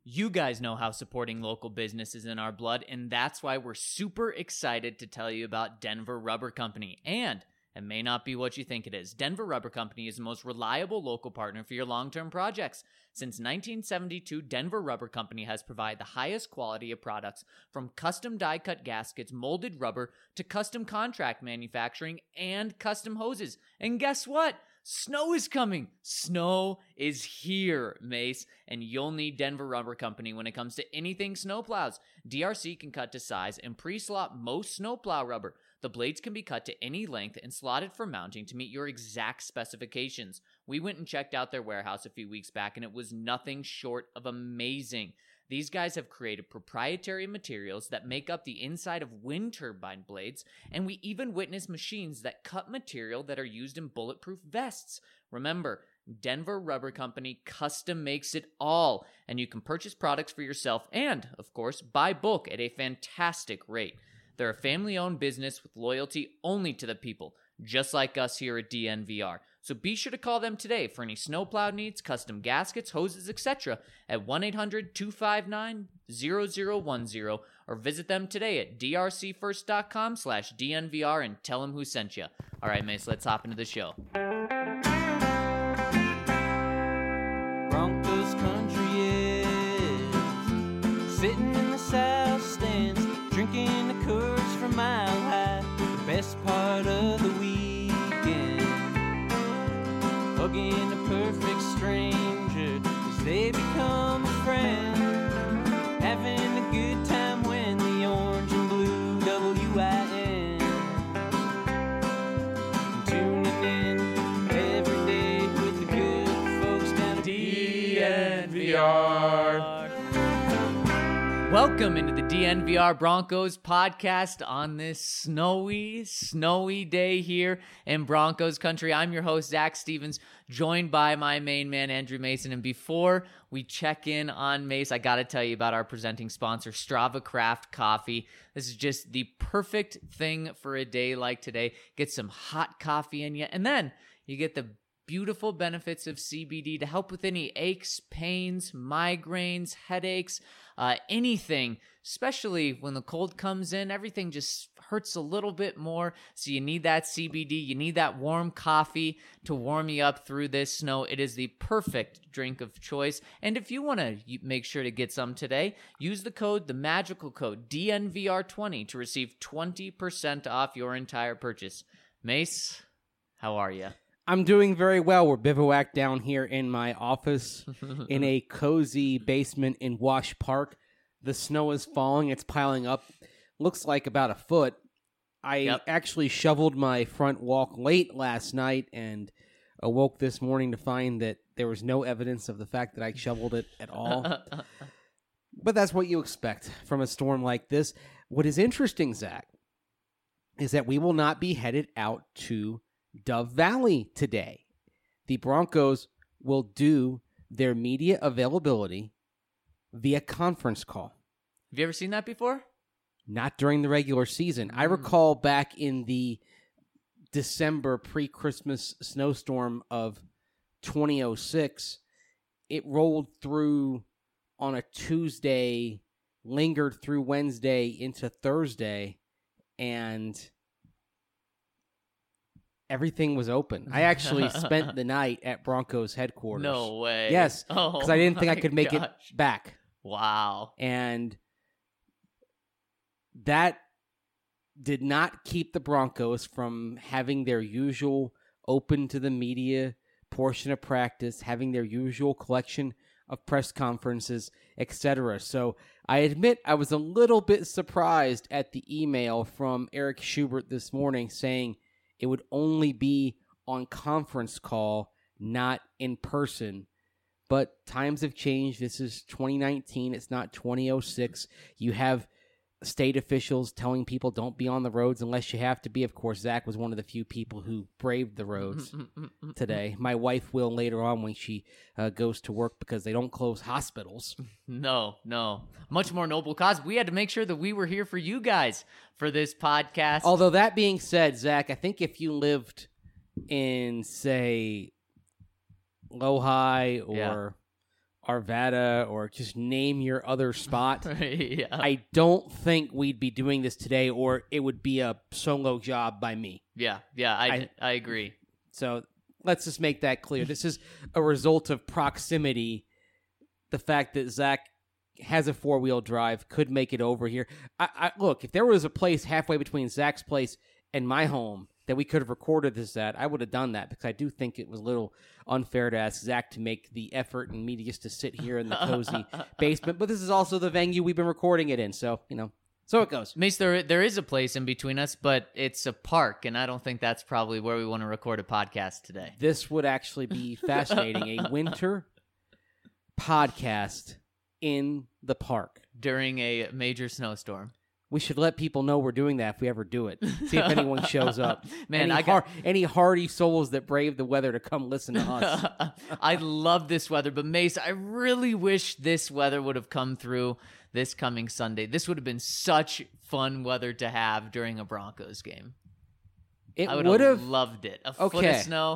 You guys know how supporting local business is in our blood, and that's why we're super excited to tell you about Denver Rubber Company. And it may not be what you think it is. Denver Rubber Company is the most reliable local partner for your long-term projects. Since 1972, Denver Rubber Company has provided the highest quality of products, from custom die-cut gaskets, molded rubber, to custom contract manufacturing and custom hoses. And guess what? Snow is coming. Snow is here, Mace, and you'll need Denver Rubber Company when it comes to anything snowplows. DRC can cut to size and pre-slot most snowplow rubber. The blades can be cut to any length and slotted for mounting to meet your exact specifications. We went and checked out their warehouse a few weeks back, and it was nothing short of amazing. These guys have created proprietary materials that make up the inside of wind turbine blades, and we even witnessed machines that cut material that are used in bulletproof vests. Remember, Denver Rubber Company custom makes it all, and you can purchase products for yourself and, of course, buy bulk at a fantastic rate. They're a family-owned business with loyalty only to the people, just like us here at DNVR. So be sure to call them today for any snowplow needs, custom gaskets, hoses, etc. at 1-800-259-0010 or visit them today at drcfirst.com/DNVR and tell them who sent you. All right, Mace, let's hop into the show. Broncos country is sitting in the south stands, drinking the Coors from Mile High, the best part of the weekend. Hugging a perfect stranger as they become a friend. Having a good time when the orange and blue WIN. Tuning in every day with the good folks down at DNVR. Welcome into the DNVR Broncos podcast on this snowy day here in Broncos country. I'm your host, Zach Stevens, joined by my main man, Andrew Mason. And before we check in on Mace, I got to tell you about our presenting sponsor, Strava Craft Coffee. This is just the perfect thing for a day like today. Get some hot coffee in you, and then you get the beautiful benefits of CBD to help with any aches, pains, migraines, headaches, anything, especially when the cold comes in. Everything just hurts a little bit more, so you need that CBD. You need that warm coffee to warm you up through this snow. It is the perfect drink of choice, and if you want to make sure to get some today, use the magical code DNVR20 to receive 20% off your entire purchase. Mace, how are you? I'm doing very well. We're bivouacked down here in my office in a cozy basement in Wash Park. The snow is falling. It's piling up. Looks like about a foot. I actually shoveled my front walk late last night and awoke this morning to find that there was no evidence of the fact that I shoveled it at all. But that's what you expect from a storm like this. What is interesting, Zach, is that we will not be headed out to Dove Valley today. The Broncos will do their media availability via conference call. Have you ever seen that before? Not during the regular season. I recall back in the December pre-Christmas snowstorm of 2006, it rolled through on a Tuesday, lingered through Wednesday into Thursday, and everything was open. I actually spent the night at Broncos headquarters. No way. Yes, because I didn't think I could make it back. Wow. And that did not keep the Broncos from having their usual open to the media portion of practice, having their usual collection of press conferences, etc. So I admit I was a little bit surprised at the email from Eric Schubert this morning saying it would only be on conference call, not in person. But times have changed. This is 2019. It's not 2006. You have state officials telling people don't be on the roads unless you have to be. Of course, Zach was one of the few people who braved the roads today. My wife will later on when she goes to work because they don't close hospitals. No. Much more noble cause. We had to make sure that we were here for you guys for this podcast. Although that being said, Zach, I think if you lived in, say, Lohi or Arvada or just name your other spot, Yeah. I don't think we'd be doing this today, or it would be a solo job by me. Yeah, I agree. So let's just make that clear. This is a result of proximity. The fact that Zach has a 4-wheel drive could make it over here. Look, if there was a place halfway between Zach's place and my home that we could have recorded this at, I would have done that, because I do think it was a little unfair to ask Zach to make the effort and me just to sit here in the cozy basement. But this is also the venue we've been recording it in, so, so it goes. Mace, there is a place in between us, but it's a park, and I don't think that's probably where we want to record a podcast today. This would actually be fascinating. A winter podcast in the park. During a major snowstorm. We should let people know we're doing that if we ever do it. See if anyone shows up. Man, any hardy souls that brave the weather to come listen to us. I love this weather, but Mace, I really wish this weather would have come through this coming Sunday. This would have been such fun weather to have during a Broncos game. I would have loved it. A foot of snow.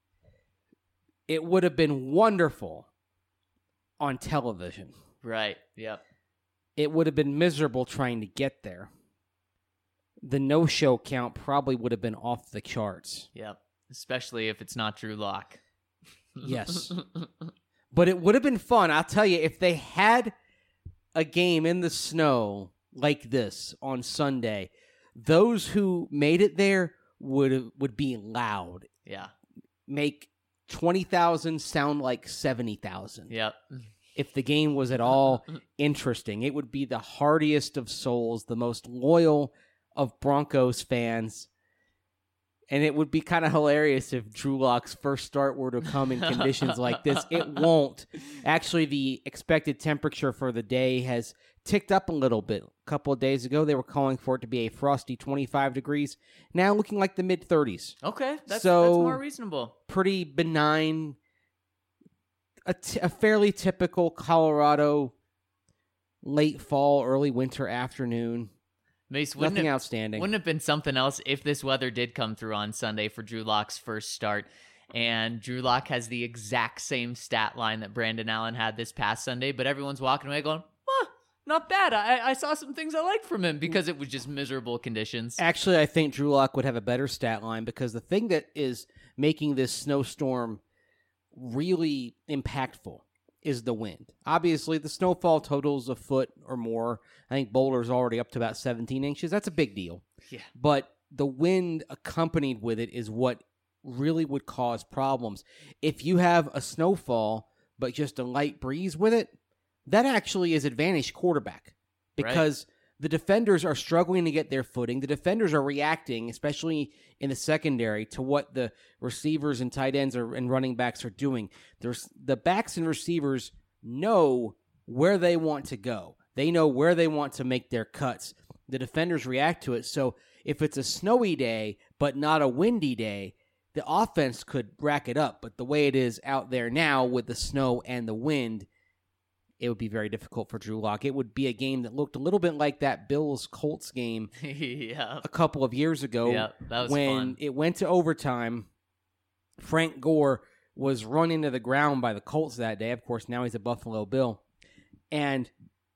It would have been wonderful on television. Right, yep. It would have been miserable trying to get there. The no-show count probably would have been off the charts. Yep, especially if it's not Drew Lock. Yes. But it would have been fun. I'll tell you, if they had a game in the snow like this on Sunday, those who made it there would be loud. Yeah. Make 20,000 sound like 70,000. Yep. If the game was at all interesting, it would be the hardiest of souls, the most loyal of Broncos fans. And it would be kind of hilarious if Drew Lock's first start were to come in conditions like this. It won't. Actually, the expected temperature for the day has ticked up a little bit. A couple of days ago, they were calling for it to be a frosty 25 degrees. Now looking like the mid-30s. Okay, that's more reasonable. Pretty benign. A fairly typical Colorado late fall, early winter afternoon. Mace, nothing outstanding. Wouldn't it have been something else if this weather did come through on Sunday for Drew Lock's first start? And Drew Lock has the exact same stat line that Brandon Allen had this past Sunday, but everyone's walking away going, not bad. I saw some things I liked from him, because it was just miserable conditions. Actually, I think Drew Lock would have a better stat line, because the thing that is making this snowstorm really impactful is the wind. Obviously, the snowfall totals a foot or more. I think Boulder's already up to about 17 inches. That's a big deal. Yeah. But the wind accompanied with it is what really would cause problems. If you have a snowfall, but just a light breeze with it, that actually is advantage quarterback, because the defenders are struggling to get their footing. The defenders are reacting, especially in the secondary, to what the receivers and tight ends and running backs are doing. The backs and receivers know where they want to go. They know where they want to make their cuts. The defenders react to it. So if it's a snowy day but not a windy day, the offense could rack it up. But the way it is out there now with the snow and the wind, it would be very difficult for Drew Lock. It would be a game that looked a little bit like that Bills-Colts game a couple of years ago. Yeah, that was when fun. It went to overtime. Frank Gore was run into the ground by the Colts that day. Of course, now he's a Buffalo Bill. And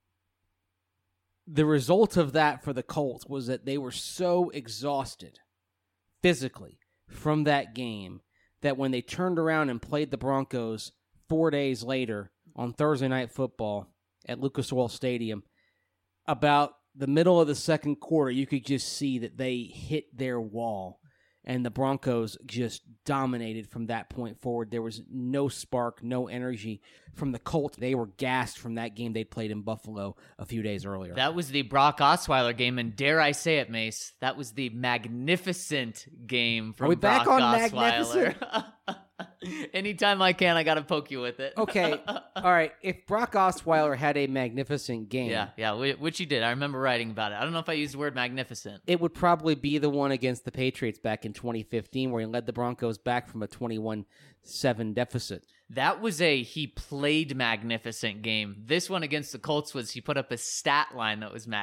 the result of that for the Colts was that they were so exhausted physically from that game that when they turned around and played the Broncos 4 days later on Thursday Night Football at Lucas Oil Stadium, about the middle of the second quarter, you could just see that they hit their wall, and the Broncos just dominated from that point forward. There was no spark, no energy from the Colts. They were gassed from that game they played in Buffalo a few days earlier. That was the Brock Osweiler game, and dare I say it, Mace, that was the magnificent game from Are we Brock back on Osweiler. magnificent? Anytime I can, I got to poke you with it. Okay, all right. If Brock Osweiler had a magnificent game, yeah, which he did. I remember writing about it. I don't know if I used the word magnificent. it would probably be the one against the Patriots back in 2015 where he led the Broncos back from a 21-7 deficit. That was he played magnificent game. This one against the Colts was he put up a stat line that was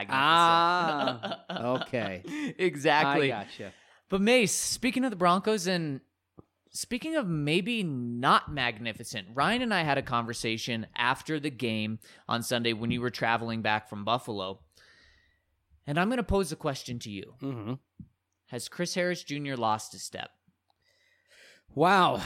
magnificent. Okay. Exactly. I gotcha. But Mace, speaking of the Broncos and Speaking of maybe not magnificent, Ryan and I had a conversation after the game on Sunday when you were traveling back from Buffalo. And I'm going to pose a question to you. Mm-hmm. Has Chris Harris Jr. lost a step? Wow.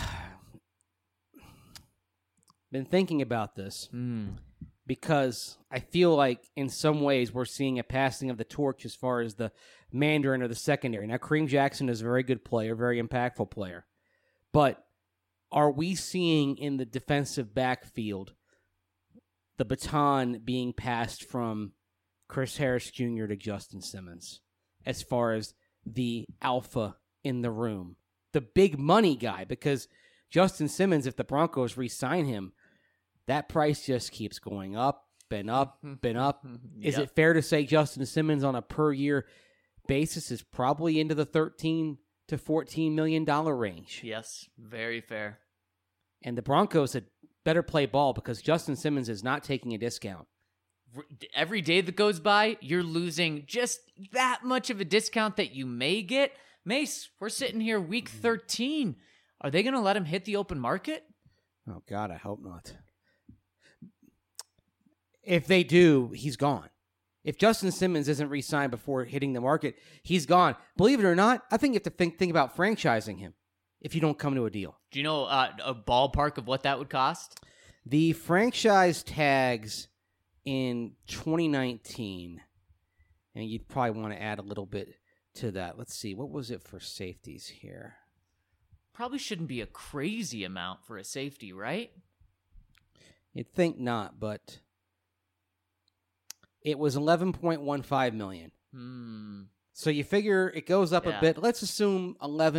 Been thinking about this because I feel like in some ways we're seeing a passing of the torch as far as the Mandarin or the secondary. Now, Kareem Jackson is a very good player, very impactful player. But are we seeing in the defensive backfield the baton being passed from Chris Harris Jr. to Justin Simmons as far as the alpha in the room, the big money guy? Because Justin Simmons, if the Broncos re-sign him, that price just keeps going up and up and up. Is it fair to say Justin Simmons on a per-year basis is probably into the $13 to $14 million range? Yes, very fair. And the Broncos had better play ball because Justin Simmons is not taking a discount. Every day that goes by, you're losing just that much of a discount that you may get. Mace, we're sitting here week 13. Are they going to let him hit the open market? Oh, God, I hope not. If they do, he's gone. If Justin Simmons isn't re-signed before hitting the market, he's gone. Believe it or not, I think you have to think about franchising him if you don't come to a deal. Do you know a ballpark of what that would cost? The franchise tags in 2019, and you'd probably want to add a little bit to that. Let's see, what was it for safeties here? Probably shouldn't be a crazy amount for a safety, right? You'd think not, but it was $11.15 million. So you figure it goes up a bit. Let's assume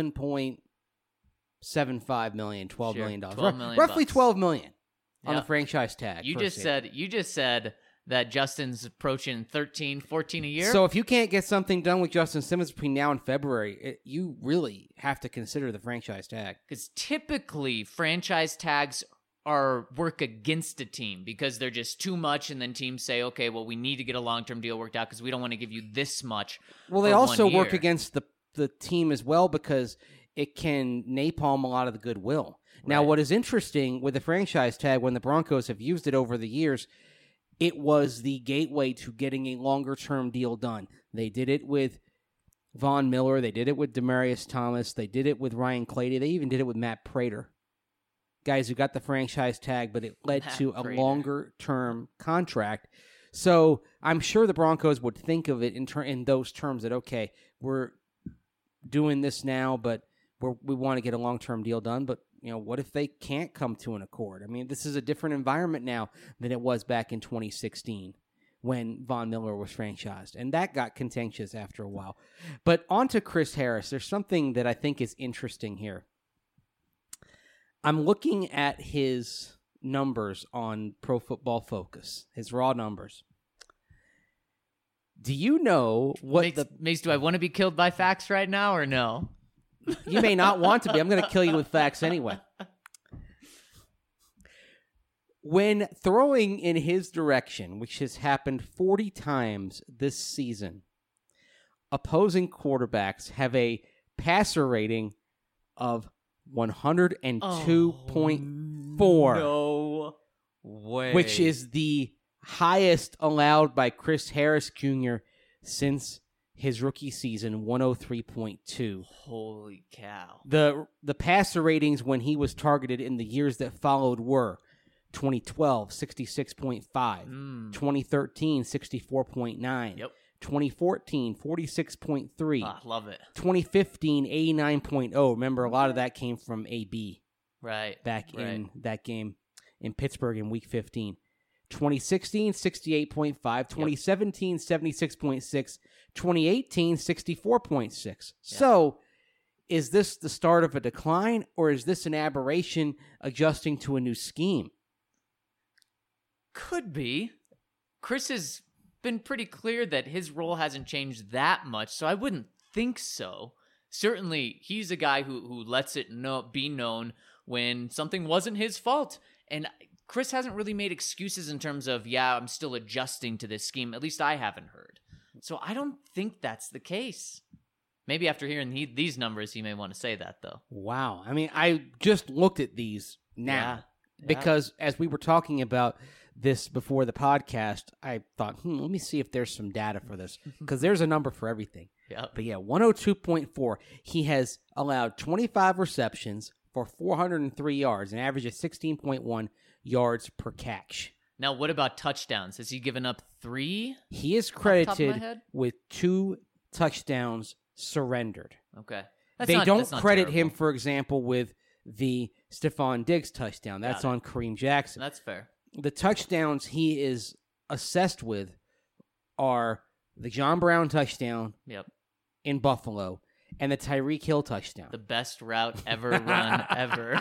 $11.75 million, $12 million. Roughly $12 million on the franchise tag. You just said that Justin's approaching 13, 14 a year. So if you can't get something done with Justin Simmons between now and February, you really have to consider the franchise tag. Because typically franchise tags work against a team because they're just too much, and then teams say, okay, well, we need to get a long-term deal worked out because we don't want to give you this much. Well, they also work against the team as well because it can napalm a lot of the goodwill. Right. Now, what is interesting with the franchise tag, when the Broncos have used it over the years, it was the gateway to getting a longer-term deal done. They did it with Von Miller. They did it with Demaryius Thomas. They did it with Ryan Clady. They even did it with Matt Prater. Guys who got the franchise tag, but it led to a longer-term contract. So I'm sure the Broncos would think of it in those terms that, okay, we're doing this now, but we want to get a long-term deal done. But, what if they can't come to an accord? I mean, this is a different environment now than it was back in 2016 when Von Miller was franchised. And that got contentious after a while. But on to Chris Harris. There's something that I think is interesting here. I'm looking at his numbers on Pro Football Focus, his raw numbers. Do you know what Mace, do I want to be killed by facts right now or no? You may not want to be. I'm going to kill you with facts anyway. When throwing in his direction, which has happened 40 times this season, opposing quarterbacks have a passer rating of 102.4. No way. Which is the highest allowed by Chris Harris Jr. since his rookie season, 103.2. Holy cow. The passer ratings when he was targeted in the years that followed were 2012, 66.5. 2013, 64.9. Yep. 2014, 46.3. Love it. 2015, 89.0. Remember, a lot of that came from AB. Right. In that game in Pittsburgh in Week 15. 2016, 68.5. 2017, 76.6. 2018, 64.6. Yep. So, is this the start of a decline, or is this an aberration adjusting to a new scheme? Could be. Chris has been pretty clear that his role hasn't changed that much, so I wouldn't think so. Certainly, he's a guy who lets it be known when something wasn't his fault. And Chris hasn't really made excuses in terms of, I'm still adjusting to this scheme. At least I haven't heard. So I don't think that's the case. Maybe after hearing these numbers, he may want to say that, though. Wow. I mean, I just looked at these now Yeah. because as we were talking about this before the podcast, I thought, let me see if there's some data for this because there's a number for everything. Yep. But yeah, 102.4. He has allowed 25 receptions for 403 yards, an average of 16.1 yards per catch. Now, what about touchdowns? Has he given up 3? He is top of my credited head? with 2 touchdowns surrendered. Okay. They don't not credit him, terrible. for example, with the Stephon Diggs touchdown. That's Got it. on Kareem Jackson. That's fair. The touchdowns he is assessed with are the John Brown touchdown Yep. in Buffalo and the Tyreek Hill touchdown. The best route ever run ever.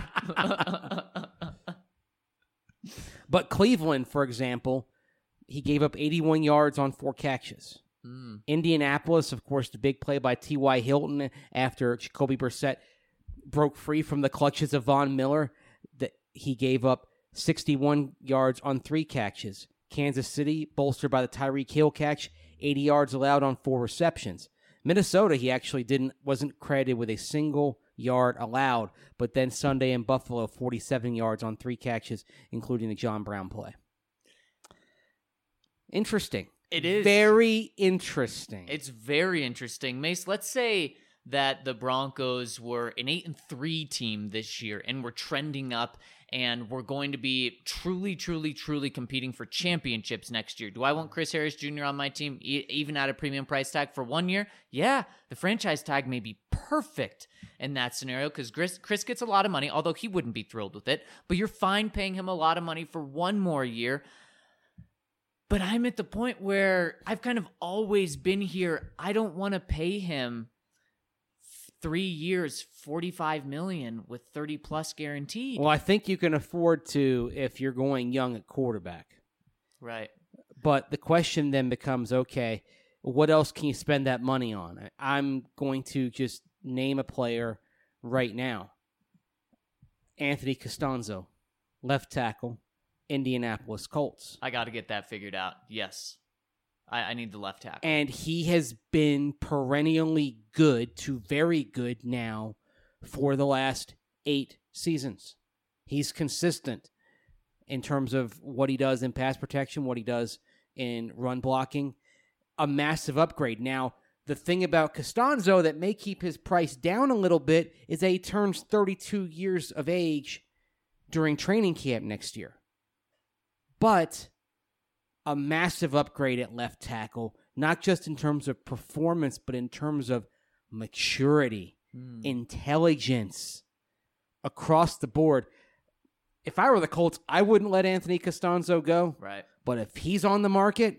But Cleveland, for example, he gave up 81 yards on 4 catches. Indianapolis, of course, the big play by T.Y. Hilton after Jacoby Brissett broke free from the clutches of Von Miller. That he gave up 61 yards on 3 catches. Kansas City, bolstered by the Tyreek Hill catch, 80 yards allowed on 4 receptions. Minnesota, he actually wasn't credited with a single yard allowed, but then Sunday in Buffalo, 47 yards on 3 catches, including the John Brown play. Interesting. It is. Very interesting. It's very interesting. Mace, let's say that the Broncos were an 8-3 team this year and we're trending up and we're going to be truly, truly, truly competing for championships next year. Do I want Chris Harris Jr. on my team, even at a premium price tag for 1 year? Yeah, the franchise tag may be perfect in that scenario because Chris gets a lot of money, although he wouldn't be thrilled with it, but you're fine paying him a lot of money for 1 more year. But I'm at the point where I've kind of always been here. I don't want to pay him 3 years, $45 million with 30 plus guaranteed. Well, I think you can afford to if you're going young at quarterback. Right. But the question then becomes, okay, what else can you spend that money on? I'm going to just name a player right now. Anthony Costanzo, left tackle, Indianapolis Colts. I got to get that figured out. Yes. I need the left tackle. And he has been perennially good to very good now for the last 8 seasons. He's consistent in terms of what he does in pass protection, what he does in run blocking. A massive upgrade. Now, the thing about Costanzo that may keep his price down a little bit is that he turns 32 years of age during training camp next year. But a massive upgrade at left tackle, not just in terms of performance, but in terms of maturity, intelligence across the board. If I were the Colts, I wouldn't let Anthony Costanzo go. Right. But if he's on the market,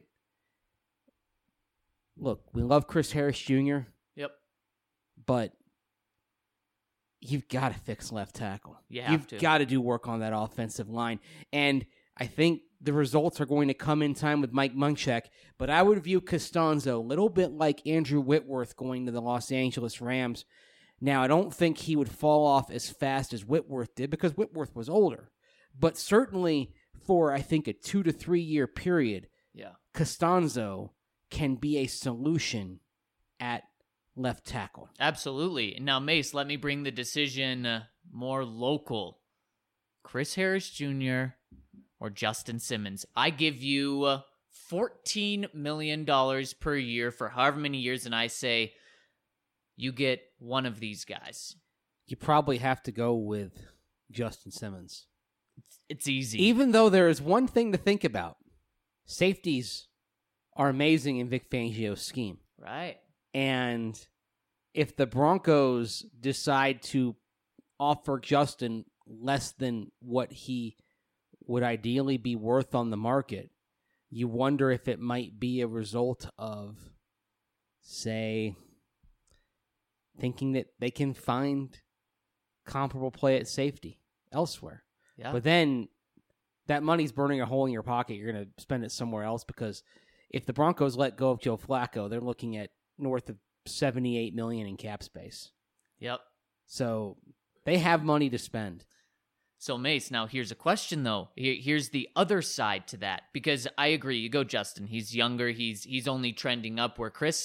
look, we love Chris Harris Jr., Yep. but you've got to fix left tackle. You've got to do work on that offensive line. And I think the results are going to come in time with Mike Munchak, but I would view Costanzo a little bit like Andrew Whitworth going to the Los Angeles Rams. Now, I don't think he would fall off as fast as Whitworth did because Whitworth was older, but certainly for, I think, a 2 to 3 year period, Costanzo can be a solution at left tackle. Absolutely. Now, Mace, let me bring the decision more local. Chris Harris Jr. or Justin Simmons. I give you $14 million per year for however many years, and I say you get one of these guys. You probably have to go with Justin Simmons. It's easy. Even though there is one thing to think about. Safeties are amazing in Vic Fangio's scheme. Right. And if the Broncos decide to offer Justin less than what he would ideally be worth on the market, you wonder if it might be a result of, say, thinking that they can find comparable play at safety elsewhere. Yeah. But then that money's burning a hole in your pocket. You're going to spend it somewhere else because if the Broncos let go of Joe Flacco, they're looking at north of $78 million in cap space. Yep. So they have money to spend. So, Mace, now here's a question, though. Here's the other side to that. Because I agree, you go Justin. He's younger. He's only trending up where Chris,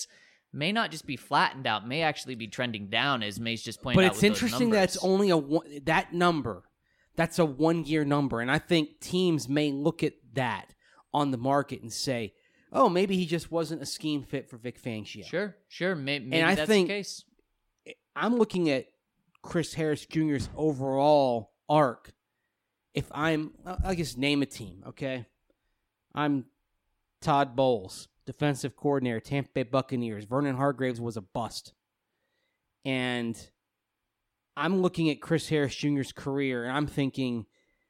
may not just be flattened out, may actually be trending down, as Mace just pointed But out. it's interesting that it's only that number. That's a 1-year number. And I think teams may look at that on the market and say, oh, maybe he just wasn't a scheme fit for Vic Fangio. Sure. Maybe and I that's think the case. I'm looking at Chris Harris Jr.'s overall arc. If I'll just name a team, okay? I'm Todd Bowles, defensive coordinator, Tampa Bay Buccaneers. Vernon Hargreaves was a bust. And I'm looking at Chris Harris Jr.'s career, and I'm thinking,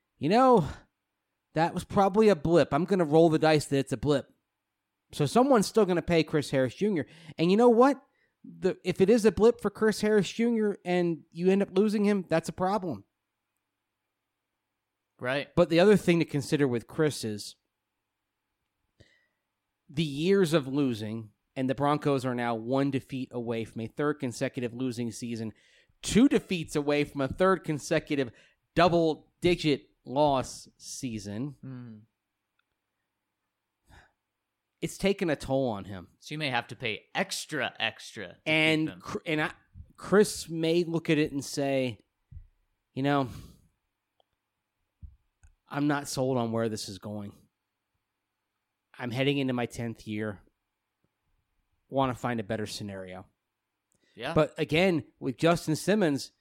that was probably a blip. I'm going to roll the dice that it's a blip. So someone's still going to pay Chris Harris Jr. And you know what? If it is a blip for Chris Harris Jr. and you end up losing him, that's a problem. Right. But the other thing to consider with Chris is the years of losing, and the Broncos are now 1 defeat away from a third consecutive losing season, 2 defeats away from a third consecutive double-digit loss season. It's taken a toll on him. So you may have to pay extra to keep him. Chris may look at it and say, I'm not sold on where this is going. I'm heading into my 10th year. Want to find a better scenario. Yeah. But again, with Justin Simmons,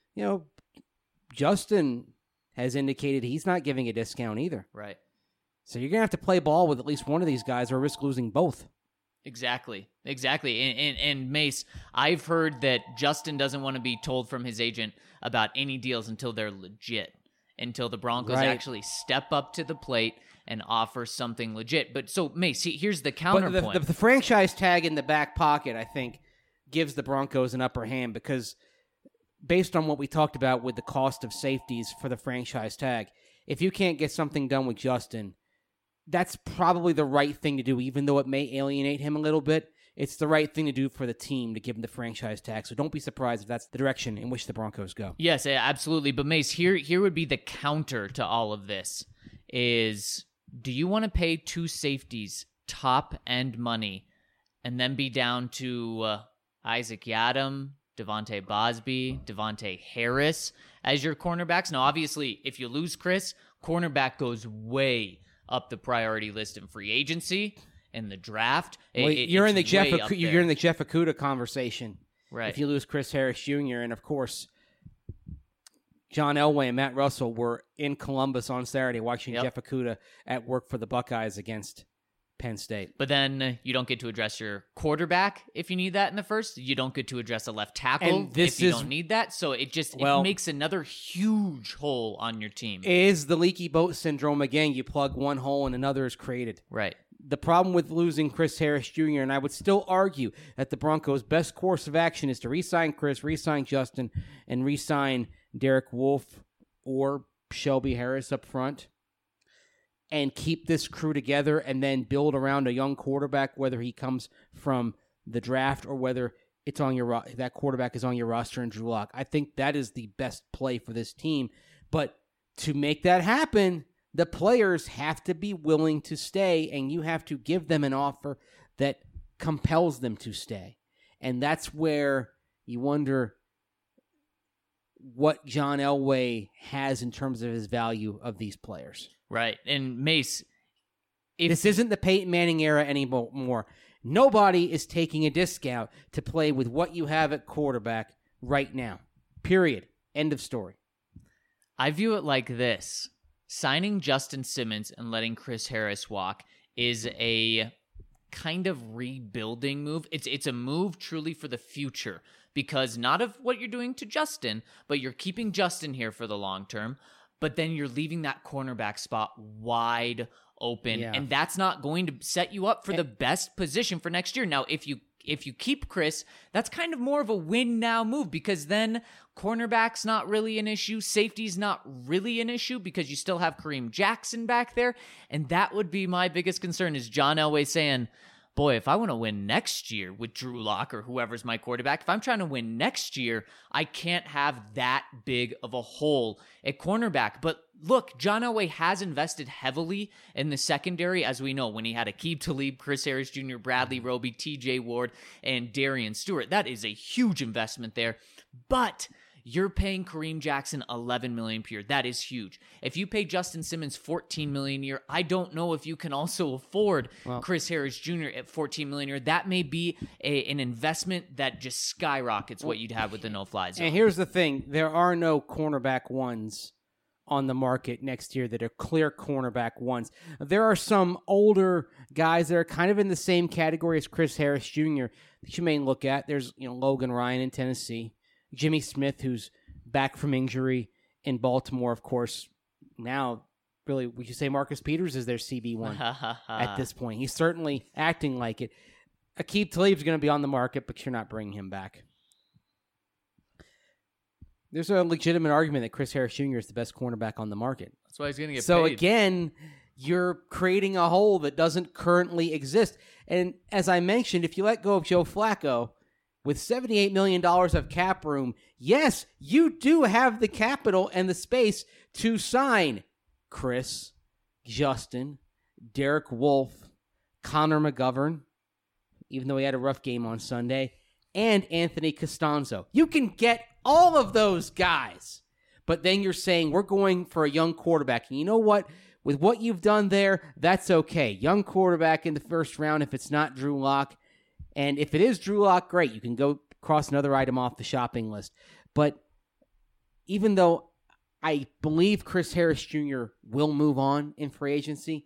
Justin has indicated he's not giving a discount either. Right. So you're going to have to play ball with at least one of these guys or risk losing both. Exactly. And Mace, I've heard that Justin doesn't want to be told from his agent about any deals until they're legit, until the Broncos actually step up to the plate and offer something legit. But so, Mace, here's the counterpoint. But the franchise tag in the back pocket, I think, gives the Broncos an upper hand because based on what we talked about with the cost of safeties for the franchise tag, if you can't get something done with Justin, that's probably the right thing to do, even though it may alienate him a little bit. It's the right thing to do for the team to give him the franchise tag. So don't be surprised if that's the direction in which the Broncos go. Yes, absolutely. But Mace, here would be the counter to all of this is, do you want to pay 2 safeties top-end money and then be down to Isaac Yiadom, Devontae Bosby, Devontae Harris as your cornerbacks? Now, obviously, if you lose Chris, cornerback goes way up the priority list in free agency and the draft. Well, you're in the Jeff Okudah conversation, right? If you lose Chris Harris Jr. and of course John Elway and Matt Russell were in Columbus on Saturday watching Jeff Okudah at work for the Buckeyes against Penn State. But then you don't get to address your quarterback if you need that in the first. You don't get to address a left tackle if you don't need that. So it makes another huge hole on your team. Is the leaky boat syndrome again? You plug one hole and another is created. Right. The problem with losing Chris Harris Jr., and I would still argue that the Broncos' best course of action is to re-sign Chris, re-sign Justin, and re-sign Derek Wolfe or Shelby Harris up front, and keep this crew together and then build around a young quarterback, whether he comes from the draft or whether it's on that quarterback is on your roster in Drew Lock. I think that is the best play for this team. But to make that happen, the players have to be willing to stay, and you have to give them an offer that compels them to stay. And that's where you wonder what John Elway has in terms of his value of these players. Right. And Mace, this isn't the Peyton Manning era anymore. Nobody is taking a discount to play with what you have at quarterback right now. Period. End of story. I view it like this. Signing Justin Simmons and letting Chris Harris walk is a kind of rebuilding move. It's a move truly for the future because not of what you're doing to Justin, but you're keeping Justin here for the long term. But then you're leaving that cornerback spot wide open, and that's not going to set you up for the best position for next year. Now, if you keep Chris, that's kind of more of a win-now move because then cornerback's not really an issue, safety's not really an issue because you still have Kareem Jackson back there, and that would be my biggest concern is John Elway saying, boy, if I want to win next year with Drew Lock or whoever's my quarterback, if I'm trying to win next year, I can't have that big of a hole at cornerback. But look, John Elway has invested heavily in the secondary, as we know, when he had Aqib Talib, Chris Harris Jr., Bradley Roby, TJ Ward, and Darian Stewart. That is a huge investment there. But you're paying Kareem Jackson $11 million per year. That is huge. If you pay Justin Simmons $14 million a year, I don't know if you can also afford Chris Harris Jr. at $14 million a year. That may be an investment that just skyrockets what you'd have with the no-fly zone. And here's the thing. There are no cornerback ones on the market next year that are clear cornerback ones. There are some older guys that are kind of in the same category as Chris Harris Jr. that you may look at. There's Logan Ryan in Tennessee. Jimmy Smith, who's back from injury in Baltimore, of course. Now, really, we should say Marcus Peters is their CB1 at this point. He's certainly acting like it. Aqib Talib's going to be on the market, but you're not bringing him back. There's a legitimate argument that Chris Harris Jr. is the best cornerback on the market. That's why he's going to get paid. So again, you're creating a hole that doesn't currently exist. And as I mentioned, if you let go of Joe Flacco, with $78 million of cap room, yes, you do have the capital and the space to sign Chris, Justin, Derek Wolfe, Connor McGovern, even though he had a rough game on Sunday, and Anthony Costanzo. You can get all of those guys, but then you're saying we're going for a young quarterback. And you know what? With what you've done there, that's okay. Young quarterback in the first round if it's not Drew Lock. And if it is Drew Lock, great. You can go cross another item off the shopping list. But even though I believe Chris Harris Jr. will move on in free agency,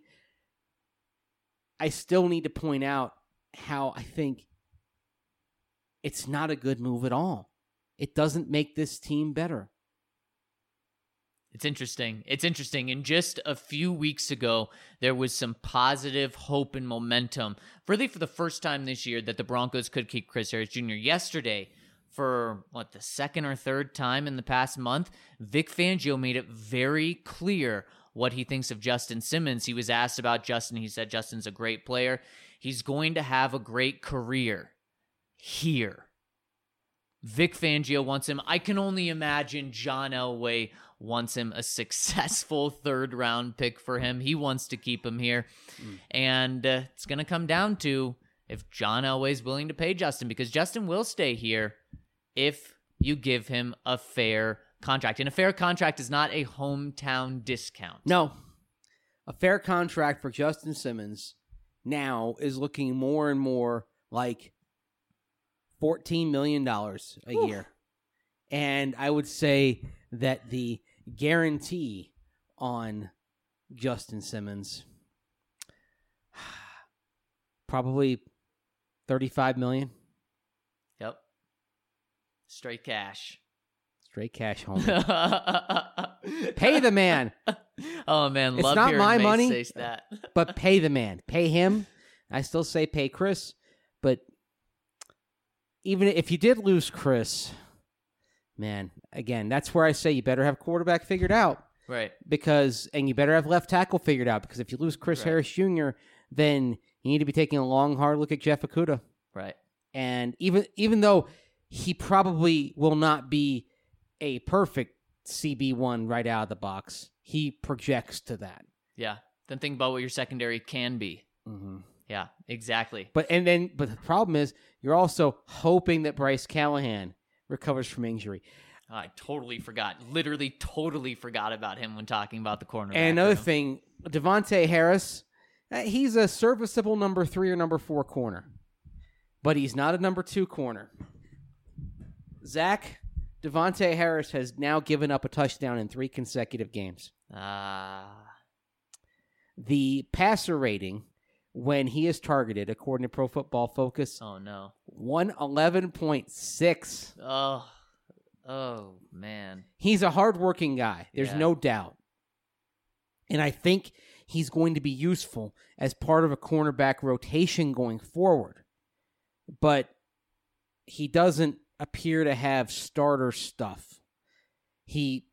I still need to point out how I think it's not a good move at all. It doesn't make this team better. It's interesting. And just a few weeks ago, there was some positive hope and momentum, really for the first time this year, that the Broncos could keep Chris Harris Jr. Yesterday, for the second or third time in the past month, Vic Fangio made it very clear what he thinks of Justin Simmons. He was asked about Justin. He said Justin's a great player. He's going to have a great career here. Vic Fangio wants him. I can only imagine John Elway wants him, a successful third-round pick for him. He wants to keep him here. And it's going to come down to if John Elway's willing to pay Justin, because Justin will stay here if you give him a fair contract. And a fair contract is not a hometown discount. No. A fair contract for Justin Simmons now is looking more and more like $14 million a year. And I would say that the guarantee on Justin Simmons, probably $35 million. Yep. Straight cash. Straight cash, homie. Pay the man. Oh, man. It's Love not hearing my Mace money, say that. but pay the man. Pay him. I still say pay Chris, but even if you did lose Chris, man, again, that's where I say you better have quarterback figured out. Right. And you better have left tackle figured out, because if you lose Chris Harris Jr., then you need to be taking a long, hard look at Jeff Okudah. Right. And even though he probably will not be a perfect CB1 right out of the box, he projects to that. Yeah. Then think about what your secondary can be. Mm-hmm. Yeah, exactly. But the problem is you're also hoping that Bryce Callahan recovers from injury. I totally forgot. Literally totally forgot about him when talking about the cornerback. And another thing, Devontae Harris, he's a serviceable number 3 or number 4 corner. But he's not a number 2 corner. Zach, Devontae Harris has now given up a touchdown in 3 consecutive games. The passer rating, when he is targeted, according to Pro Football Focus, 111.6. Oh, man. He's a hardworking guy. There's no doubt. And I think he's going to be useful as part of a cornerback rotation going forward. But he doesn't appear to have starter stuff. He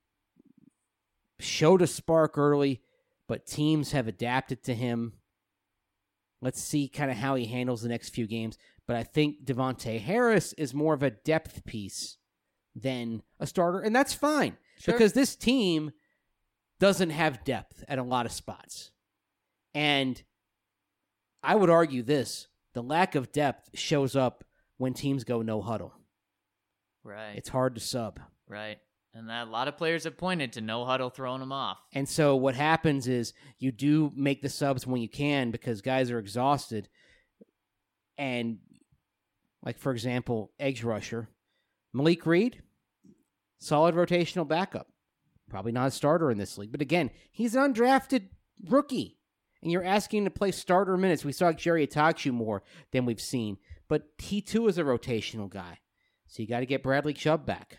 showed a spark early, but teams have adapted to him. Let's see kind of how he handles the next few games. But I think Devontae Harris is more of a depth piece than a starter, and that's fine because this team doesn't have depth at a lot of spots. And I would argue this, the lack of depth shows up when teams go no huddle. Right. It's hard to sub. Right. And a lot of players have pointed to no huddle throwing them off. And so what happens is you do make the subs when you can because guys are exhausted. And like, for example, edge rusher, Malik Reed, solid rotational backup. Probably not a starter in this league. But again, he's an undrafted rookie. And you're asking him to play starter minutes. We saw Jerry Atachu more than we've seen. But he too is a rotational guy. So you got to get Bradley Chubb back.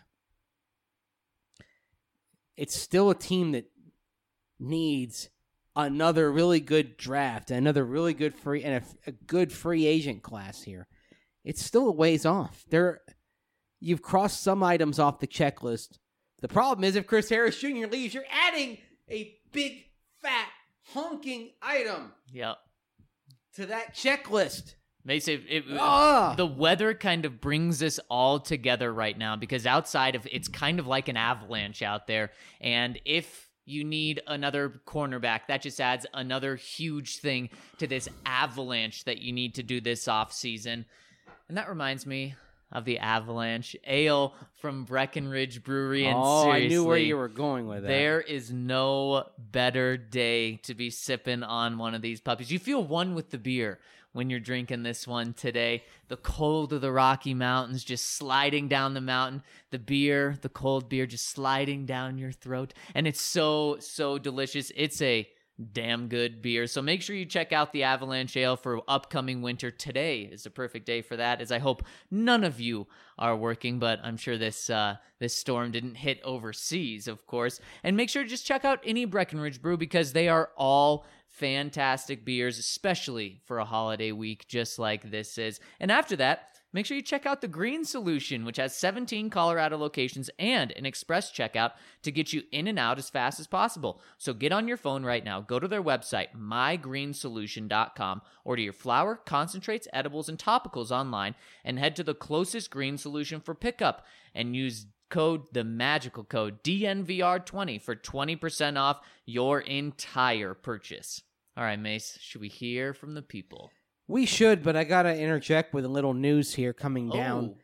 It's still a team that needs another really good draft, another really good free, and a good free agent class here. It's still a ways off. You've crossed some items off the checklist. The problem is if Chris Harris Jr. leaves, you're adding a big, fat, honking item to that checklist. Mason, the weather kind of brings this all together right now because outside of it's kind of like an avalanche out there. And if you need another cornerback, that just adds another huge thing to this avalanche that you need to do this offseason. And that reminds me of the Avalanche Ale from Breckenridge Brewery. And I knew where you were going with that. There is no better day to be sipping on one of these puppies. You feel one with the beer when you're drinking this one today. The cold of the Rocky Mountains just sliding down the mountain. The beer, the cold beer just sliding down your throat. And it's so, so delicious. It's a damn good beer. So make sure you check out the Avalanche Ale for upcoming winter. Today is the perfect day for that, as I hope none of you are working, but I'm sure this storm didn't hit overseas, of course. And make sure to just check out any Breckenridge brew because they are all fantastic beers, especially for a holiday week just like this is. And after that, make sure you check out the Green Solution, which has 17 Colorado locations and an express checkout to get you in and out as fast as possible. So get on your phone right now, go to their website, mygreensolution.com, order your flour, concentrates, edibles, and topicals online, and head to the closest Green Solution for pickup and use the magical code DNVR20 for 20% off your entire purchase. All right, Mace, should we hear from the people? We should, but I got to interject with a little news here coming down.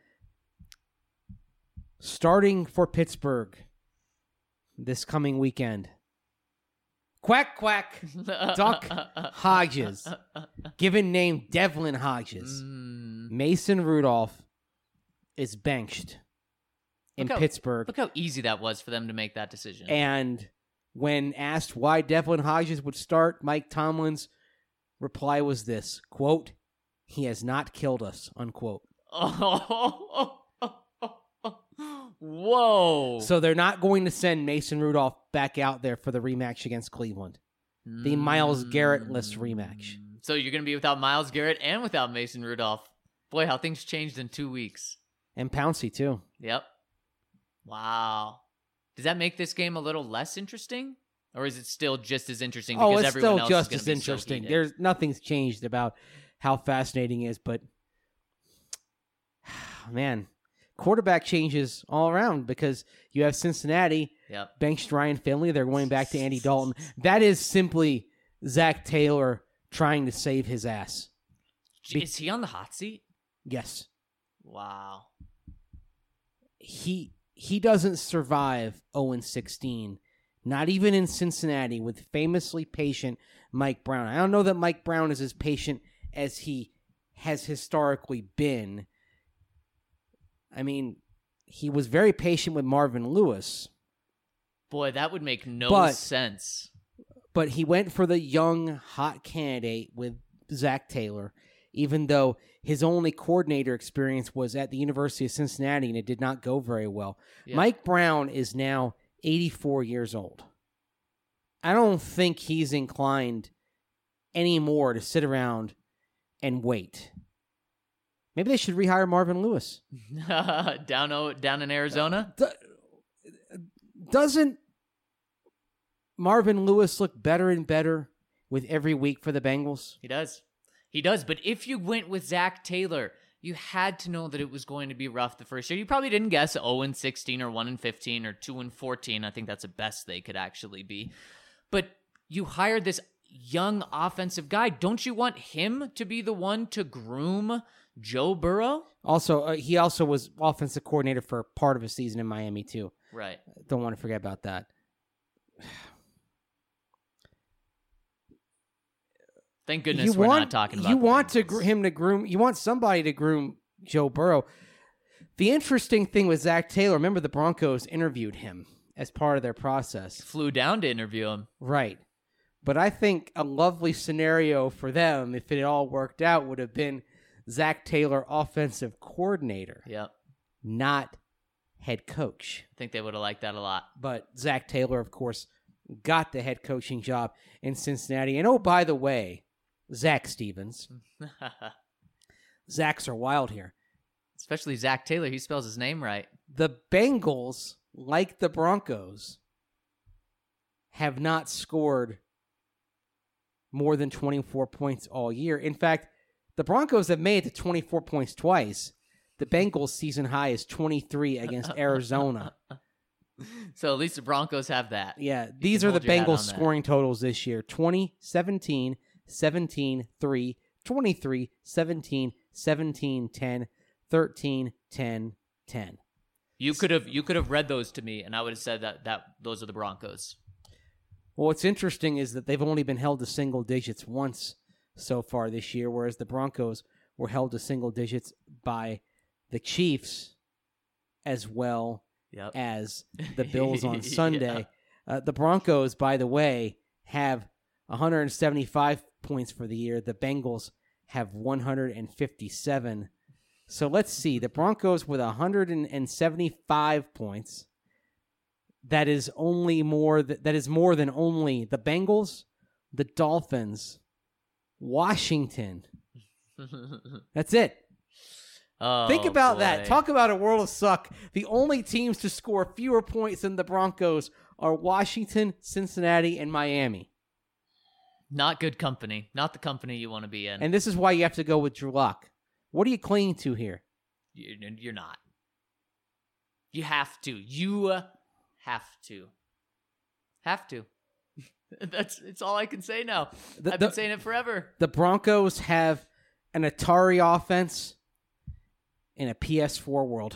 Starting for Pittsburgh this coming weekend. Quack, quack, Duck Hodges, given name Devlin Hodges. Mason Rudolph is benched in Pittsburgh. Look how easy that was for them to make that decision. And when asked why Devlin Hodges would start, Mike Tomlin's reply was this, quote, "He has not killed us," unquote. Whoa. So they're not going to send Mason Rudolph back out there for the rematch against Cleveland. The Myles Garrett-less rematch. So you're going to be without Myles Garrett and without Mason Rudolph. Boy, how things changed in 2 weeks. And Pouncey, too. Yep. Wow. Does that make this game a little less interesting? Or is it still just as interesting because everyone else is going to be so heated? It's still just as interesting. Nothing's changed about how fascinating it is, but man, quarterback changes all around because you have Cincinnati benched Ryan Finley. They're going back to Andy Dalton. That is simply Zach Taylor trying to save his ass. Is he on the hot seat? Yes. Wow. He doesn't survive 0-16, not even in Cincinnati with famously patient Mike Brown. I don't know that Mike Brown is as patient as he has historically been. I mean, he was very patient with Marvin Lewis. Boy, that would make no sense. But he went for the young, hot candidate with Zach Taylor, even though his only coordinator experience was at the University of Cincinnati, and it did not go very well. Yeah. Mike Brown is now 84 years old. I don't think he's inclined anymore to sit around and wait. Maybe they should rehire Marvin Lewis. down in Arizona? Doesn't Marvin Lewis look better and better with every week for the Bengals? He does. He does, but if you went with Zach Taylor, you had to know that it was going to be rough the first year. You probably didn't guess 0-16 or 1-15 or 2-14. I think that's the best they could actually be. But you hired this young offensive guy. Don't you want him to be the one to groom Joe Burrow? Also, he also was offensive coordinator for part of a season in Miami, too. Right. Don't want to forget about that. Thank goodness we're not talking about. You want him to groom. You want somebody to groom Joe Burrow. The interesting thing with Zach Taylor, remember the Broncos interviewed him as part of their process. Flew down to interview him. Right. But I think a lovely scenario for them, if it all worked out, would have been Zach Taylor, offensive coordinator. Yep. Not head coach. I think they would have liked that a lot. But Zach Taylor, of course, got the head coaching job in Cincinnati. And oh, by the way, Zach Stevens. Zachs are wild here. Especially Zach Taylor. He spells his name right. The Bengals, like the Broncos, have not scored more than 24 points all year. In fact, the Broncos have made it to 24 points twice. The Bengals' season high is 23 against Arizona. So at least the Broncos have that. Yeah, these are the Bengals' scoring totals this year. 20, 17, 17, 3, 23, 17, 17, 10, 13, 10, 10. You could have read those to me, and I would have said that those are the Broncos. Well, what's interesting is that they've only been held to single digits once so far this year, whereas the Broncos were held to single digits by the Chiefs as well as the Bills on Sunday. Yeah. The Broncos, by the way, have 175 points for the year. The Bengals have 157. So let's see. The Broncos with 175 points. That is more than only the Bengals, the Dolphins, Washington. That's it. Oh, think about boy. that. Talk about a world of suck. The only teams to score fewer points than the Broncos are Washington, Cincinnati, and Miami. Not good company. Not the company you want to be in. And this is why you have to go with Drew Lock. What are you clinging to here? You're not. You have to. You have to. Have to. It's all I can say now. I've been saying it forever. The Broncos have an Atari offense in a PS4 world.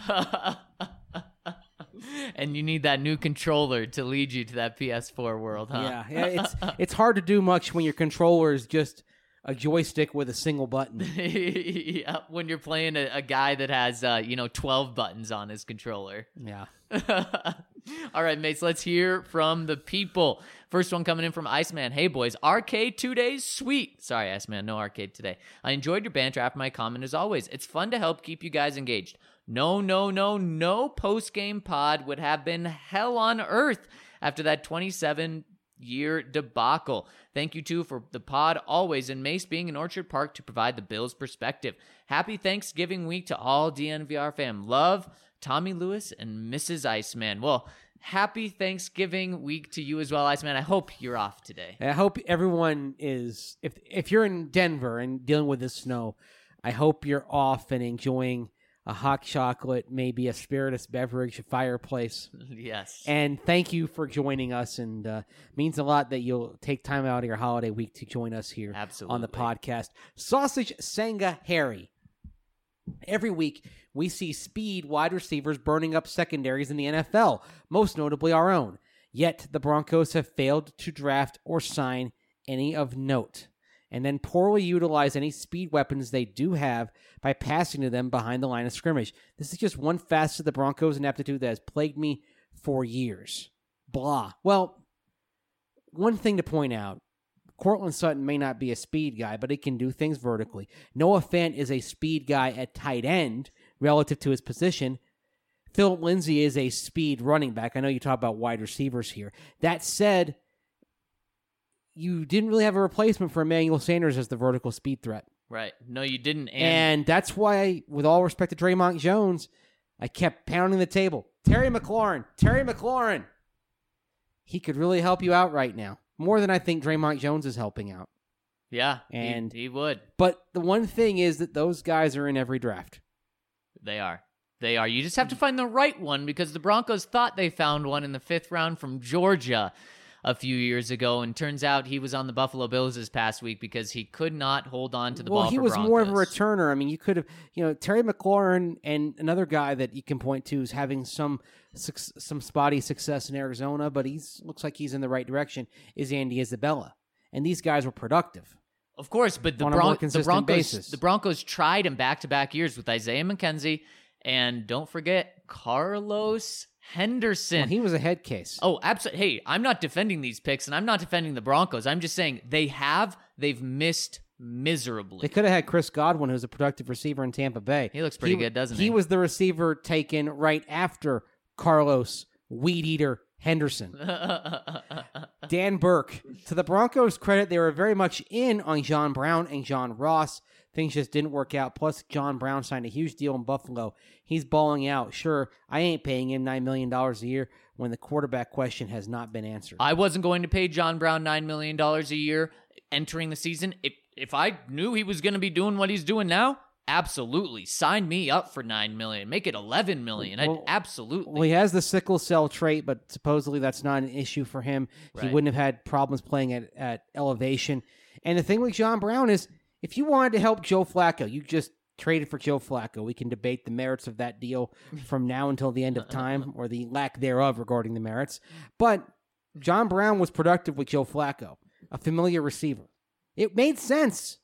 And you need that new controller to lead you to that PS4 world, huh? Yeah, it's hard to do much when your controller is just a joystick with a single button. Yeah, when you're playing a guy that has 12 buttons on his controller. Yeah. All right, mates, let's hear from the people. First one coming in from Iceman. Hey, boys, arcade 2 days? Sweet. Sorry, Iceman, no arcade today. I enjoyed your banter after my comment as always. It's fun to help keep you guys engaged. No post-game pod would have been hell on earth after that 27-year debacle. Thank you, too, for the pod always, and Mace being in Orchard Park to provide the Bills' perspective. Happy Thanksgiving week to all DNVR fam. Love, Tommy Lewis and Mrs. Iceman. Well, happy Thanksgiving week to you as well, Iceman. I hope you're off today. I hope everyone is, if you're in Denver and dealing with the snow, I hope you're off and enjoying a hot chocolate, maybe a spiritus beverage, a fireplace. Yes. And thank you for joining us, and means a lot that you'll take time out of your holiday week to join us here on the podcast. Sausage Senga Harry. Every week, we see speed wide receivers burning up secondaries in the NFL, most notably our own. Yet, the Broncos have failed to draft or sign any of note, and then poorly utilize any speed weapons they do have by passing to them behind the line of scrimmage. This is just one facet of the Broncos' ineptitude that has plagued me for years. Blah. Well, one thing to point out, Courtland Sutton may not be a speed guy, but he can do things vertically. Noah Fant is a speed guy at tight end relative to his position. Philip Lindsay is a speed running back. I know you talk about wide receivers here. That said, you didn't really have a replacement for Emmanuel Sanders as the vertical speed threat. Right. No, you didn't. And that's why, with all respect to Draymond Jones, I kept pounding the table. Terry McLaurin. He could really help you out right now. More than I think Draymond Jones is helping out. Yeah, And he would. But the one thing is that those guys are in every draft. They are. They are. You just have to find the right one because the Broncos thought they found one in the 5th round from Georgia a few years ago, and turns out he was on the Buffalo Bills this past week because he could not hold on to the ball. Well, he for was Broncos. more of a returner. I mean, you could have, Terry McLaurin and another guy that you can point to is having some spotty success in Arizona, but looks like he's in the right direction, is Andy Isabella. And these guys were productive. Of course, but On a more consistent basis. the Broncos tried him back-to-back years with Isaiah McKenzie, and don't forget Carlos Henderson. Well, he was a head case. Oh, absolutely. Hey, I'm not defending these picks, and I'm not defending the Broncos. I'm just saying they've missed miserably. They could have had Chris Godwin, who's a productive receiver in Tampa Bay. He looks pretty good, doesn't he? He was the receiver taken right after Carlos Weed Eater Henderson. Dan Burke. To the Broncos' credit, they were very much in on John Brown and John Ross. Things just didn't work out. Plus, John Brown signed a huge deal in Buffalo. He's balling out. Sure, I ain't paying him $9 million a year when the quarterback question has not been answered. I wasn't going to pay John Brown $9 million a year entering the season. If I knew he was going to be doing what he's doing now, absolutely. Sign me up for $9 million. Make it $11 million. Absolutely. Well, he has the sickle cell trait, but supposedly that's not an issue for him. He Right. wouldn't have had problems playing at elevation. And the thing with John Brown is, if you wanted to help Joe Flacco, you just traded for Joe Flacco. We can debate the merits of that deal from now until the end of time, or the lack thereof regarding the merits. But John Brown was productive with Joe Flacco, a familiar receiver. It made sense.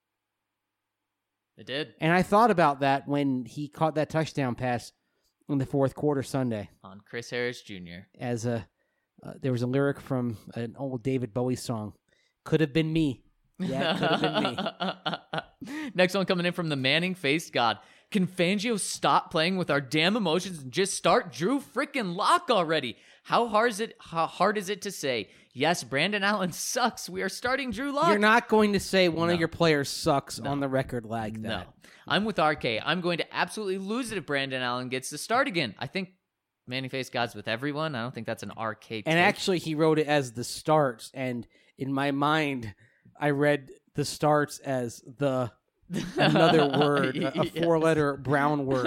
It did. And I thought about that when he caught that touchdown pass in the fourth quarter Sunday. On Chris Harris Jr. As there was a lyric from an old David Bowie song. Could have been me. Yeah, it could have been me. Next one coming in from the Manning-faced God. Can Fangio stop playing with our damn emotions and just start Drew freaking Lock already? How hard is it to say, yes, Brandon Allen sucks. We are starting Drew Lock. You're not going to say one No. of your players sucks on the record like that. No. I'm with RK. I'm going to absolutely lose it if Brandon Allen gets to start again. I think Manning-faced God's with everyone. I don't think that's an RK take. And actually, he wrote it as the starts. And in my mind, I read the starts as another word, a four-letter brown word.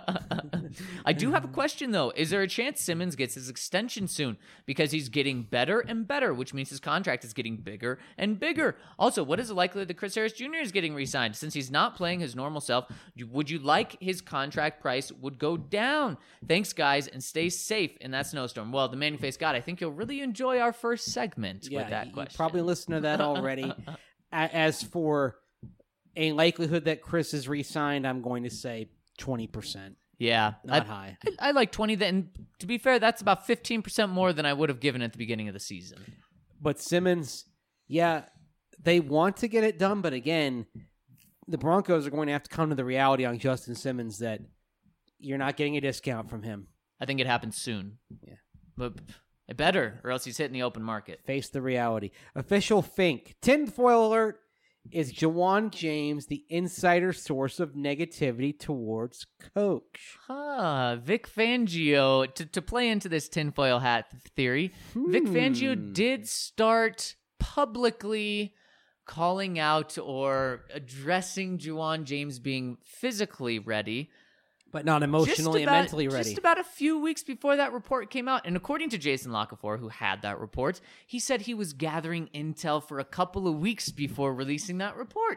I do have a question, though. Is there a chance Simmons gets his extension soon? Because he's getting better and better, which means his contract is getting bigger and bigger. Also, what is the likelihood that Chris Harris Jr. is getting re-signed? Since he's not playing his normal self, would you like his contract price would go down? Thanks, guys, and stay safe in that snowstorm. Well, the Manning-faced God, I think you'll really enjoy our first segment with that you question. probably listened to that already. As for a likelihood that Chris is re-signed, I'm going to say 20%. Yeah. Not high. I like 20. And to be fair, that's about 15% more than I would have given at the beginning of the season. But Simmons, yeah, they want to get it done, but again, the Broncos are going to have to come to the reality on Justin Simmons that you're not getting a discount from him. I think it happens soon. Yeah. But it better, or else he's hitting the open market. Face the reality. Official Fink. Tinfoil alert. Is Jawan James the insider source of negativity towards Coach? Vic Fangio, to play into this tinfoil hat theory, Vic Fangio did start publicly calling out or addressing Jawan James being physically ready. But not emotionally and mentally ready. Just about a few weeks before that report came out. And according to Jason Lockefor, who had that report, he said he was gathering intel for a couple of weeks before releasing that report.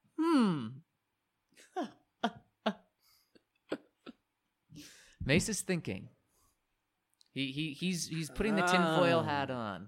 Mace is thinking. He's putting the tinfoil hat on.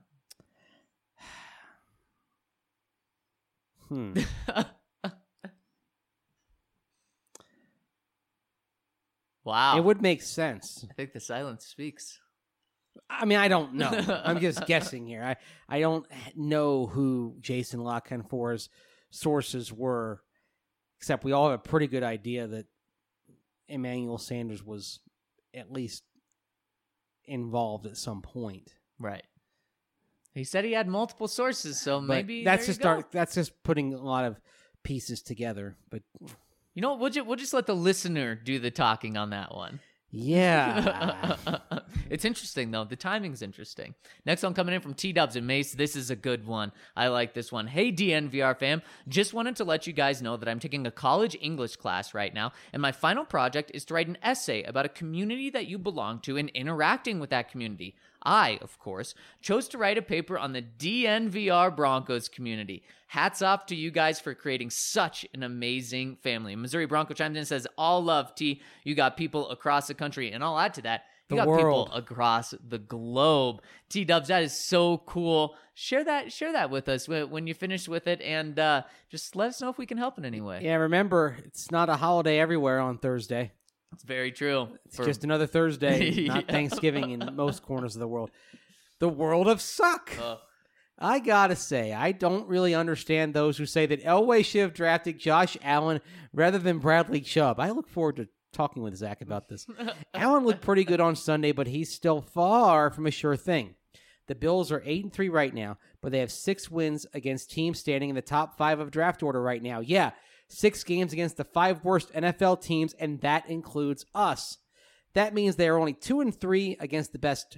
Wow. It would make sense. I think the silence speaks. I mean, I don't know. I'm just guessing here. I don't know who Jason Lockefor's sources were, except we all have a pretty good idea that Emmanuel Sanders was at least involved at some point. Right. He said he had multiple sources, so But maybe that's there you go. that's just putting a lot of pieces together. But You know what? We'll just let the listener do the talking on that one. Yeah. It's interesting, though. The timing's interesting. Next one coming in from T-Dubs and Mace. This is a good one. I like this one. Hey, DNVR fam. Just wanted to let you guys know that I'm taking a college English class right now, and my final project is to write an essay about a community that you belong to and interacting with that community. I, of course, chose to write a paper on the DNVR Broncos community. Hats off to you guys for creating such an amazing family. Missouri Bronco chimed in and says, all love, T. You got people across the country. And I'll add to that, you got world. people across the globe. T-Dubs, that is so cool. Share that with us when you finish with it, and just let us know if we can help in any way. Yeah, remember, it's not a holiday everywhere on Thursday. It's very true. It's just another Thursday, not Thanksgiving in most corners of the world. The world of suck. I gotta say, I don't really understand those who say that Elway should have drafted Josh Allen rather than Bradley Chubb. I look forward to talking with Zach about this. Allen looked pretty good on Sunday, but he's still far from a sure thing. The Bills are 8-3 right now, but they have 6 wins against teams standing in the top 5 of draft order right now. Yeah, 6 games against the 5 worst NFL teams, and that includes us. That means they are only 2-3 against the best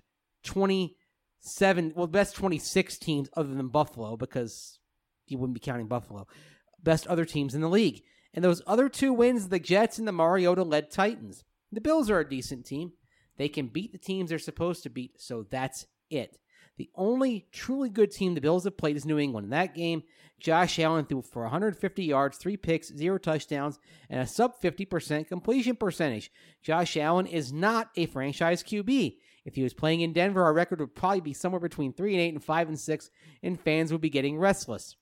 26 teams other than Buffalo, because you wouldn't be counting Buffalo. Best other teams in the league. And those other 2 wins, the Jets and the Mariota-led Titans. The Bills are a decent team. They can beat the teams they're supposed to beat, so that's it. The only truly good team the Bills have played is New England. In that game, Josh Allen threw for 150 yards, 3 picks, 0 touchdowns, and a sub-50% completion percentage. Josh Allen is not a franchise QB. If he was playing in Denver, our record would probably be somewhere between 3-8 and 5-6, and fans would be getting restless.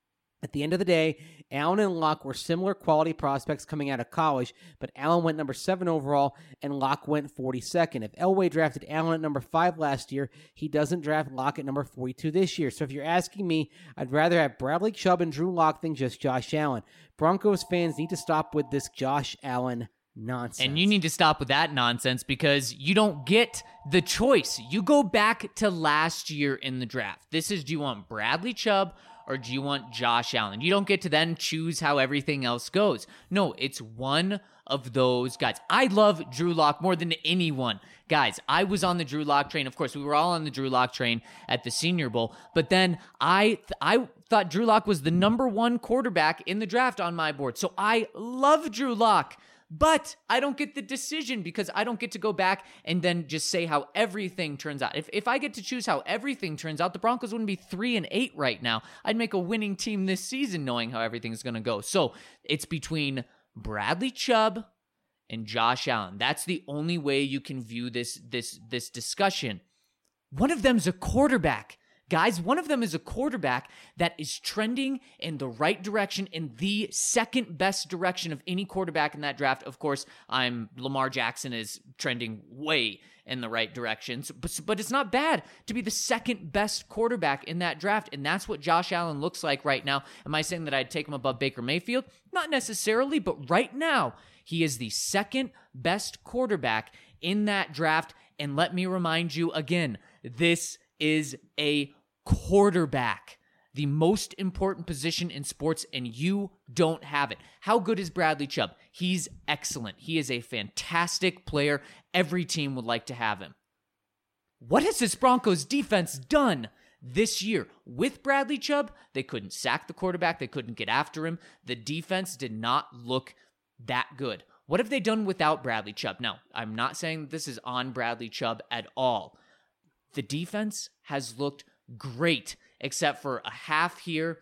At the end of the day, Allen and Locke were similar quality prospects coming out of college, but Allen went number 7 overall, and Locke went 42nd. If Elway drafted Allen at number 5 last year, he doesn't draft Locke at number 42 this year. So if you're asking me, I'd rather have Bradley Chubb and Drew Locke than just Josh Allen. Broncos fans need to stop with this Josh Allen nonsense. And you need to stop with that nonsense, because you don't get the choice. You go back to last year in the draft. This is, do you want Bradley Chubb or do you want Josh Allen? You don't get to then choose how everything else goes. No, it's one of those guys. I love Drew Lock more than anyone. Guys, I was on the Drew Lock train. Of course, we were all on the Drew Lock train at the Senior Bowl. But then I thought Drew Lock was the number 1 quarterback in the draft on my board. So I love Drew Lock. But I don't get the decision, because I don't get to go back and then just say how everything turns out. If I get to choose how everything turns out, the Broncos wouldn't be 3-8 right now. I'd make a winning team this season knowing how everything's going to go. So it's between Bradley Chubb and Josh Allen. That's the only way you can view this discussion. One of them's a quarterback. Guys, one of them is a quarterback that is trending in the right direction, in the second best direction of any quarterback in that draft. Of course, Lamar Jackson is trending way in the right direction, but it's not bad to be the second best quarterback in that draft, and that's what Josh Allen looks like right now. Am I saying that I'd take him above Baker Mayfield? Not necessarily, but right now, he is the second best quarterback in that draft, and let me remind you again, this is a quarterback, the most important position in sports, and you don't have it. How good is Bradley Chubb? He's excellent. He is a fantastic player. Every team would like to have him. What has this Broncos defense done this year? With Bradley Chubb, they couldn't sack the quarterback. They couldn't get after him. The defense did not look that good. What have they done without Bradley Chubb? Now, I'm not saying this is on Bradley Chubb at all. The defense has looked great, except for a half here,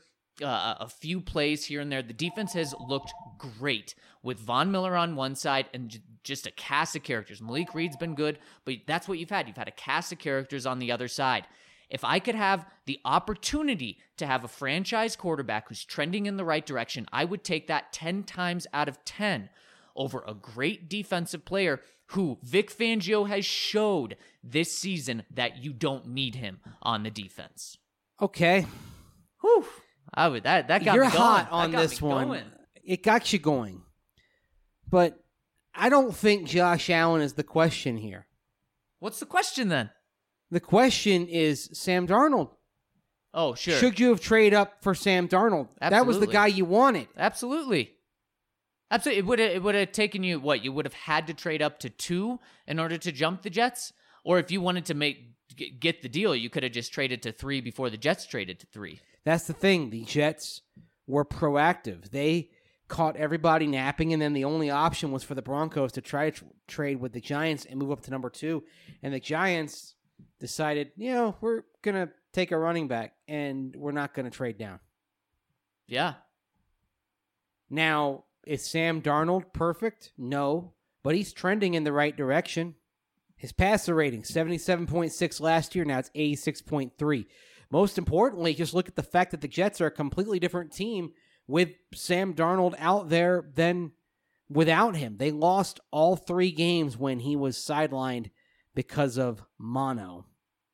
a few plays here and there. The defense has looked great with Von Miller on one side and just a cast of characters. Malik Reed's been good, but that's what you've had. You've had a cast of characters on the other side. If I could have the opportunity to have a franchise quarterback who's trending in the right direction, I would take that 10 times out of 10 over a great defensive player who Vic Fangio has showed this season that you don't need him on the defense. Okay. Whew. That got me going. You're hot on this one. Going. It got you going. But I don't think Josh Allen is the question here. What's the question then? The question is Sam Darnold. Oh, sure. Should you have traded up for Sam Darnold? Absolutely. That was the guy you wanted. Absolutely. Absolutely. It would have taken you, what, you would have had to trade up to 2 in order to jump the Jets? Or if you wanted to get the deal, you could have just traded to 3 before the Jets traded to 3. That's the thing. The Jets were proactive. They caught everybody napping, and then the only option was for the Broncos to try to trade with the Giants and move up to number 2. And the Giants decided, we're going to take a running back, and we're not going to trade down. Yeah. Now, is Sam Darnold perfect? No, but he's trending in the right direction. His passer rating, 77.6 last year. Now it's 86.3. Most importantly, just look at the fact that the Jets are a completely different team with Sam Darnold out there than without him. They lost all 3 games when he was sidelined because of mono.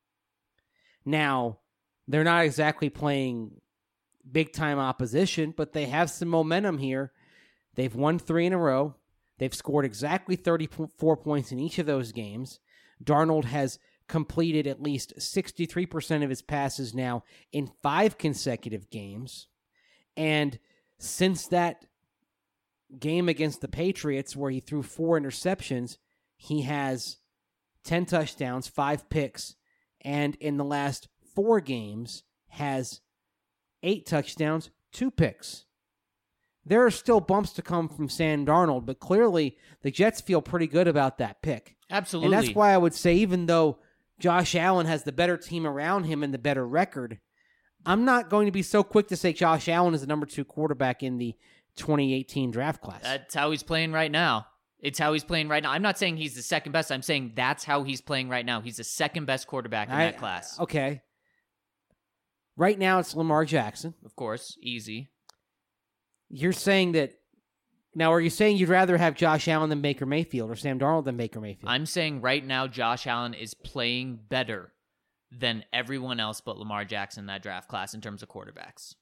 Now, they're not exactly playing big-time opposition, but they have some momentum here. They've won 3 in a row. They've scored exactly 34 points in each of those games. Darnold has completed at least 63% of his passes now in 5 consecutive games. And since that game against the Patriots where he threw 4 interceptions, he has 10 touchdowns, 5 picks, and in the last 4 games has 8 touchdowns, 2 picks. There are still bumps to come from Sam Darnold, but clearly the Jets feel pretty good about that pick. Absolutely. And that's why I would say, even though Josh Allen has the better team around him and the better record, I'm not going to be so quick to say Josh Allen is the number 2 quarterback in the 2018 draft class. That's how he's playing right now. It's how he's playing right now. I'm not saying he's the second best. I'm saying that's how he's playing right now. He's the second best quarterback in that class. Okay. Right now it's Lamar Jackson. Of course. Easy. You're saying that... Now, are you saying you'd rather have Josh Allen than Baker Mayfield or Sam Darnold than Baker Mayfield? I'm saying right now Josh Allen is playing better than everyone else but Lamar Jackson in that draft class in terms of quarterbacks.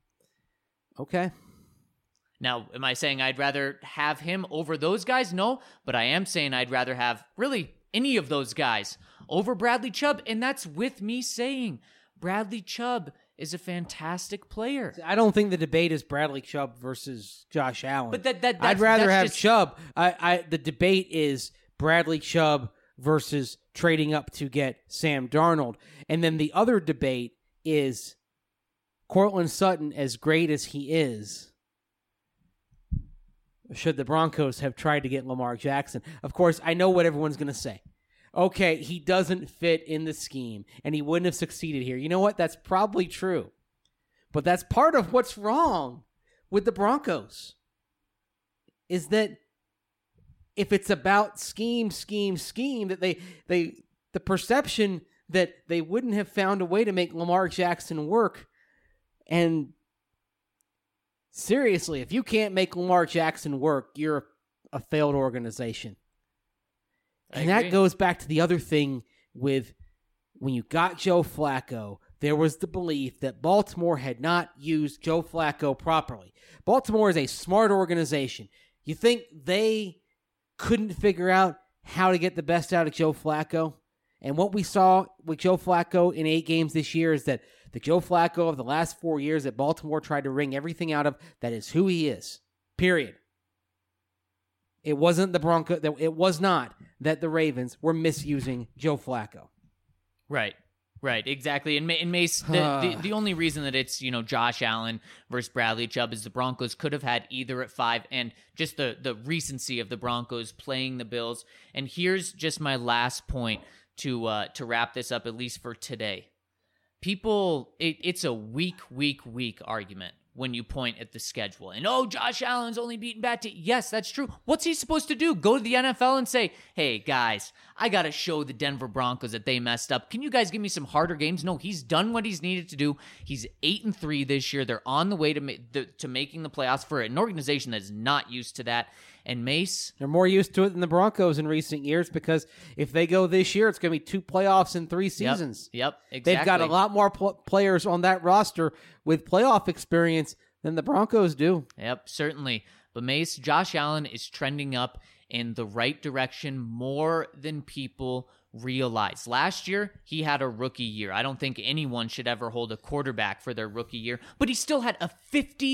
Okay. Now, am I saying I'd rather have him over those guys? No, but I am saying I'd rather have really any of those guys over Bradley Chubb, and that's with me saying Bradley Chubb is a fantastic player. I don't think the debate is Bradley Chubb versus Josh Allen. But I'd rather have Chubb. The debate is Bradley Chubb versus trading up to get Sam Darnold. And then the other debate is Courtland Sutton, as great as he is, should the Broncos have tried to get Lamar Jackson? Of course, I know what everyone's going to say. Okay, he doesn't fit in the scheme, and he wouldn't have succeeded here. You know what? That's probably true. But that's part of what's wrong with the Broncos, is that if it's about scheme, that the perception that they wouldn't have found a way to make Lamar Jackson work. And seriously, if you can't make Lamar Jackson work, you're a failed organization. And that goes back to the other thing with when you got Joe Flacco, there was the belief that Baltimore had not used Joe Flacco properly. Baltimore is a smart organization. You think they couldn't figure out how to get the best out of Joe Flacco? And what we saw with Joe Flacco in 8 games this year is that the Joe Flacco of the last 4 years that Baltimore tried to wring everything out of, that is who he is. Period. It wasn't the Broncos. It was not that the Ravens were misusing Joe Flacco. Right, exactly. And Mace, the only reason that it's Josh Allen versus Bradley Chubb is the Broncos could have had either at 5, and just the recency of the Broncos playing the Bills. And here's just my last point to wrap this up, at least for today. People, it's a weak argument when you point at the schedule. And, Josh Allen's only beaten bad teams. Yes, that's true. What's he supposed to do? Go to the NFL and say, hey, guys, I got to show the Denver Broncos that they messed up. Can you guys give me some harder games? No, he's done what he's needed to do. He's 8-3 this year. They're on the way to making the playoffs for an organization that's not used to that. And Mace, they're more used to it than the Broncos in recent years, because if they go this year, it's going to be 2 playoffs in 3 seasons. Yep, exactly. They've got a lot more players on that roster with playoff experience than the Broncos do. Yep, certainly. But Mace, Josh Allen is trending up in the right direction more than people realize. Last year, he had a rookie year. I don't think anyone should ever hold a quarterback for their rookie year, but he still had a 50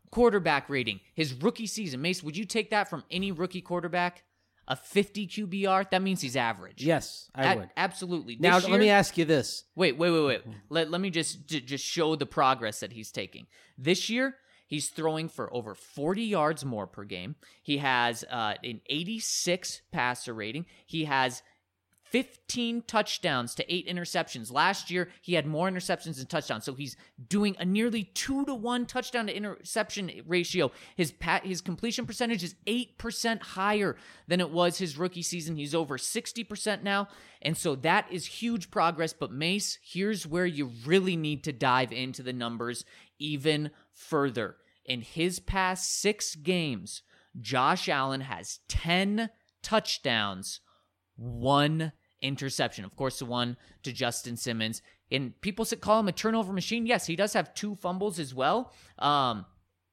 quarterback rating. His rookie season. Mace, would you take that from any rookie quarterback? A 50 QBR? That means he's average. Yes, I would. Absolutely. Now, This let me year- ask you this. Wait. Let me just show the progress that he's taking. This year, he's throwing for over 40 yards more per game. He has an 86 passer rating. He has 15 touchdowns to 8 interceptions. Last year, he had more interceptions than touchdowns. So he's doing a nearly 2-to-1 touchdown to interception ratio. His completion percentage is 8% higher than it was his rookie season. He's over 60% now. And so that is huge progress. But Mace, here's where you really need to dive into the numbers even further. In his past 6 games, Josh Allen has 10 touchdowns, 1 interception. Of course, the one to Justin Simmons. And people call him a turnover machine. Yes, he does have 2 fumbles as well. I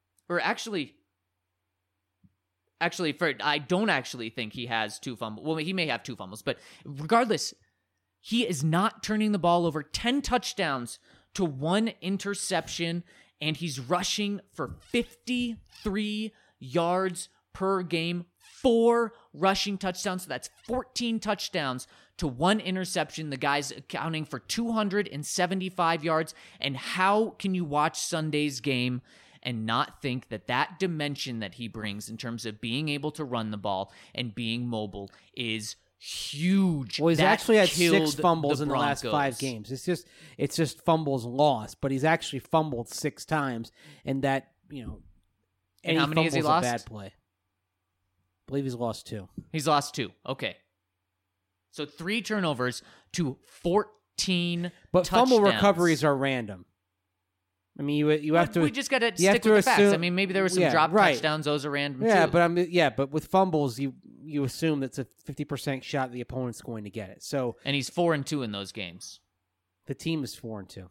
don't actually think he has 2 fumbles. Well, he may have 2 fumbles, but regardless, he is not turning the ball over. 10 touchdowns to 1 interception, and he's rushing for 53 yards per game. 4 rushing touchdowns, so that's 14 touchdowns to 1 interception. The guy's accounting for 275 yards. And how can you watch Sunday's game and not think that dimension that he brings in terms of being able to run the ball and being mobile is huge? Well, he's That actually had killed 6 fumbles the in the last Broncos. 5 games. It's just fumbles lost, but he's actually fumbled 6 times, and that, And any how many has he fumble's lost? a bad play. I believe he's lost 2. He's lost 2. Okay. So 3 turnovers to 14 But touchdowns. fumble recoveries are random. I mean, you have to. We just got to you have stick to with the facts. assume- I mean, maybe there were some yeah, drop right. touchdowns. Those are random Yeah, too. but with fumbles, you assume that's a 50% shot the opponent's going to get it. So And he's 4-2 in those games. the team is 4-2.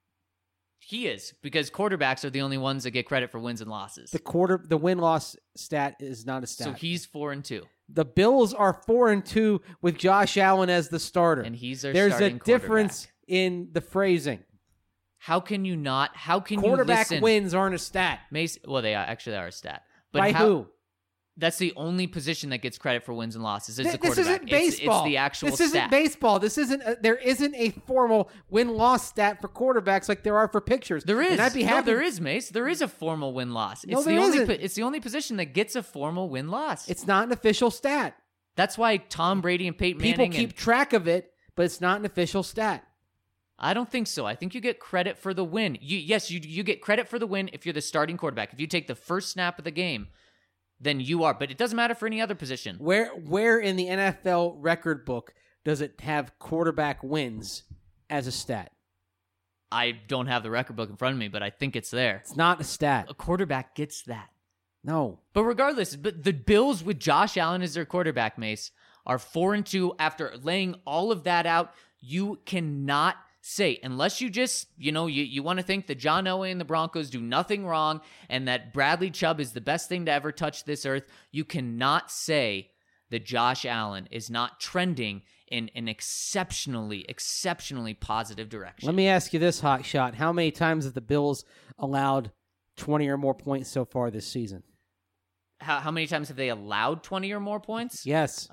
He is, because quarterbacks are the only ones that get credit for wins and losses. The win-loss stat is not a stat. So he's 4-2. The Bills are 4-2 with Josh Allen as the starter. And he's their There's a starting difference quarterback. in the phrasing. How can you not? How can Quarterback you listen? wins aren't a stat. Mace, well, they are a stat. But By who? That's the only position that gets credit for wins and losses. Is the This quarterback. isn't baseball. It's the actual This stat. isn't baseball. This isn't. There isn't a formal win-loss stat for quarterbacks like there are for pitchers. There is. And I'd be happy. No, there is, Mace. There is a formal win-loss. No, It's there the only. isn't. It's the only position that gets a formal win-loss. It's not an official stat. That's why Tom Brady and Peyton People Manning. keep track of it, but it's not an official stat. I don't think so. I think you get credit for the win. You get credit for the win if you're the starting quarterback. If you take the first snap of the game, then you are. But it doesn't matter for any other position. Where in the NFL record book does it have quarterback wins as a stat? I don't have the record book in front of me, but I think it's there. It's not a stat. A quarterback gets that. No. But regardless, but the Bills with Josh Allen as their quarterback, Mace, are 4-2. After laying all of that out, you cannot say, unless you just, you want to think that John Elway and the Broncos do nothing wrong and that Bradley Chubb is the best thing to ever touch this earth, you cannot say that Josh Allen is not trending in an exceptionally positive direction. Let me ask you this, hot shot. How many times have the Bills allowed 20 or more points so far this season? How many times have they allowed 20 or more points? Yes.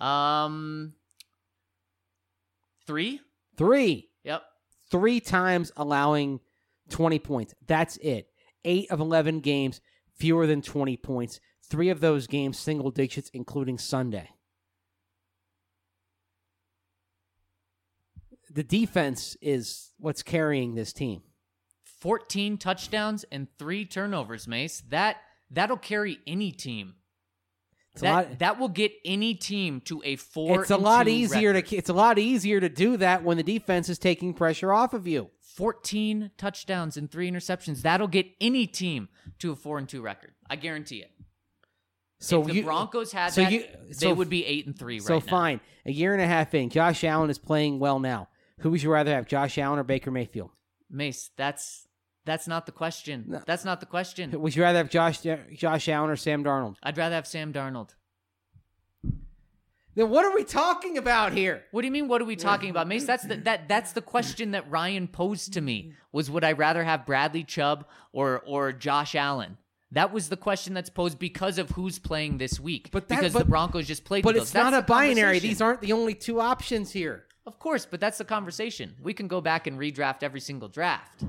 3? 3. Yep. 3 times allowing 20 points. That's it. 8 of 11 games, fewer than 20 points. 3 of those games, single digits, including Sunday. The defense is what's carrying this team. 14 touchdowns and 3 turnovers, Mace. That'll carry any team. That will get any team to a 4-2 It's a lot easier record. it's a lot easier to do that when the defense is taking pressure off of you. 14 touchdowns and 3 interceptions. That'll get any team to a 4-2 record. I guarantee it. So if the Broncos had so that, you- they so- would be 8-3 right So now. fine. A year and a half in, Josh Allen is playing well now. Who would you rather have, Josh Allen or Baker Mayfield? Mace, that's not the question. No. That's not the question. Would you rather have Josh Allen or Sam Darnold? I'd rather have Sam Darnold. Then what are we talking about here? What do you mean? What are we talking about, Mace? That's the question that Ryan posed to me. Was would I rather have Bradley Chubb or Josh Allen? That was the question that's posed because of who's playing this week. Because the Broncos just played But the it's Bills. not a That's the binary. conversation. These aren't the only two options here. Of course, but that's the conversation. We can go back and redraft every single draft.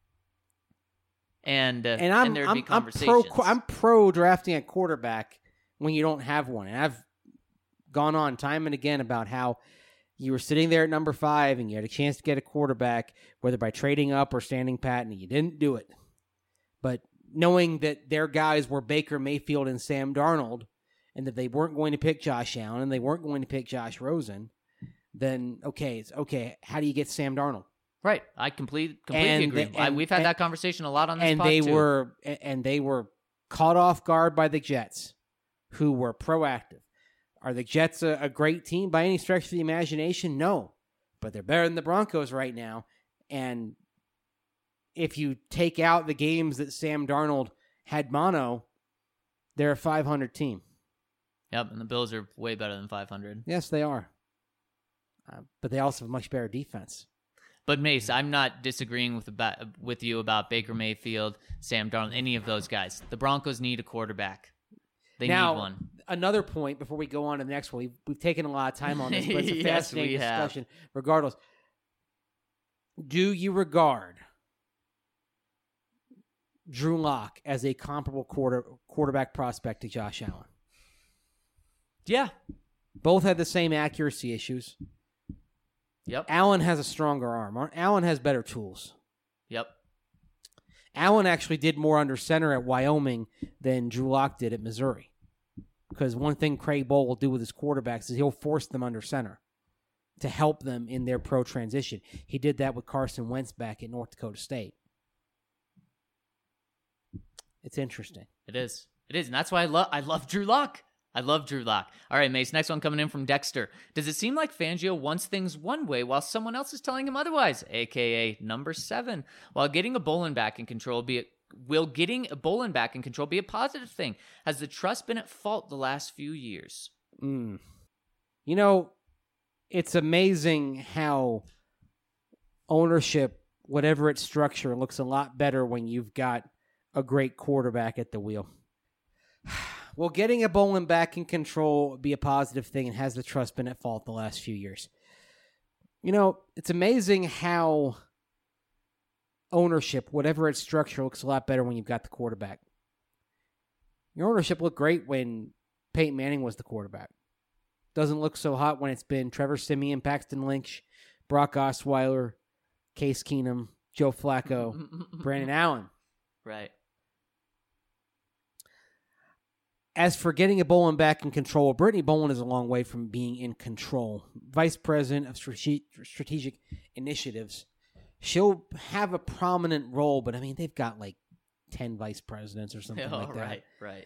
And there'd be conversations. I'm pro drafting a quarterback when you don't have one. And I've gone on time and again about how you were sitting there at number 5 and you had a chance to get a quarterback, whether by trading up or standing pat, and you didn't do it. But knowing that their guys were Baker Mayfield and Sam Darnold, and that they weren't going to pick Josh Allen and they weren't going to pick Josh Rosen, then it's okay. How do you get Sam Darnold? Right. I completely agree. We've had that conversation a lot on this pod, too. And they were caught off guard by the Jets, who were proactive. Are the Jets a great team by any stretch of the imagination? No. But they're better than the Broncos right now. And if you take out the games that Sam Darnold had mono, they're a 500 team. Yep, and the Bills are way better than 500. Yes, they are. But they also have a much better defense. But Mace, I'm not disagreeing with you about Baker Mayfield, Sam Darnold, any of those guys. The Broncos need a quarterback. They need one. Another point before we go on to the next one. We've taken a lot of time on this, but it's a Yes, fascinating we have. discussion. Regardless, do you regard Drew Lock as a comparable quarterback prospect to Josh Allen? Yeah. Both had the same accuracy issues. Yep. Allen has a stronger arm. Allen has better tools. Yep. Allen actually did more under center at Wyoming than Drew Lock did at Missouri. Because one thing Craig Bohl will do with his quarterbacks is he'll force them under center to help them in their pro transition. He did that with Carson Wentz back at North Dakota State. It's interesting. It is. And that's why I love Drew Lock. I love Drew Lock. All right, Mace, next one coming in from Dexter. Does it seem like Fangio wants things one way while someone else is telling him otherwise? AKA number 7. While getting a Bolin back in control will getting a Bolin back in control be a positive thing? Has the trust been at fault the last few years? You know, it's amazing how ownership, whatever its structure, looks a lot better when you've got a great quarterback at the wheel. Will getting a Bolin back in control be a positive thing, and has the trust been at fault the last few years? You know, it's amazing how ownership, whatever its structure, looks a lot better when you've got the quarterback. Your ownership looked great when Peyton Manning was the quarterback. Doesn't look so hot when it's been Trevor Siemian, Paxton Lynch, Brock Osweiler, Case Keenum, Joe Flacco, Brandon Allen. Right. As for getting a Bolin back in control, Brittany Bolin is a long way from being in control. Vice President of Strategic Initiatives. She'll have a prominent role, but I mean, they've got like 10 vice presidents or something like that. Right.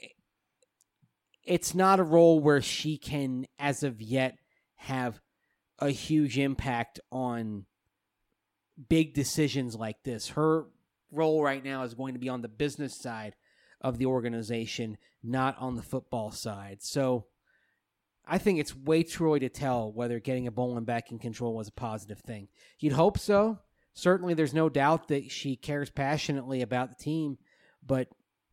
It's not a role where she can, as of yet, have a huge impact on big decisions like this. Her role right now is going to be on the business side of the organization, not on the football side. So I think it's way too early to tell whether getting a Bolin back in control was a positive thing. You'd hope so. Certainly there's no doubt that she cares passionately about the team, but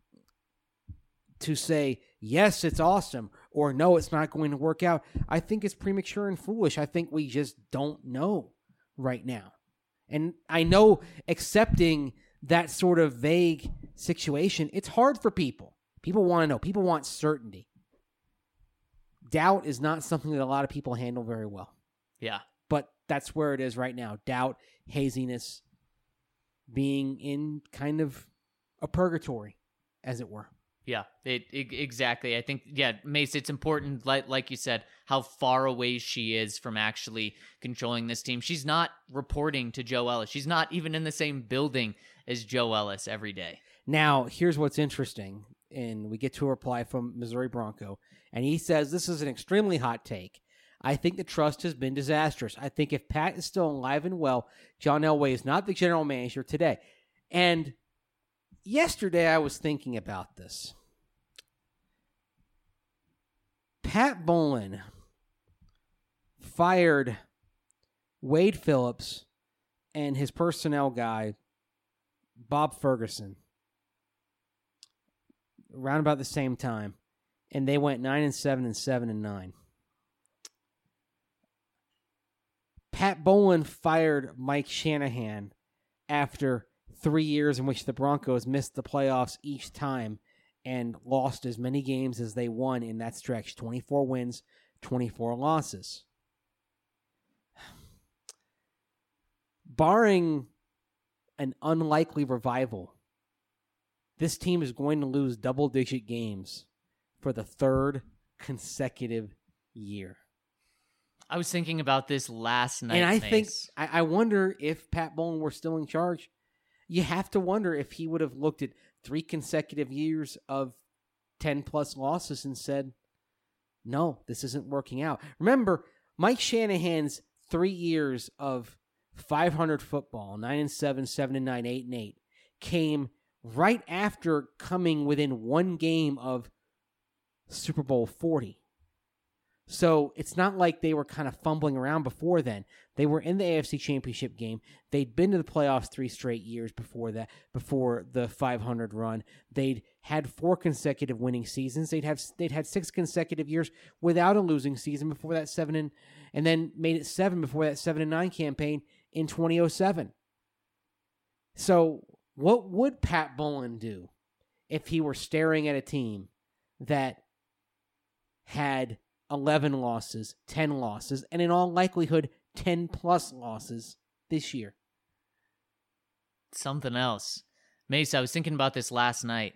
to say, yes, it's awesome, or no, it's not going to work out, I think it's premature and foolish. I think we just don't know right now. And I know accepting that sort of vague situation, it's hard for people. People want to know. People want certainty. Doubt is not something that a lot of people handle very well. Yeah. But that's where it is right now. Doubt, haziness, being in kind of a purgatory, as it were. Yeah, exactly. I think, Mace, it's important, like you said, how far away she is from actually controlling this team. She's not reporting to Joe Ellis. She's not even in the same building as Joe Ellis every day. Now, here's what's interesting, and we get to a reply from Missouri Bronco, and he says, this is an extremely hot take. I think the trust has been disastrous. I think if Pat is still alive and well, John Elway is not the general manager today. And yesterday I was thinking about this. Pat Bolin fired Wade Phillips and his personnel guy, Bob Ferguson, around about the same time, and they went 9-7 and 7-9. Pat Bowlen fired Mike Shanahan after 3 years in which the Broncos missed the playoffs each time and lost as many games as they won in that stretch. 24 wins, 24 losses. Barring an unlikely revival, this team is going to lose double-digit games for the third consecutive year. I was thinking about this last night, and I Mace. think I wonder if Pat Bowlen were still in charge. You have to wonder if he would have looked at 3 consecutive years of 10-plus losses and said, no, this isn't working out. Remember, Mike Shanahan's 3 years of 500 football, 9-7, 7-9, 8-8, came right after coming within 1 game of Super Bowl 40. So it's not like they were kind of fumbling around before then. They were in the AFC Championship game. They'd been to the playoffs 3 straight years before that, before the 500 run. They'd had 4 consecutive winning seasons. They'd had 6 consecutive years without a losing season before that 7 and then made it 7 before that 7-9 campaign in 2007. So what would Pat Bowlen do if he were staring at a team that had 11 losses, 10 losses, and in all likelihood, 10-plus losses this year? Something else. Mace, I was thinking about this last night,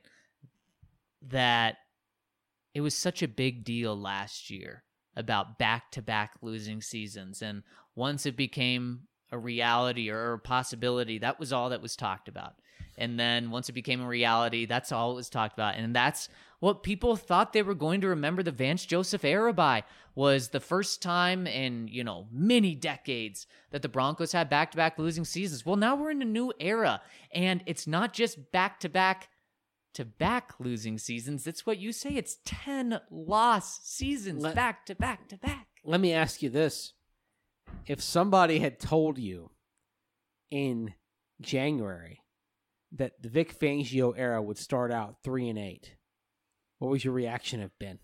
that it was such a big deal last year about back-to-back losing seasons. And once it became a reality or a possibility, that was all that was talked about. And then once it became a reality, that's all it was talked about. And that's what people thought they were going to remember the Vance Joseph era by, was the first time in, many decades that the Broncos had back-to-back losing seasons. Well, now we're in a new era, and it's not just back-to-back losing seasons. It's what you say. It's 10 loss seasons back-to-back-to-back. Let me ask you this. If somebody had told you in January that the Vic Fangio era would start out 3-8, what would your reaction have been?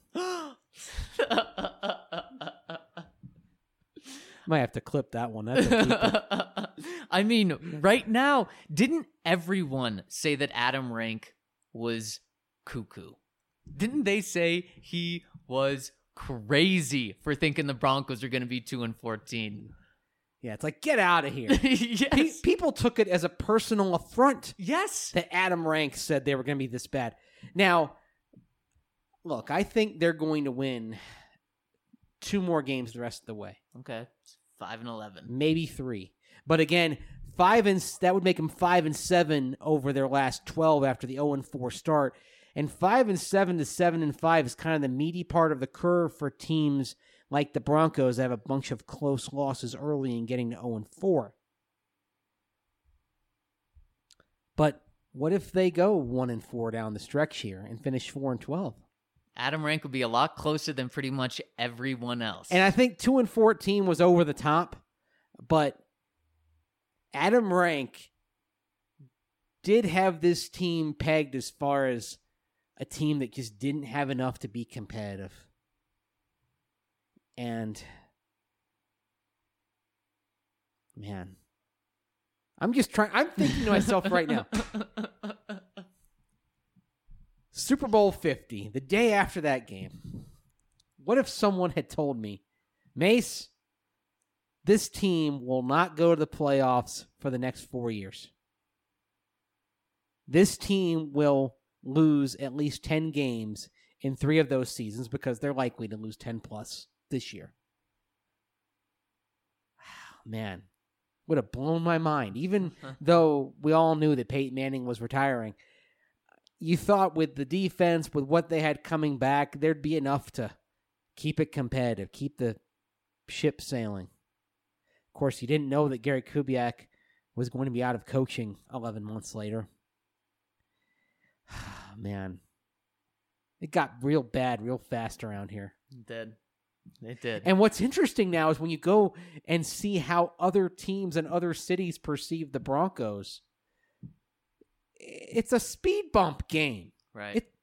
Might have to clip that one. That's a keeper. I mean, right now, didn't everyone say that Adam Rank was cuckoo? Didn't they say he was crazy for thinking the Broncos are going to be 2-14? Yeah, it's like, get out of here. Yes. People took it as a personal affront. Yes. That Adam Rank said they were going to be this bad. Now, look, I think they're going to win 2 more games the rest of the way. Okay. 5-11. Maybe 3. But again, that would make them 5-7 over their last 12 after the 0-4 start. And 5-7 to 7-5 is kind of the meaty part of the curve for teams like the Broncos that have a bunch of close losses early and getting to 0-4. But what if they go 1-4 down the stretch here and finish 4-12? Adam Rank would be a lot closer than pretty much everyone else. And I think 2-14 was over the top, but Adam Rank did have this team pegged as far as a team that just didn't have enough to be competitive. And, man, I'm thinking to myself right now, Super Bowl 50, the day after that game, what if someone had told me, Mace, this team will not go to the playoffs for the next 4 years. This team will lose at least 10 games in 3 of those seasons because they're likely to lose 10 plus this year. Man, would have blown my mind. Even though we all knew that Peyton Manning was retiring, you thought with the defense, with what they had coming back, there'd be enough to keep it competitive, keep the ship sailing. Of course, you didn't know that Gary Kubiak was going to be out of coaching 11 months later. Man, it got real bad real fast around here. It did. And what's interesting now is when you go and see how other teams and other cities perceive the Broncos, it's a speed bump game. Right.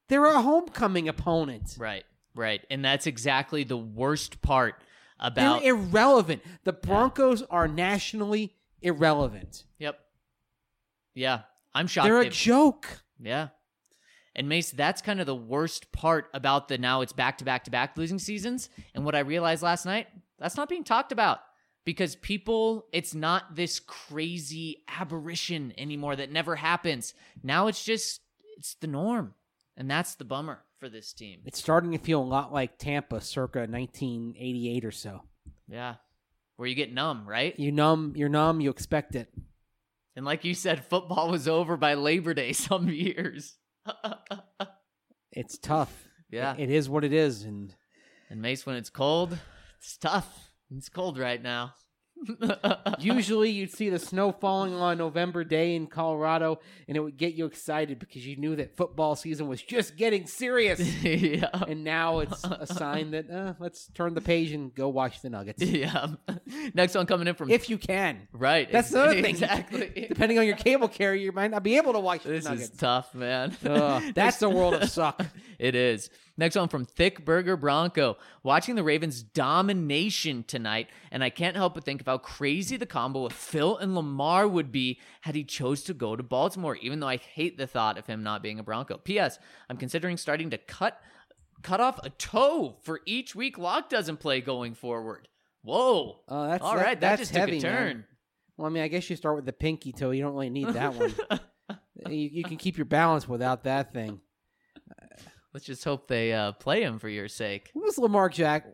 They're a homecoming opponent. Right. And that's exactly the worst part about... They're irrelevant. The Broncos are nationally irrelevant. Yep. Yeah. I'm shocked. They're a joke. Yeah. And Mace, that's kind of the worst part about the now it's back-to-back-to-back losing seasons. And what I realized last night, that's not being talked about. Because people, it's not this crazy aberration anymore that never happens. Now it's the norm. And that's the bummer for this team. It's starting to feel a lot like Tampa circa 1988 or so. Yeah. Where you get numb, right? You're numb, you expect it. And like you said, football was over by Labor Day some years. It's tough. Yeah. It is what it is. And Mace, when it's cold, it's tough. It's cold right now. Usually you'd see the snow falling on November day in Colorado, and it would get you excited because you knew that football season was just getting serious. Yeah. And now it's a sign that let's turn the page and go watch the Nuggets. Yeah. Next one coming in from... If you can. Right. That's another thing. Exactly. Depending on your cable carrier, you might not be able to watch the Nuggets. This is tough, man. That's the world of suck. It is. Next one from Thick Burger Bronco. Watching the Ravens' domination tonight, and I can't help but think of how crazy the combo of Phil and Lamar would be had he chose to go to Baltimore, even though I hate the thought of him not being a Bronco. P.S. I'm considering starting to cut off a toe for each week Locke doesn't play going forward. Whoa. All right, that that's just heavy, took a turn. man. Well, I mean, I guess you start with the pinky toe. You don't really need that one. You can keep your balance without that thing. Let's just hope they play him for your sake. What was Lamar Jack?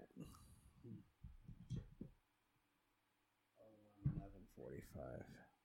11:45.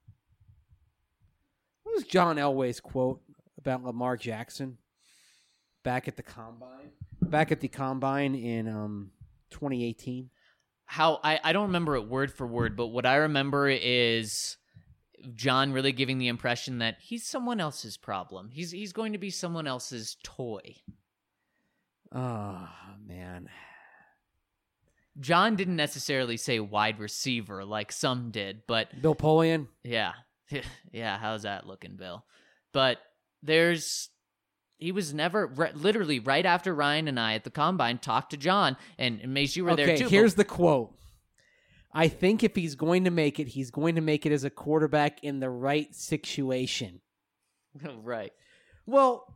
What was John Elway's quote about Lamar Jackson back at the combine? Back at the combine in 2018. How I don't remember it word for word, but what I remember is John really giving the impression that he's someone else's problem. He's going to be someone else's toy. Oh, man. John didn't necessarily say wide receiver like some did, but... Bill Polian? Yeah. Yeah, how's that looking, Bill? But he was never... Literally, right after Ryan and I at the Combine talked to John, and Mace, you were there too. Okay, here's the quote. I think if he's going to make it, he's going to make it as a quarterback in the right situation. Right. Well...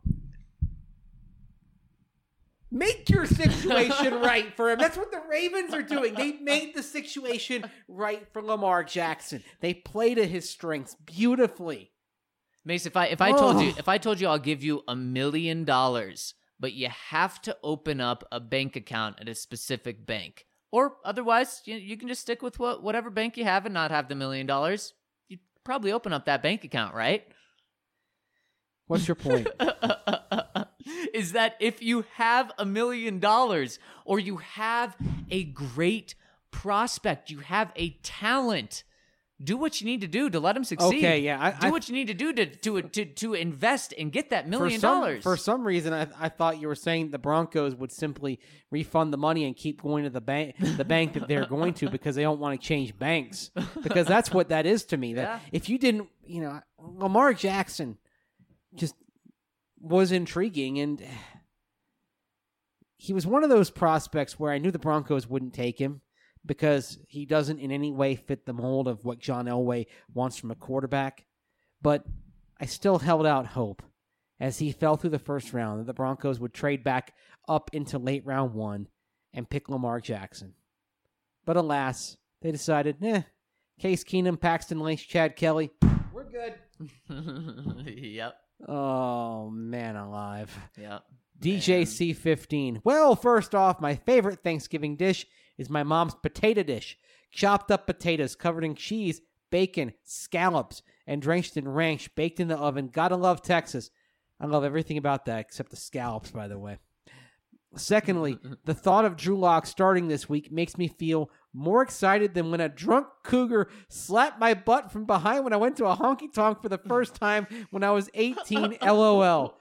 Make your situation right for him. That's what the Ravens are doing. They made the situation right for Lamar Jackson. They played to his strengths beautifully. Mace, if I told you I'll give you $1 million, but you have to open up a bank account at a specific bank, or otherwise you can just stick with whatever bank you have and not have the $1 million, you'd probably open up that bank account, right? What's your point? Is that if you have $1 million or you have a great prospect, you have a talent, do what you need to do to let him succeed. Okay, yeah. Do what you need to do to invest and get that $1 million. For some reason, I thought you were saying the Broncos would simply refund the money and keep going to the bank that they're going to because they don't want to change banks. Because that's what that is to me. That if you didn't, Lamar Jackson just was intriguing, and he was one of those prospects where I knew the Broncos wouldn't take him because he doesn't in any way fit the mold of what John Elway wants from a quarterback. But I still held out hope as he fell through the first round that the Broncos would trade back up into late round 1 and pick Lamar Jackson. But alas, they decided, Case Keenum, Paxton Lynch, Chad Kelly, we're good. Yep. Oh, man alive. Yep. DJC15. Well, first off, my favorite Thanksgiving dish is my mom's potato dish. Chopped up potatoes covered in cheese, bacon, scallops, and drenched in ranch, baked in the oven. Gotta love Texas. I love everything about that except the scallops, by the way. Secondly, the thought of Drew Lock starting this week makes me feel more excited than when a drunk cougar slapped my butt from behind when I went to a honky-tonk for the first time when I was 18, LOL.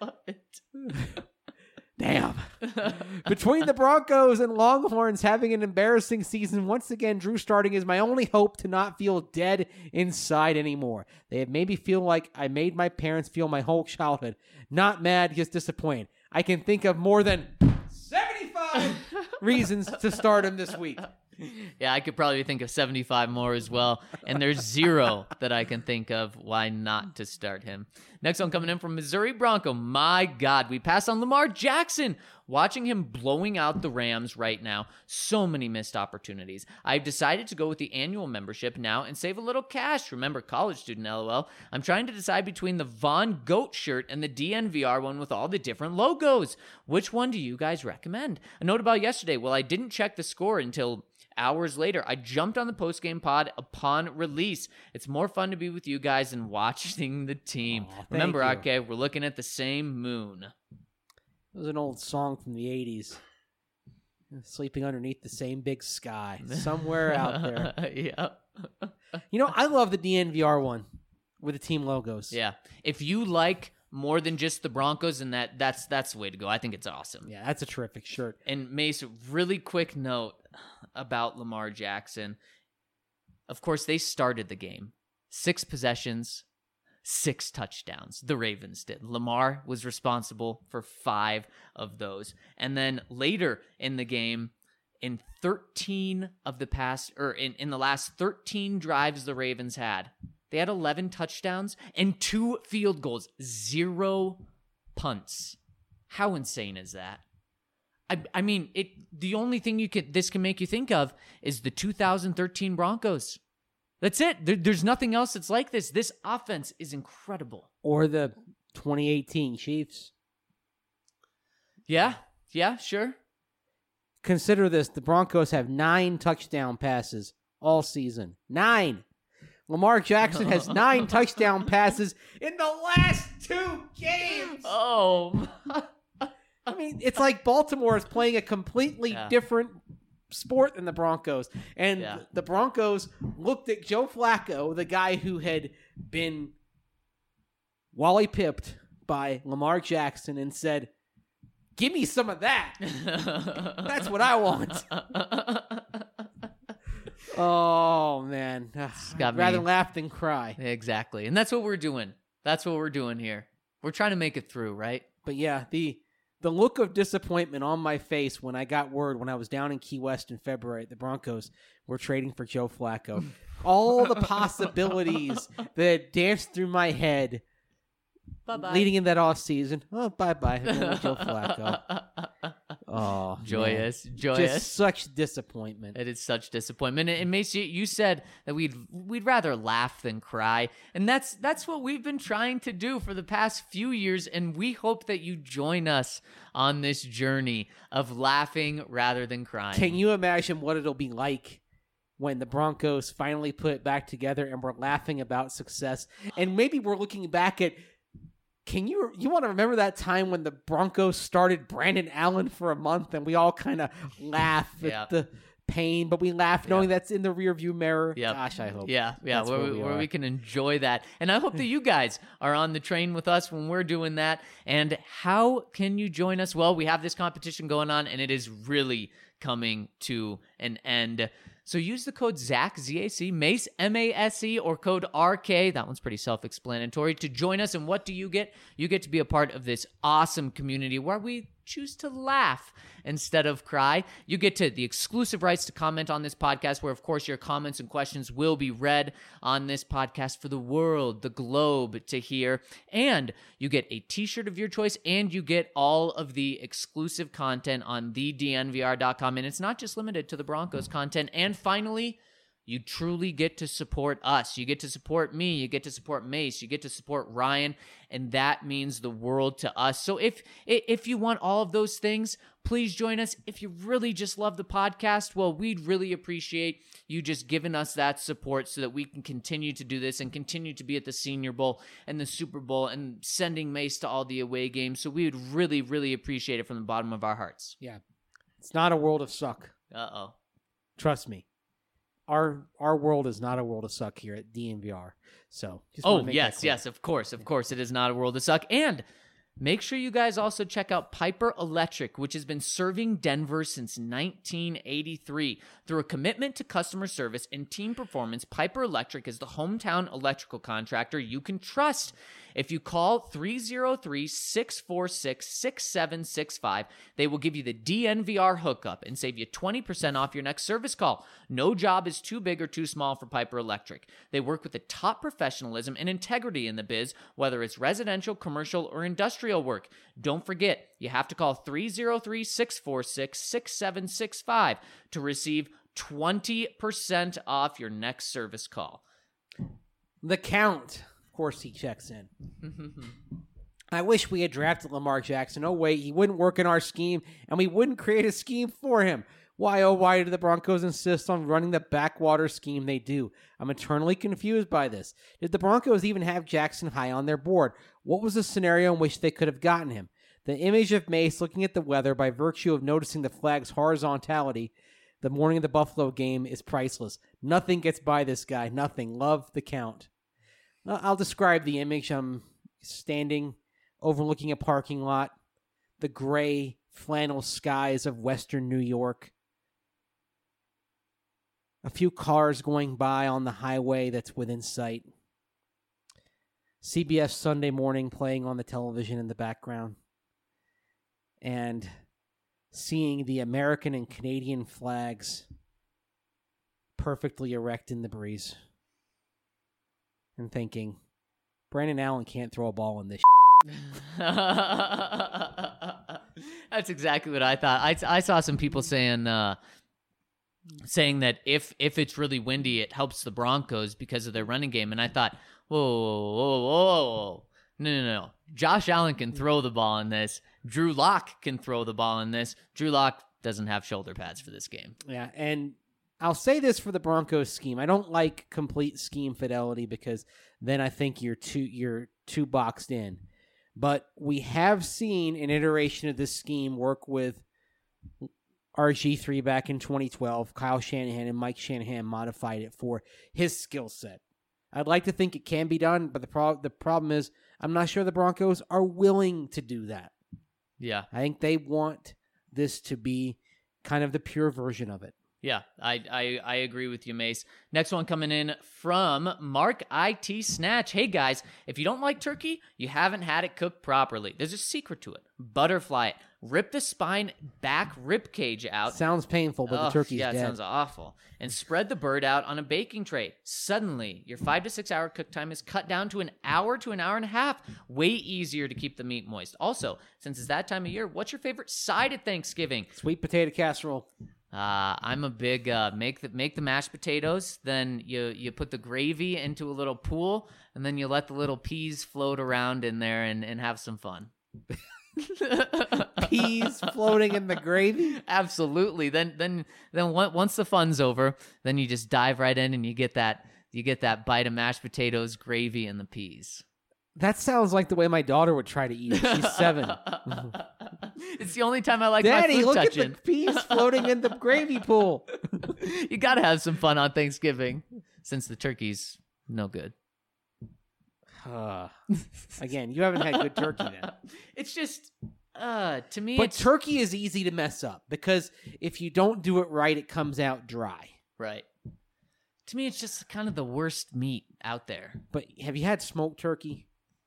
Damn. Between the Broncos and Longhorns having an embarrassing season, once again, Drew starting is my only hope to not feel dead inside anymore. They have made me feel like I made my parents feel my whole childhood. Not mad, just disappointed. I can think of more than 75 reasons to start him this week. Yeah, I could probably think of 75 more as well. And there's 0 that I can think of why not to start him. Next one coming in from Missouri Bronco. My God, we pass on Lamar Jackson. Watching him blowing out the Rams right now, so many missed opportunities. I've decided to go with the annual membership now and save a little cash. Remember, college student, LOL. I'm trying to decide between the Von Goat shirt and the DNVR one with all the different logos. Which one do you guys recommend? A note about yesterday. Well, I didn't check the score until hours later. I jumped on the postgame pod upon release. It's more fun to be with you guys than watching the team. Remember, RK, we're looking at the same moon. It was an old song from the 80s. Sleeping underneath the same big sky. Somewhere out there. Yeah. You know, I love the DNVR one with the team logos. Yeah. If you like more than just the Broncos, and that's the way to go. I think it's awesome. Yeah, that's a terrific shirt. And Mace, really quick note about Lamar Jackson. Of course, they started the game. 6 possessions, 6 touchdowns. The Ravens did. Lamar was responsible for 5 of those. And then later in the game, in 13 of the past, or in the last 13 drives the Ravens had, they had 11 touchdowns and 2 field goals, 0 punts. How insane is that? I mean, the only thing this can make you think of is the 2013 Broncos. That's it. There's nothing else that's like this. This offense is incredible. Or the 2018 Chiefs. Yeah, sure. Consider this. The Broncos have 9 touchdown passes all season. 9. Lamar Jackson has 9 touchdown passes in the last 2 games. Oh. I mean, it's like Baltimore is playing a completely different sport than the Broncos. And the Broncos looked at Joe Flacco, the guy who had been Wally pipped by Lamar Jackson, and said, "Give me some of that. That's what I want." Oh, man. I'd rather laugh than cry. Exactly. And that's what we're doing. That's what we're doing here. We're trying to make it through, right? But yeah, the look of disappointment on my face when I got word when I was down in Key West in February, the Broncos were trading for Joe Flacco. All the possibilities that danced through my head leading in that offseason. Oh, bye-bye. Joe Flacco. Oh, joyous. Just such disappointment. It is such disappointment. And Macy, you said that we'd rather laugh than cry, and that's what we've been trying to do for the past few years, and we hope that you join us on this journey of laughing rather than crying. Can you imagine what it'll be like when the Broncos finally put it back together and we're laughing about success, and maybe we're looking back at, you want to remember that time when the Broncos started Brandon Allen for a month and we all kind of laugh at the pain, but we laugh knowing that's in the rearview mirror. Yep. Gosh, I hope. Yeah, where we can enjoy that. And I hope that you guys are on the train with us when we're doing that. And how can you join us? Well, we have this competition going on, and it is really coming to an end. So use the code ZAC, Z-A-C, Mace, M-A-S-E, or code RK. That one's pretty self-explanatory to join us. And what do you get? You get to be a part of this awesome community where we choose to laugh instead of cry. You get to the exclusive rights to comment on this podcast, where, of course, your comments and questions will be read on this podcast for the world, the globe to hear. And you get a t-shirt of your choice, and you get all of the exclusive content on thednvr.com. And it's not just limited to the Broncos content. And finally, you truly get to support us. You get to support me. You get to support Mace. You get to support Ryan. And that means the world to us. So if you want all of those things, please join us. If you really just love the podcast, well, we'd really appreciate you just giving us that support so that we can continue to do this and continue to be at the Senior Bowl and the Super Bowl and sending Mace to all the away games. So we would really, really appreciate it from the bottom of our hearts. Yeah. It's not a world of suck. Uh-oh. Trust me. Our world is not a world of suck here at DNVR. So, yes, of course it is not a world of suck. And Make sure you guys also check out Piper Electric, which has been serving Denver since 1983. Through a commitment to customer service and team performance, Piper Electric is the hometown electrical contractor you can trust. If you call 303-646-6765, they will give you the DNVR hookup and save you 20% off your next service call. No job is too big or too small for Piper Electric. They work with the top professionalism and integrity in the biz, whether it's residential, commercial, or industrial work. Don't forget, you have to call 303-646-6765 to receive 20% off your next service call. The Count. Of course, he checks in. I wish we had drafted Lamar Jackson. Oh, wait, he wouldn't work in our scheme, and we wouldn't create a scheme for him. Why, oh, why do the Broncos insist on running the backwater scheme they do? I'm eternally confused by this. Did the Broncos even have Jackson high on their board? What was the scenario in which they could have gotten him? The image of Mace looking at the weather by virtue of noticing the flag's horizontality the morning of the Buffalo game is priceless. Nothing gets by this guy. Nothing. Love the Count. I'll describe the image. I'm standing overlooking a parking lot, the gray flannel skies of western New York, a few cars going by on the highway that's within sight, CBS Sunday Morning playing on the television in the background, and seeing the American and Canadian flags perfectly erect in the breeze. And thinking, Brandon Allen can't throw a ball in this. That's exactly what I thought. I saw some people saying that if it's really windy, it helps the Broncos because of their running game. And I thought, whoa. No. Josh Allen can throw the ball in this. Drew Lock can throw the ball in this. Drew Lock doesn't have shoulder pads for this game. Yeah, and I'll say this for the Broncos scheme. I don't like complete scheme fidelity because then I think you're too boxed in. But we have seen an iteration of this scheme work with RG3 back in 2012. Kyle Shanahan and Mike Shanahan modified it for his skill set. I'd like to think it can be done, but the problem is I'm not sure the Broncos are willing to do that. Yeah. I think they want this to be kind of the pure version of it. Yeah, I agree with you, Mace. Next one coming in from Mark IT Snatch. Hey, guys, if you don't like turkey, you haven't had it cooked properly. There's a secret to it. Butterfly it. Rip the spine back rib cage out. Sounds painful, but the turkey's dead. Yeah, it sounds awful. And spread the bird out on a baking tray. Suddenly, your 5 to 6 hour cook time is cut down to an hour to an hour and a half. Way easier to keep the meat moist. Also, since it's that time of year, what's your favorite side at Thanksgiving? Sweet potato casserole. I'm a big make the mashed potatoes, then you put the gravy into a little pool, and then you let the little peas float around in there and have some fun. Peas floating in the gravy? Absolutely. Then once the fun's over, then you just dive right in and you get that bite of mashed potatoes, gravy, and the peas. That sounds like the way my daughter would try to eat it. She's 7. It's the only time I like Daddy, my food look touching. at the peas floating in the gravy pool. You got to have some fun on Thanksgiving since the turkey's no good. Again, you haven't had good turkey then. It's just, to me, but turkey is easy to mess up because if you don't do it right, it comes out dry. Right. To me, it's just kind of the worst meat out there. But have you had smoked turkey?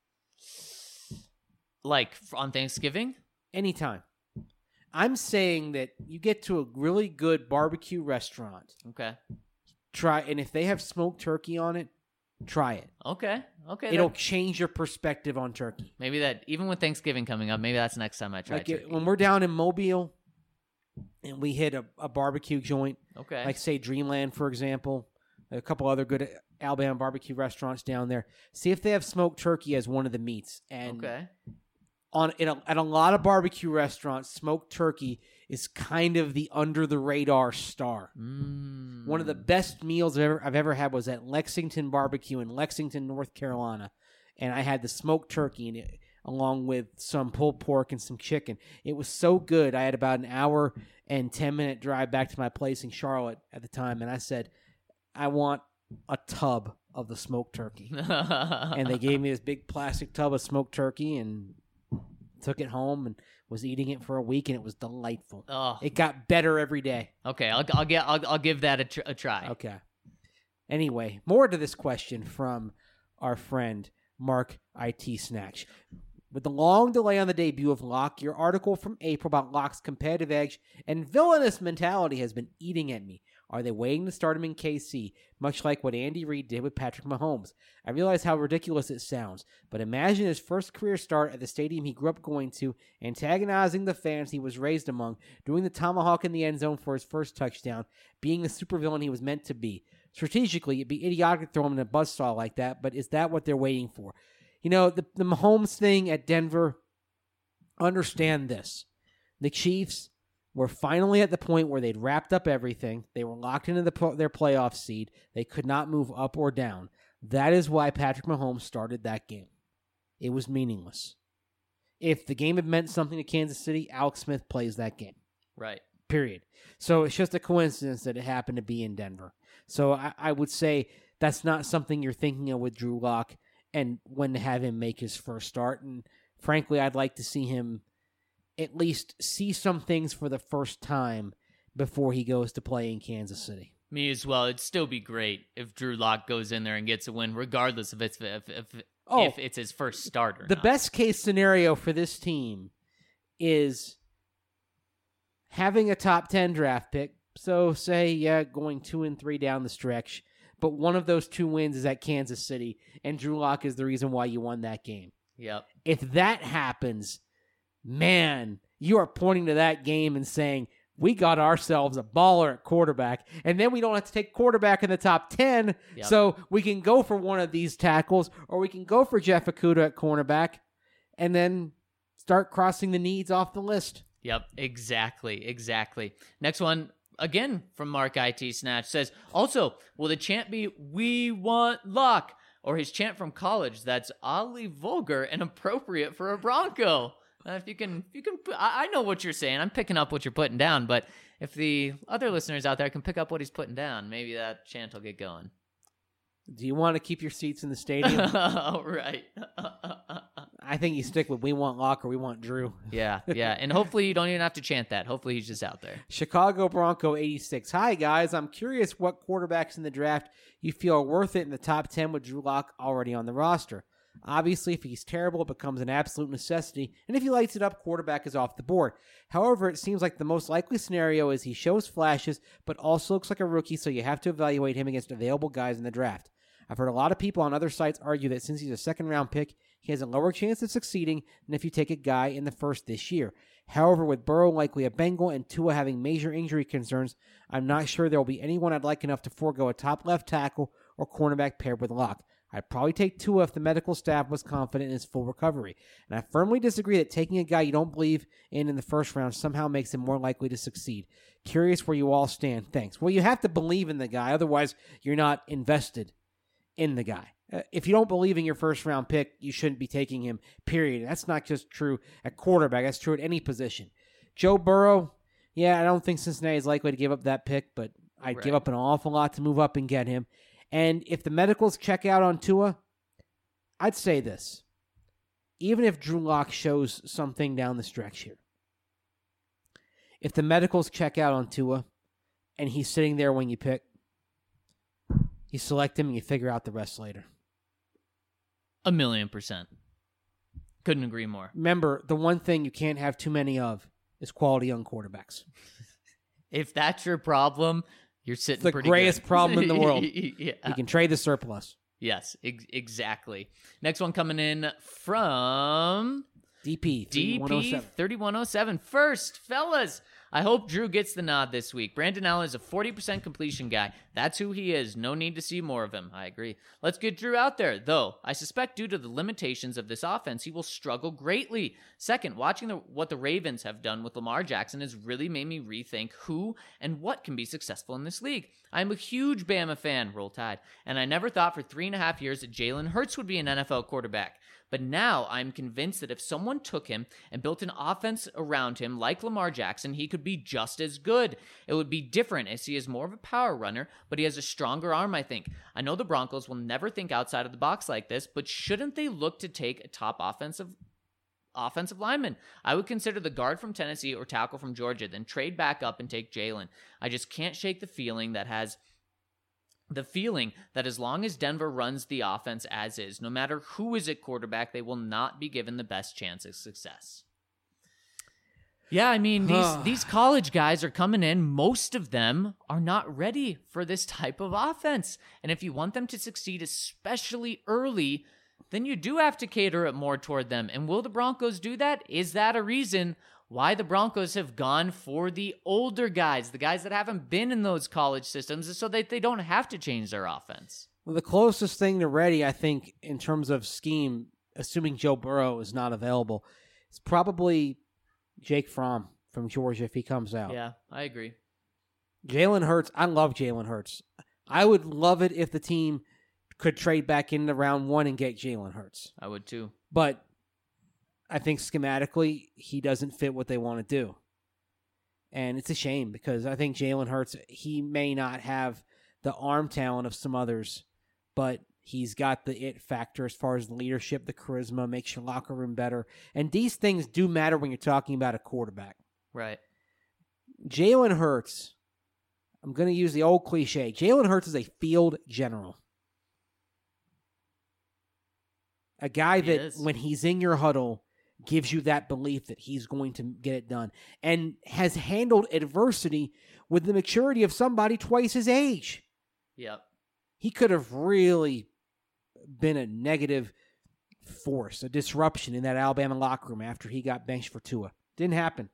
Like on Thanksgiving? Anytime. I'm saying that you get to a really good barbecue restaurant. Okay. And if they have smoked turkey on it, try it. Okay. It'll change your perspective on turkey. Maybe that, even with Thanksgiving coming up, maybe that's the next time I try turkey. When we're down in Mobile and we hit a barbecue joint, like say Dreamland, for example, a couple other good Alabama barbecue restaurants down there, see if they have smoked turkey as one of the meats. And at a lot of barbecue restaurants, smoked turkey is kind of the under-the-radar star. One of the best meals I've ever had was at Lexington Barbecue in Lexington, North Carolina, and I had the smoked turkey in it, along with some pulled pork and some chicken. It was so good. I had about an hour and 10-minute drive back to my place in Charlotte at the time, and I said, I want a tub of the smoked turkey. And they gave me this big plastic tub of smoked turkey, and took it home and was eating it for a week, and it was delightful. Oh, It got better every day. okay. I'll give that a try. Okay. Anyway, more to this question from our friend Mark IT Snatch. With the long delay on the debut of Locke, your article from April about Locke's competitive edge and villainous mentality has been eating at me. Are they waiting to start him in KC, much like what Andy Reid did with Patrick Mahomes? I realize how ridiculous it sounds, but imagine his first career start at the stadium he grew up going to, antagonizing the fans he was raised among, doing the tomahawk in the end zone for his first touchdown, being the supervillain he was meant to be. Strategically, it'd be idiotic to throw him in a buzzsaw like that, but is that what they're waiting for? You know, the Mahomes thing at Denver, understand this. The Chiefs were finally at the point where they'd wrapped up everything. They were locked into their playoff seed. They could not move up or down. That is why Patrick Mahomes started that game. It was meaningless. If the game had meant something to Kansas City, Alex Smith plays that game. Right. Period. So it's just a coincidence that it happened to be in Denver. So I would say that's not something you're thinking of with Drew Lock and when to have him make his first start. And frankly, I'd like to see him at least see some things for the first time before he goes to play in Kansas City. Me as well. It'd still be great if Drew Lock goes in there and gets a win, regardless of if it's his first start or the not. best case scenario for this team is having a top 10 draft pick. So say, going 2-3 down the stretch, but one of those 2 wins is at Kansas City, and Drew Lock is the reason why you won that game. Yep. If that happens, man, you are pointing to that game and saying, we got ourselves a baller at quarterback, and then we don't have to take quarterback in the top 10, so we can go for one of these tackles, or we can go for Jeff Okudah at cornerback, and then start crossing the needs off the list. Yep, exactly. Next one, again, from Mark IT Snatch, says, also, will the chant be, we want Lock, or his chant from college that's oddly vulgar and appropriate for a Bronco? If you can, I know what you're saying. I'm picking up what you're putting down, but if the other listeners out there can pick up what he's putting down, maybe that chant will get going. Do you want to keep your seats in the stadium? Oh, right. I think you stick with we want Locke or we want Drew. Yeah. And hopefully you don't even have to chant that. Hopefully he's just out there. Chicago Bronco 86. Hi, guys. I'm curious what quarterbacks in the draft you feel are worth it in the top 10 with Drew Lock already on the roster. Obviously, if he's terrible, it becomes an absolute necessity, and if he lights it up, quarterback is off the board. However, it seems like the most likely scenario is he shows flashes, but also looks like a rookie, so you have to evaluate him against available guys in the draft. I've heard a lot of people on other sites argue that since he's a second-round pick, he has a lower chance of succeeding than if you take a guy in the first this year. However, with Burrow likely a Bengal and Tua having major injury concerns, I'm not sure there will be anyone I'd like enough to forego a top left tackle or cornerback paired with Locke. I'd probably take Tua if the medical staff was confident in his full recovery. And I firmly disagree that taking a guy you don't believe in the first round somehow makes him more likely to succeed. Curious where you all stand. Thanks. Well, you have to believe in the guy. Otherwise, you're not invested in the guy. If you don't believe in your first-round pick, you shouldn't be taking him, period. That's not just true at quarterback. That's true at any position. Joe Burrow, I don't think Cincinnati is likely to give up that pick, but I'd give up an awful lot to move up and get him. And if the medicals check out on Tua, I'd say this. Even if Drew Lock shows something down the stretch here, if the medicals check out on Tua and he's sitting there when you pick, you select him and you figure out the rest later. 1,000,000%. Couldn't agree more. Remember, the one thing you can't have too many of is quality young quarterbacks. If that's your problem, you're sitting pretty good. It's the greatest problem in the world. Yeah. You can trade the surplus. Yes, exactly. Next one coming in from DP 3107. First, fellas, I hope Drew gets the nod this week. Brandon Allen is a 40% completion guy. That's who he is. No need to see more of him. I agree. Let's get Drew out there, though. I suspect due to the limitations of this offense, he will struggle greatly. Second, watching what the Ravens have done with Lamar Jackson has really made me rethink who and what can be successful in this league. I'm a huge Bama fan, Roll Tide, and I never thought for 3.5 years that Jalen Hurts would be an NFL quarterback. But now I'm convinced that if someone took him and built an offense around him like Lamar Jackson, he could be just as good. It would be different as he is more of a power runner, but he has a stronger arm, I think. I know the Broncos will never think outside of the box like this, but shouldn't they look to take a top offensive offensive lineman. I would consider the guard from Tennessee or tackle from Georgia, then trade back up and take Jalen. I just can't shake the feeling that as long as Denver runs the offense as is, no matter who is at quarterback, they will not be given the best chance of success. Yeah, I mean, these college guys are coming in. Most of them are not ready for this type of offense. And if you want them to succeed, especially early, then you do have to cater it more toward them. And will the Broncos do that? Is that a reason why the Broncos have gone for the older guys, the guys that haven't been in those college systems, is so that they don't have to change their offense? Well, the closest thing to ready, I think, in terms of scheme, assuming Joe Burrow is not available, is probably Jake Fromm from Georgia if he comes out. Yeah, I agree. Jalen Hurts, I love Jalen Hurts. I would love it if the team could trade back into round 1 and get Jalen Hurts. I would too. But I think schematically, he doesn't fit what they want to do. And it's a shame because I think Jalen Hurts, he may not have the arm talent of some others, but he's got the it factor as far as the leadership, the charisma, makes your locker room better. And these things do matter when you're talking about a quarterback. Right. Jalen Hurts, I'm going to use the old cliche. Jalen Hurts is a field general. A guy that, when he's in your huddle, gives you that belief that he's going to get it done. And has handled adversity with the maturity of somebody twice his age. Yep. He could have really been a negative force, a disruption in that Alabama locker room after he got benched for Tua. Didn't happen.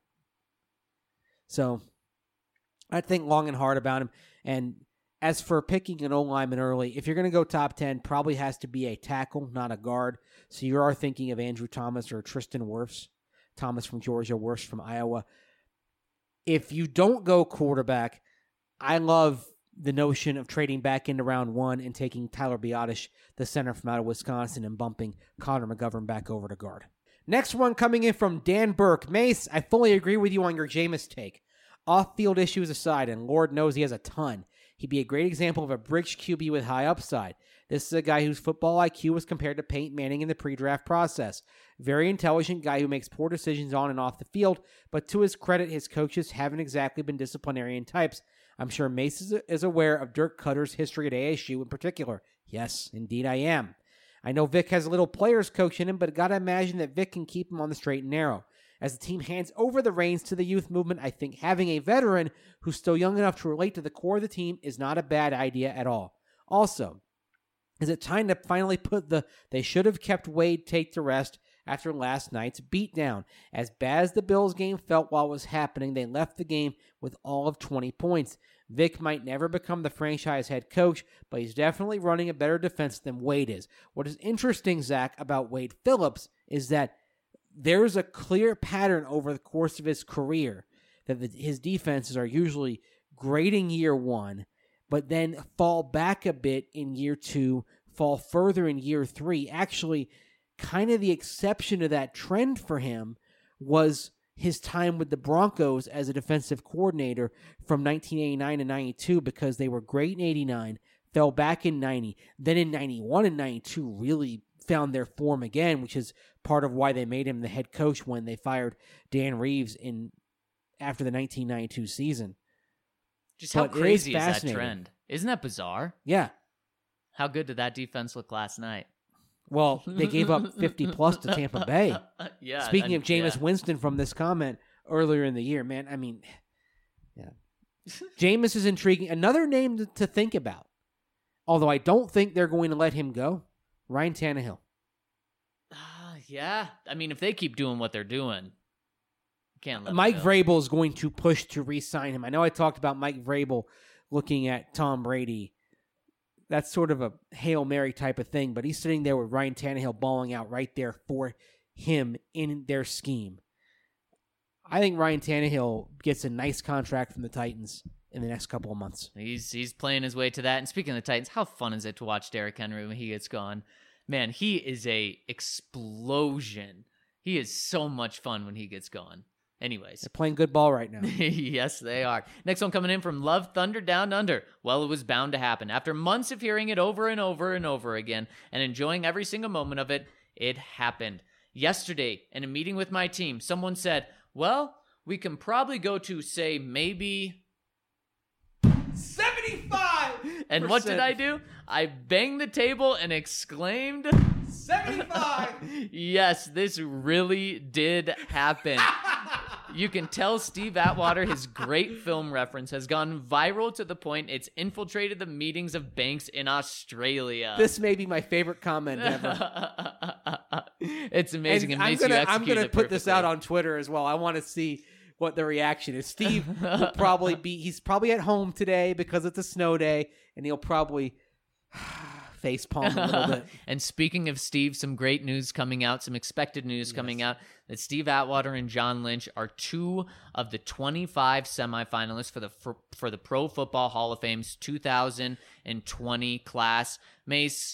So I think long and hard about him. And as for picking an O-lineman early, if you're going to go top 10, probably has to be a tackle, not a guard. So you are thinking of Andrew Thomas or Tristan Wirfs. Thomas from Georgia, Wirfs from Iowa. If you don't go quarterback, I love the notion of trading back into round 1 and taking Tyler Biadasz, the center from out of Wisconsin, and bumping Connor McGovern back over to guard. Next one coming in from Dan Burke. Mace, I fully agree with you on your Jameis take. Off-field issues aside, and Lord knows he has a ton, he'd be a great example of a bridge QB with high upside. This is a guy whose football IQ was compared to Peyton Manning in the pre-draft process. Very intelligent guy who makes poor decisions on and off the field, but to his credit, his coaches haven't exactly been disciplinarian types. I'm sure Mace is aware of Dirk Cutter's history at ASU in particular. Yes, indeed I am. I know Vic has a little players coach in him, but gotta imagine that Vic can keep him on the straight and narrow. As the team hands over the reins to the youth movement, I think having a veteran who's still young enough to relate to the core of the team is not a bad idea at all. Also, is it time to finally put the they should have kept Wade take to rest after last night's beatdown? As bad as the Bills game felt while it was happening, they left the game with all of 20 points. Vic might never become the franchise head coach, but he's definitely running a better defense than Wade is. What is interesting, Zach, about Wade Phillips is that there's a clear pattern over the course of his career that his defenses are usually great in year 1, but then fall back a bit in year 2, fall further in year 3. Actually, kind of the exception to that trend for him was his time with the Broncos as a defensive coordinator from 1989 to 92, because they were great in 89, fell back in 90, then in 91 and 92 really found their form again, which is part of why they made him the head coach when they fired Dan Reeves after the 1992 season. Just how crazy is that trend? Isn't that bizarre? Yeah. How good did that defense look last night? Well, they gave up 50-plus to Tampa Bay. Yeah. Speaking of Jameis Winston from this comment earlier in the year, man, I mean, yeah. Jameis is intriguing. Another name to think about, although I don't think they're going to let him go, Ryan Tannehill. Yeah. I mean, if they keep doing what they're doing, can't let Mike Vrabel is going to push to re-sign him. I know I talked about Mike Vrabel looking at Tom Brady. That's sort of a Hail Mary type of thing, but he's sitting there with Ryan Tannehill balling out right there for him in their scheme. I think Ryan Tannehill gets a nice contract from the Titans in the next couple of months. He's playing his way to that. And speaking of the Titans, how fun is it to watch Derrick Henry when he gets gone? Man, he is a explosion. He is so much fun when he gets going. Anyways. They're playing good ball right now. Yes, they are. Next one coming in from Love Thunder Down Under. Well, it was bound to happen. After months of hearing it over and over and over again and enjoying every single moment of it, it happened. yesterday in a meeting with my team, someone said, well, we can probably go to, say, maybe 75. And what did I do? I banged the table and exclaimed, 75. Yes, this really did happen. You can tell Steve Atwater, his great film reference, has gone viral to the point it's infiltrated the meetings of banks in Australia. This may be my favorite comment ever. It's amazing. And it makes I'm gonna put this out on Twitter as well. I want to see what the reaction is. Steve will probably he's probably at home today because it's a snow day, and he'll probably facepalm a little bit. And speaking of Steve, some great news coming out, some expected news coming out, that Steve Atwater and John Lynch are 2 of the 25 semifinalists for the Pro Football Hall of Fame's 2020 class. Mace,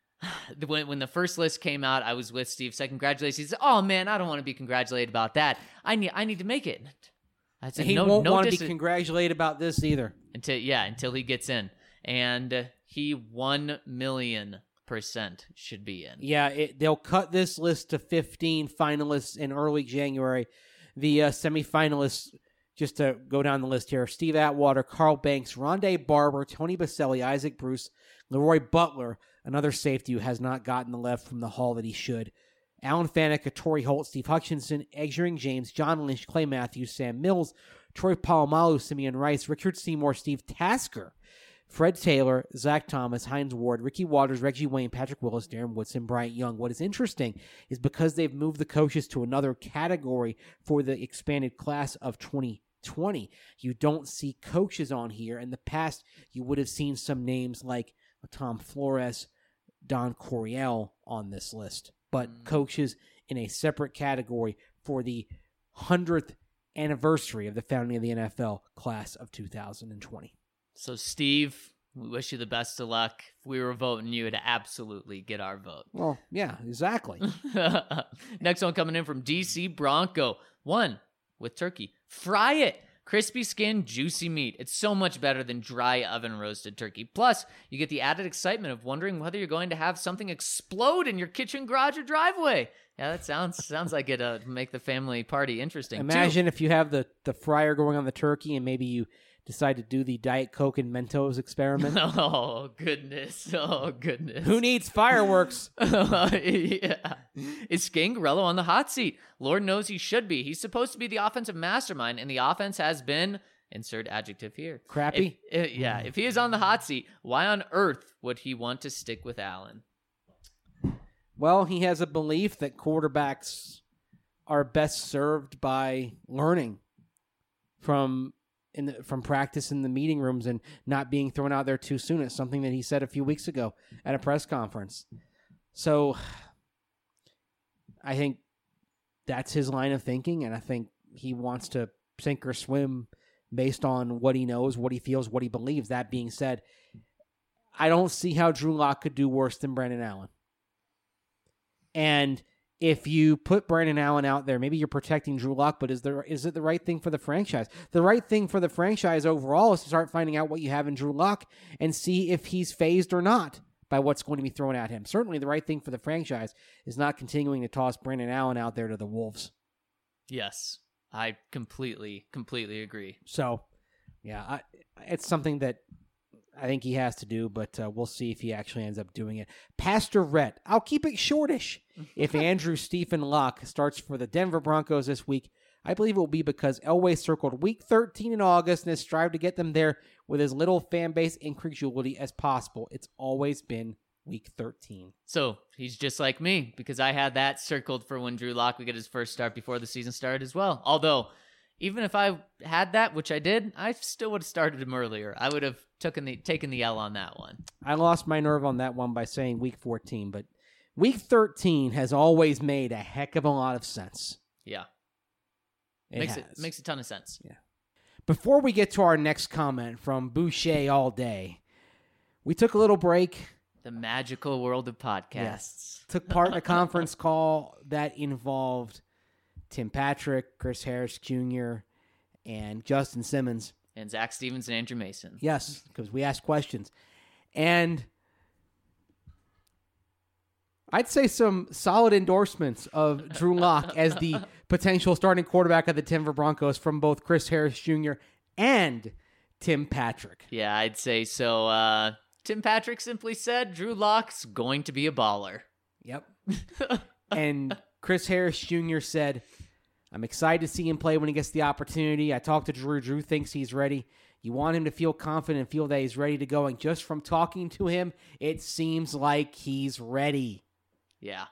when the first list came out, I was with Steve. Said congratulations. He said, "Oh man, I don't want to be congratulated about that. I need to make it." I said, he won't want to be congratulated about this either until he gets in. And he 1,000,000% should be in. Yeah, they'll cut this list to 15 finalists in early January. The semifinalists, just to go down the list here, Steve Atwater, Carl Banks, Rondé Barber, Tony Baselli, Isaac Bruce, Leroy Butler, another safety who has not gotten the love from the Hall that he should, Alan Faneca, Torrey Holt, Steve Hutchinson, Adrian James, John Lynch, Clay Matthews, Sam Mills, Troy Polamalu, Simeon Rice, Richard Seymour, Steve Tasker, Fred Taylor, Zach Thomas, Hines Ward, Ricky Waters, Reggie Wayne, Patrick Willis, Darren Woodson, Bryant Young. What is interesting is because they've moved the coaches to another category for the expanded class of 2020, you don't see coaches on here. In the past, you would have seen some names like Tom Flores, Don Coryell on this list, but coaches in a separate category for the 100th anniversary of the founding of the NFL class of 2020. So, Steve, we wish you the best of luck. If we were voting you, would absolutely get our vote. Well, yeah, exactly. Next one coming in from DC Bronco. 1 with turkey. Fry it. Crispy skin, juicy meat. It's so much better than dry oven roasted turkey. Plus, you get the added excitement of wondering whether you're going to have something explode in your kitchen, garage, or driveway. Yeah, that sounds like it'd make the family party interesting. Imagine if you have the fryer going on the turkey and maybe you decide to do the Diet Coke and Mentos experiment. Oh, goodness. Oh, goodness. Who needs fireworks? Yeah. Is Scangarello on the hot seat? Lord knows he should be. He's supposed to be the offensive mastermind, and the offense has been, insert adjective here, crappy. If he is on the hot seat, why on earth would he want to stick with Allen? Well, he has a belief that quarterbacks are best served by learning from practice in the meeting rooms and not being thrown out there too soon. It's something that he said a few weeks ago at a press conference. So I think that's his line of thinking, and I think he wants to sink or swim based on what he knows, what he feels, what he believes. That being said, I don't see how Drew Lock could do worse than Brandon Allen. And if you put Brandon Allen out there, maybe you're protecting Drew Lock, but is it the right thing for the franchise? The right thing for the franchise overall is to start finding out what you have in Drew Lock and see if he's phased or not by what's going to be thrown at him. Certainly the right thing for the franchise is not continuing to toss Brandon Allen out there to the Wolves. Yes, I completely agree. So, yeah, it's something that I think he has to do, but we'll see if he actually ends up doing it. Pastor Rhett, I'll keep it shortish. If Andrew Stephen Luck starts for the Denver Broncos this week, I believe it will be because Elway circled Week 13 in August and has strived to get them there with as little fan base incredulity as possible. It's always been Week 13. So he's just like me because I had that circled for when Drew Lock would get his first start before the season started as well. Although, even if I had that, which I did, I still would have started him earlier. I would have taken the L on that one. I lost my nerve on that one by saying Week 14, but Week 13 has always made a heck of a lot of sense. Yeah. It makes a ton of sense. Yeah. Before we get to our next comment from Boucher All Day, we took a little break. The magical world of podcasts. Yes. Took part in a conference call that involved Tim Patrick, Chris Harris Jr., and Justin Simmons. And Zach Stevens and Andrew Mason. Yes, because we asked questions. And I'd say some solid endorsements of Drew Lock as the potential starting quarterback of the Denver Broncos from both Chris Harris Jr. and Tim Patrick. Yeah, I'd say so. Tim Patrick simply said Drew Lock's going to be a baller. Yep. And Chris Harris Jr. said, I'm excited to see him play when he gets the opportunity. I talked to Drew. Drew thinks he's ready. You want him to feel confident and feel that he's ready to go. And just from talking to him, it seems like he's ready. Yeah.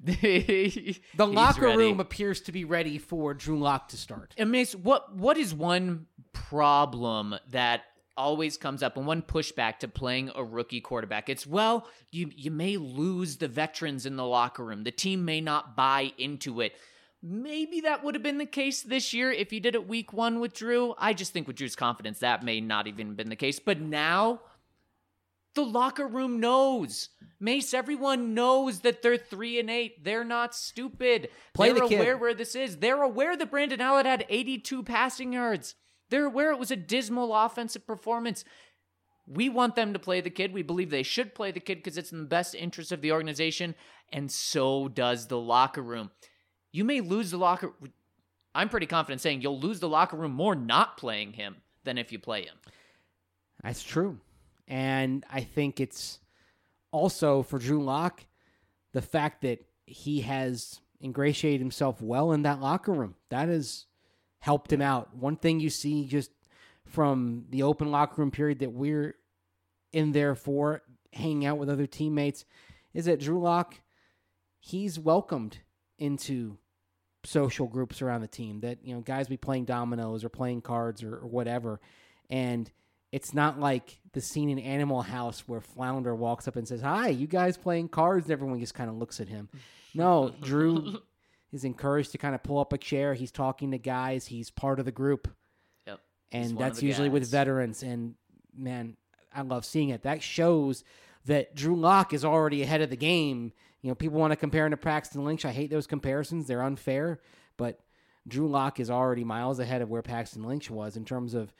The locker room appears to be ready for Drew Lock to start. And Mace, what is one problem that always comes up and one pushback to playing a rookie quarterback? It's, well, you may lose the veterans in the locker room. The team may not buy into it. Maybe that would have been the case this year if you did it week 1 with Drew. I just think with Drew's confidence, that may not even been the case. But now, the locker room knows. Mace, everyone knows that they're 3-8. They're not stupid. They're aware where this is. They're aware that Brandon Allen had 82 passing yards. They're aware it was a dismal offensive performance. We want them to play the kid. We believe they should play the kid because it's in the best interest of the organization, and so does the locker room. You may lose the locker. I'm pretty confident saying you'll lose the locker room more not playing him than if you play him. That's true. And I think it's also for Drew Lock, the fact that he has ingratiated himself well in that locker room. That has helped him out. One thing you see just from the open locker room period that we're in there for, hanging out with other teammates, is that Drew Lock, he's welcomed into social groups around the team, that, you know, guys be playing dominoes or playing cards or whatever. And it's not like the scene in Animal House where Flounder walks up and says, hi, you guys playing cards? And everyone just kind of looks at him. No, Drew is encouraged to kind of pull up a chair. He's talking to guys. He's part of the group. Yep. And that's usually with veterans. And, man, I love seeing it. That shows that Drew Lock is already ahead of the game. You know, people want to compare him to Paxton Lynch. I hate those comparisons. They're unfair. But Drew Lock is already miles ahead of where Paxton Lynch was in terms of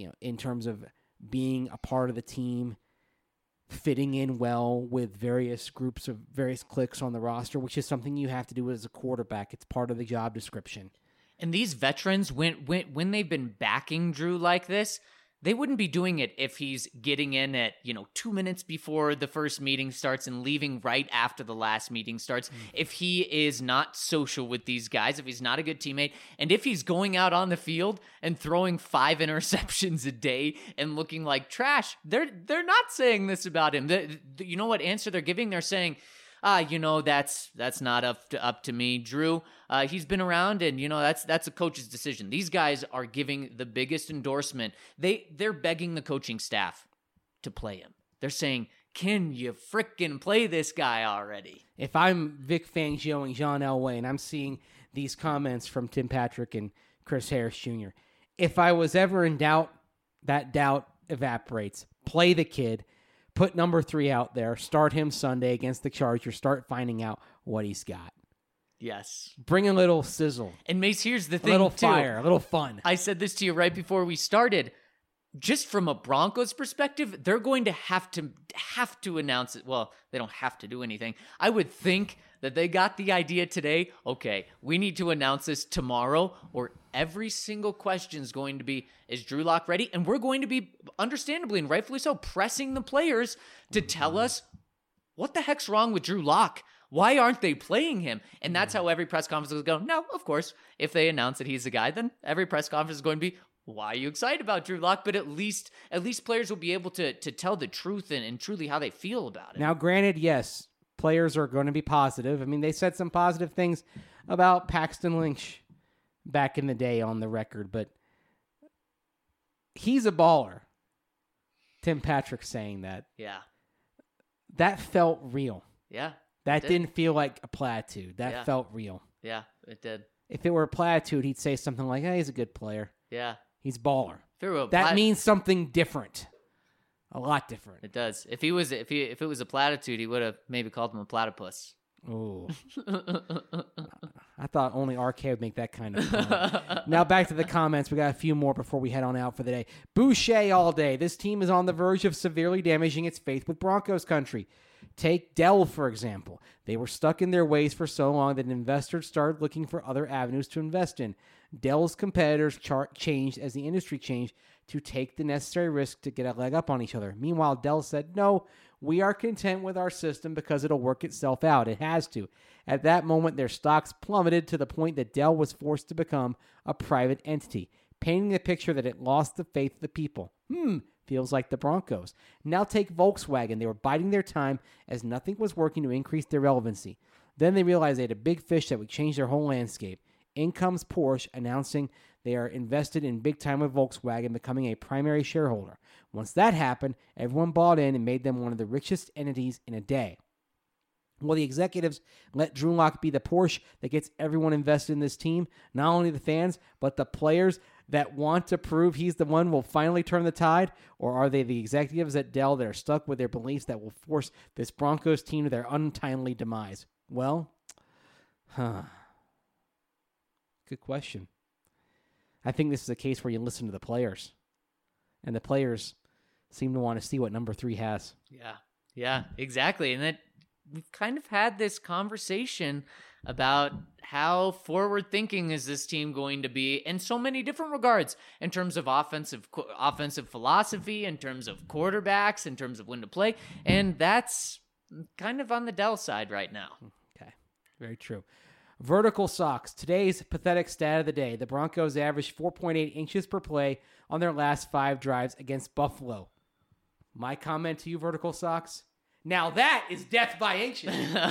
being a part of the team, fitting in well with various groups of various cliques on the roster, which is something you have to do as a quarterback. It's part of the job description. And these veterans, when they've been backing Drew like this, they wouldn't be doing it if he's getting in at, 2 minutes before the first meeting starts and leaving right after the last meeting starts. If he is not social with these guys, if he's not a good teammate, and if he's going out on the field and throwing 5 interceptions a day and looking like trash, they're not saying this about him. You know what answer they're giving? They're saying, that's not up to me, Drew. He's been around, and that's a coach's decision. These guys are giving the biggest endorsement. They're begging the coaching staff to play him. They're saying, "Can you frickin' play this guy already?" If I'm Vic Fangio and John Elway, and I'm seeing these comments from Tim Patrick and Chris Harris Jr., if I was ever in doubt, that doubt evaporates. Play the kid. Put number 3 out there. Start him Sunday against the Chargers. Start finding out what he's got. Yes. Bring a little sizzle. And Mace, here's the thing, a little fire, a little fun. I said this to you right before we started. Just from a Broncos perspective, they're going to have to announce it. Well, they don't have to do anything. I would think that they got the idea today. Okay, we need to announce this tomorrow, or every single question is going to be, is Drew Lock ready? And we're going to be, understandably and rightfully so, pressing the players to tell us what the heck's wrong with Drew Lock. Why aren't they playing him? And that's how every press conference will go. No, of course, if they announce that he's the guy, then every press conference is going to be, why are you excited about Drew Lock? But at least players will be able to tell the truth and truly how they feel about it. Now, granted, yes, players are going to be positive. I mean, they said some positive things about Paxton Lynch back in the day on the record, but he's a baller. Tim Patrick saying that. Yeah. That felt real. Yeah. That didn't feel like a platitude. That felt real. Yeah, it did. If it were a platitude, he'd say something like, hey, he's a good player. Yeah. He's baller. That means something different. A lot different. It does. If it was a platitude, he would have maybe called him a platypus. Oh. I thought only RK would make that kind of comment. Now back to the comments. We got a few more before we head on out for the day. Boucher all day. This team is on the verge of severely damaging its faith with Broncos country. Take Dell, for example. They were stuck in their ways for so long that investors started looking for other avenues to invest in. Dell's competitors changed as the industry changed to take the necessary risk to get a leg up on each other. Meanwhile, Dell said, no, we are content with our system because it'll work itself out. It has to. At that moment, their stocks plummeted to the point that Dell was forced to become a private entity, painting the picture that it lost the faith of the people. Feels like the Broncos. Now take Volkswagen. They were biding their time as nothing was working to increase their relevancy. Then they realized they had a big fish that would change their whole landscape. In comes Porsche announcing they are invested in big time with Volkswagen, becoming a primary shareholder. Once that happened, everyone bought in and made them one of the richest entities in a day. Well, the executives let Drew Lock be the Porsche that gets everyone invested in this team, not only the fans, but the players that want to prove he's the one will finally turn the tide? Or are they the executives at Dell that are stuck with their beliefs that will force this Broncos team to their untimely demise? Well, good question. I think this is a case where you listen to the players. And the players seem to want to see what number 3 has. Yeah, exactly. And that we've kind of had this conversation about how forward-thinking is this team going to be in so many different regards, in terms of offensive philosophy, in terms of quarterbacks, in terms of when to play, and that's kind of on the Dell side right now. Okay, very true. Vertical socks. Today's pathetic stat of the day. The Broncos averaged 4.8 inches per play on their last 5 drives against Buffalo. My comment to you, vertical socks? Now that is death by inches.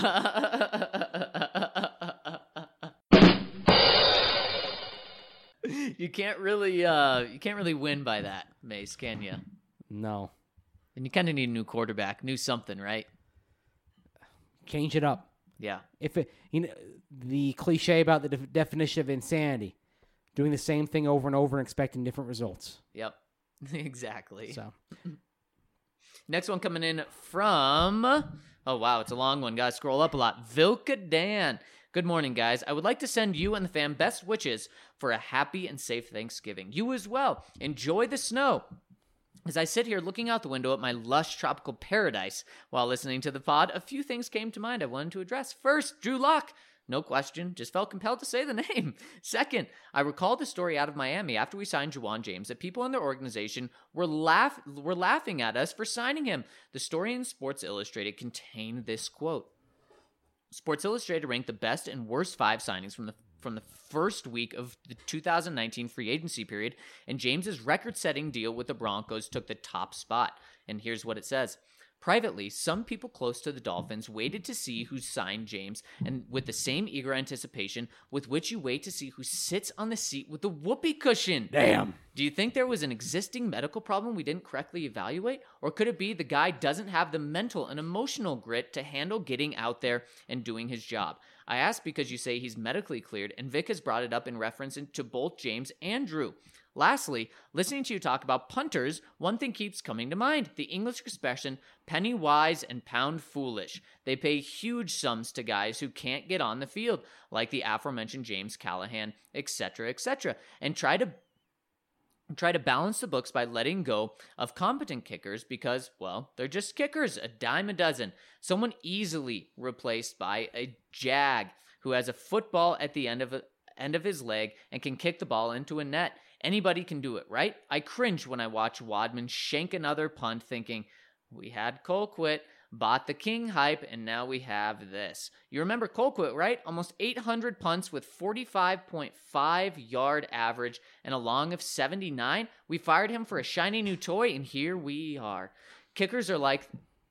You can't really win by that, Mace, can you? No. And you kind of need a new quarterback, new something, right? Change it up. Yeah. If it, the cliche about the definition of insanity, doing the same thing over and over and expecting different results. Yep. Exactly. So, next one coming in from, oh wow, it's a long one. Gotta scroll up a lot. Vilka Dan. Good morning, guys. I would like to send you and the fam best wishes for a happy and safe Thanksgiving. You as well. Enjoy the snow. As I sit here looking out the window at my lush tropical paradise while listening to the pod, a few things came to mind I wanted to address. First, Drew Lock. No question, just felt compelled to say the name. Second, I recalled the story out of Miami after we signed Juwan James that people in their organization were laughing at us for signing him. The story in Sports Illustrated contained this quote. Sports Illustrated ranked the best and worst 5 signings from the first week of the 2019 free agency period, and James's record-setting deal with the Broncos took the top spot. And here's what it says. Privately, some people close to the Dolphins waited to see who signed James, and with the same eager anticipation with which you wait to see who sits on the seat with the whoopee cushion. Damn. Do you think there was an existing medical problem we didn't correctly evaluate? Or could it be the guy doesn't have the mental and emotional grit to handle getting out there and doing his job? I ask because you say he's medically cleared, and Vic has brought it up in reference to both James and Drew. Lastly, listening to you talk about punters, one thing keeps coming to mind. The English expression, penny wise and pound foolish. They pay huge sums to guys who can't get on the field, like the aforementioned James Callahan, etc., and try to balance the books by letting go of competent kickers because, well, they're just kickers, a dime a dozen. Someone easily replaced by a jag who has a football at the end of his leg and can kick the ball into a net. Anybody can do it, right? I cringe when I watch Wadman shank another punt thinking, we had Colquitt, bought the King hype, and now we have this. You remember Colquitt, right? Almost 800 punts with 45.5 yard average and a long of 79. We fired him for a shiny new toy, and here we are. Kickers like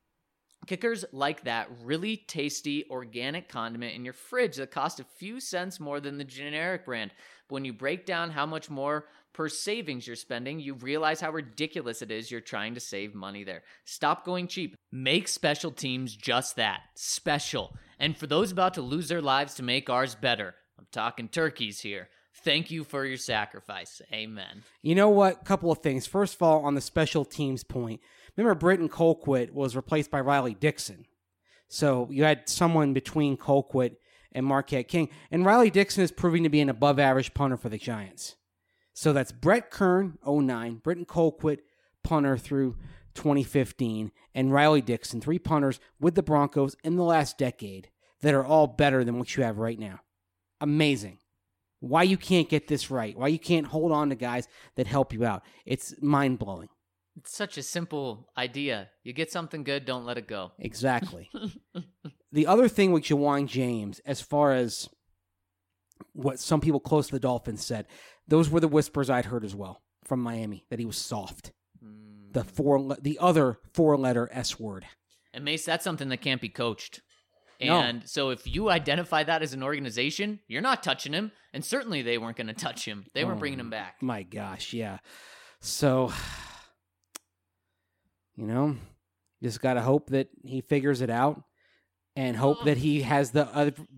that really tasty organic condiment in your fridge that costs a few cents more than the generic brand. But when you break down how much more per savings you're spending, you realize how ridiculous it is you're trying to save money there. Stop going cheap. Make special teams just that, special. And for those about to lose their lives to make ours better, I'm talking turkeys here. Thank you for your sacrifice. Amen. You know what? Couple of things. First of all, on the special teams point, remember Britton Colquitt was replaced by Riley Dixon. So you had someone between Colquitt and Marquette King. And Riley Dixon is proving to be an above-average punter for the Giants. So that's Brett Kern, 09, Britton Colquitt, punter through 2015, and Riley Dixon, 3 punters with the Broncos in the last decade that are all better than what you have right now. Amazing. Why you can't get this right? Why you can't hold on to guys that help you out? It's mind-blowing. It's such a simple idea. You get something good, don't let it go. Exactly. The other thing with Ja'Wuan James, as far as what some people close to the Dolphins said, those were the whispers I'd heard as well from Miami, that he was soft. The other 4-letter S word. And Mace, that's something that can't be coached. No. And so if you identify that as an organization, you're not touching him. And certainly they weren't going to touch him. They weren't bringing him back. My gosh, yeah. So, just got to hope that he figures it out and hope that he has the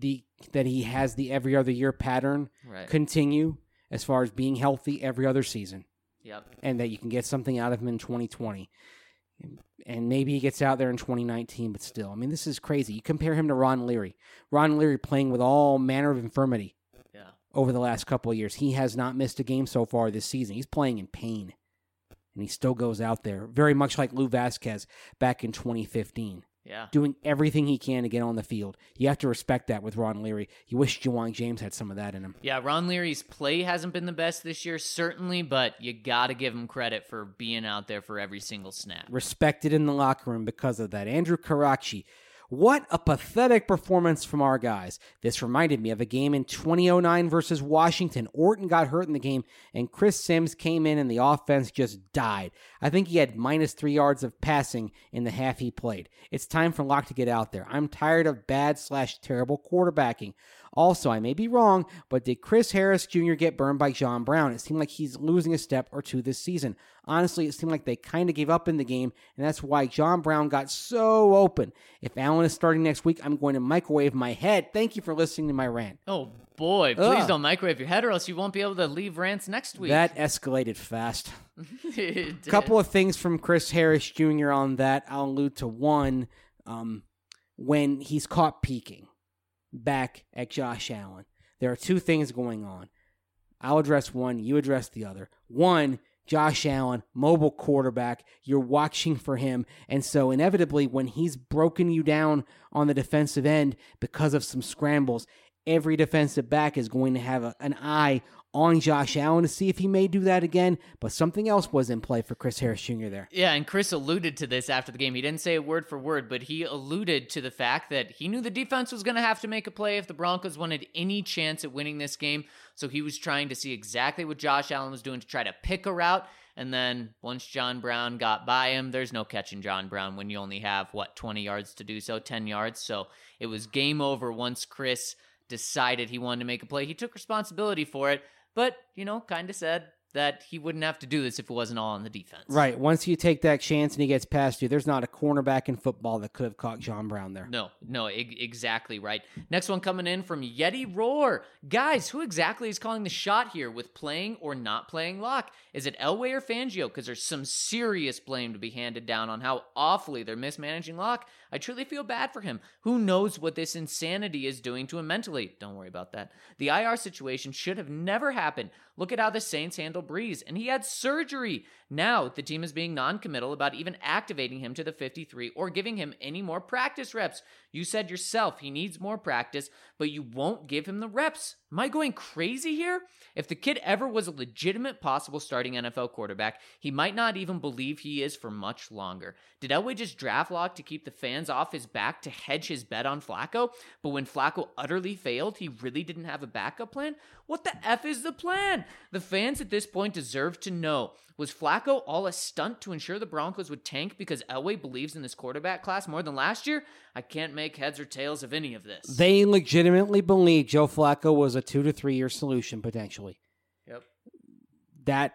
every other year pattern continue as far as being healthy every other season. Yep. And that you can get something out of him in 2020. And maybe he gets out there in 2019, but still. I mean, this is crazy. You compare him to Ron Leary. Ron Leary playing with all manner of infirmity over the last couple of years. He has not missed a game so far this season. He's playing in pain. And he still goes out there, very much like Lou Vasquez back in 2015. Yeah. Doing everything he can to get on the field. You have to respect that with Ron Leary. You wish Ja'Wuan James had some of that in him. Yeah, Ron Leary's play hasn't been the best this year, certainly, but you got to give him credit for being out there for every single snap. Respected in the locker room because of that. Andrew Karachi. What a pathetic performance from our guys. This reminded me of a game in 2009 versus Washington. Orton got hurt in the game, and Chris Sims came in, and the offense just died. I think he had -3 yards of passing in the half he played. It's time for Locke to get out there. I'm tired of bad/terrible quarterbacking. Also, I may be wrong, but did Chris Harris Jr. get burned by John Brown? It seemed like he's losing a step or two this season. Honestly, it seemed like they kind of gave up in the game, and that's why John Brown got so open. If Allen is starting next week, I'm going to microwave my head. Thank you for listening to my rant. Oh, boy. Please don't microwave your head, or else you won't be able to leave rants next week. That escalated fast. A couple of things from Chris Harris Jr. on that. I'll allude to one. When he's caught peeking back at Josh Allen, there are 2 things going on. I'll address one, you address the other. One, Josh Allen, mobile quarterback, you're watching for him, and so inevitably when he's broken you down on the defensive end because of some scrambles, every defensive back is going to have an eye on Josh Allen to see if he may do that again, but something else was in play for Chris Harris Jr. there. Yeah, and Chris alluded to this after the game. He didn't say it word for word, but he alluded to the fact that he knew the defense was going to have to make a play if the Broncos wanted any chance at winning this game, so he was trying to see exactly what Josh Allen was doing to try to pick a route, and then once John Brown got by him, there's no catching John Brown when you only have, 20 yards to do so, 10 yards, so it was game over once Chris decided he wanted to make a play. He took responsibility for it, but, kind of said that he wouldn't have to do this if it wasn't all on the defense. Right. Once you take that chance and he gets past you, there's not a cornerback in football that could have caught John Brown there. No, exactly right. Next one coming in from Yeti Roar. Guys, who exactly is calling the shot here with playing or not playing Locke? Is it Elway or Fangio? Because there's some serious blame to be handed down on how awfully they're mismanaging Locke. I truly feel bad for him. Who knows what this insanity is doing to him mentally? Don't worry about that. The IR situation should have never happened. Look at how the Saints handle Breeze, and he had surgery. Now, the team is being non-committal about even activating him to the 53 or giving him any more practice reps. You said yourself he needs more practice, but you won't give him the reps. Am I going crazy here? If the kid ever was a legitimate possible starting NFL quarterback, he might not even believe he is for much longer. Did Elway just draft Locke to keep the fans off his back to hedge his bet on Flacco? But when Flacco utterly failed, he really didn't have a backup plan? What the F is the plan? The fans at this point deserve to know. Was Flacco all a stunt to ensure the Broncos would tank because Elway believes in this quarterback class more than last year? I can't make heads or tails of any of this. They legitimately believe Joe Flacco was a 2 to 3 year solution potentially. Yep. That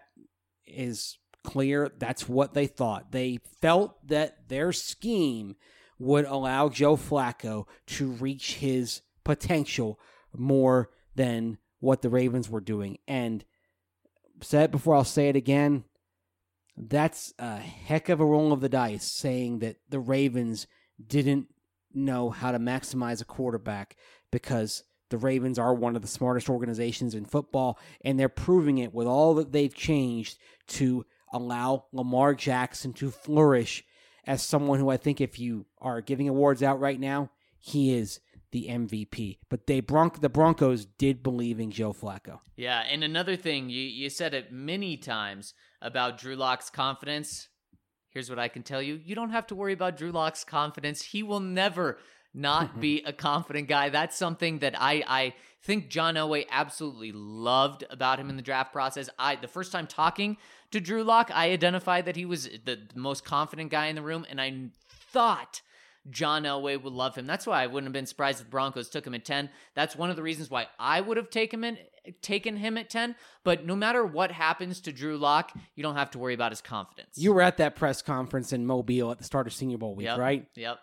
is clear. That's what they thought. They felt that their scheme would allow Joe Flacco to reach his potential more than what the Ravens were doing. And said it before, I'll say it again. That's a heck of a roll of the dice saying that the Ravens didn't know how to maximize a quarterback, because the Ravens are one of the smartest organizations in football, and they're proving it with all that they've changed to allow Lamar Jackson to flourish as someone who I think if you are giving awards out right now, he is the MVP. But the Broncos did believe in Joe Flacco. Yeah, and another thing, you said it many times about Drew Lock's confidence. Here's what I can tell you. You don't have to worry about Drew Lock's confidence. He will never not be a confident guy. That's something that I think John Elway absolutely loved about him in the draft process. The first time talking to Drew Lock, I identified that he was the most confident guy in the room, and I thought John Elway would love him. That's why I wouldn't have been surprised if the Broncos took him at 10. That's one of the reasons why I would have taken him at 10. But no matter what happens to Drew Lock, you don't have to worry about his confidence. You were at that press conference in Mobile at the start of Senior Bowl week, right? Yep.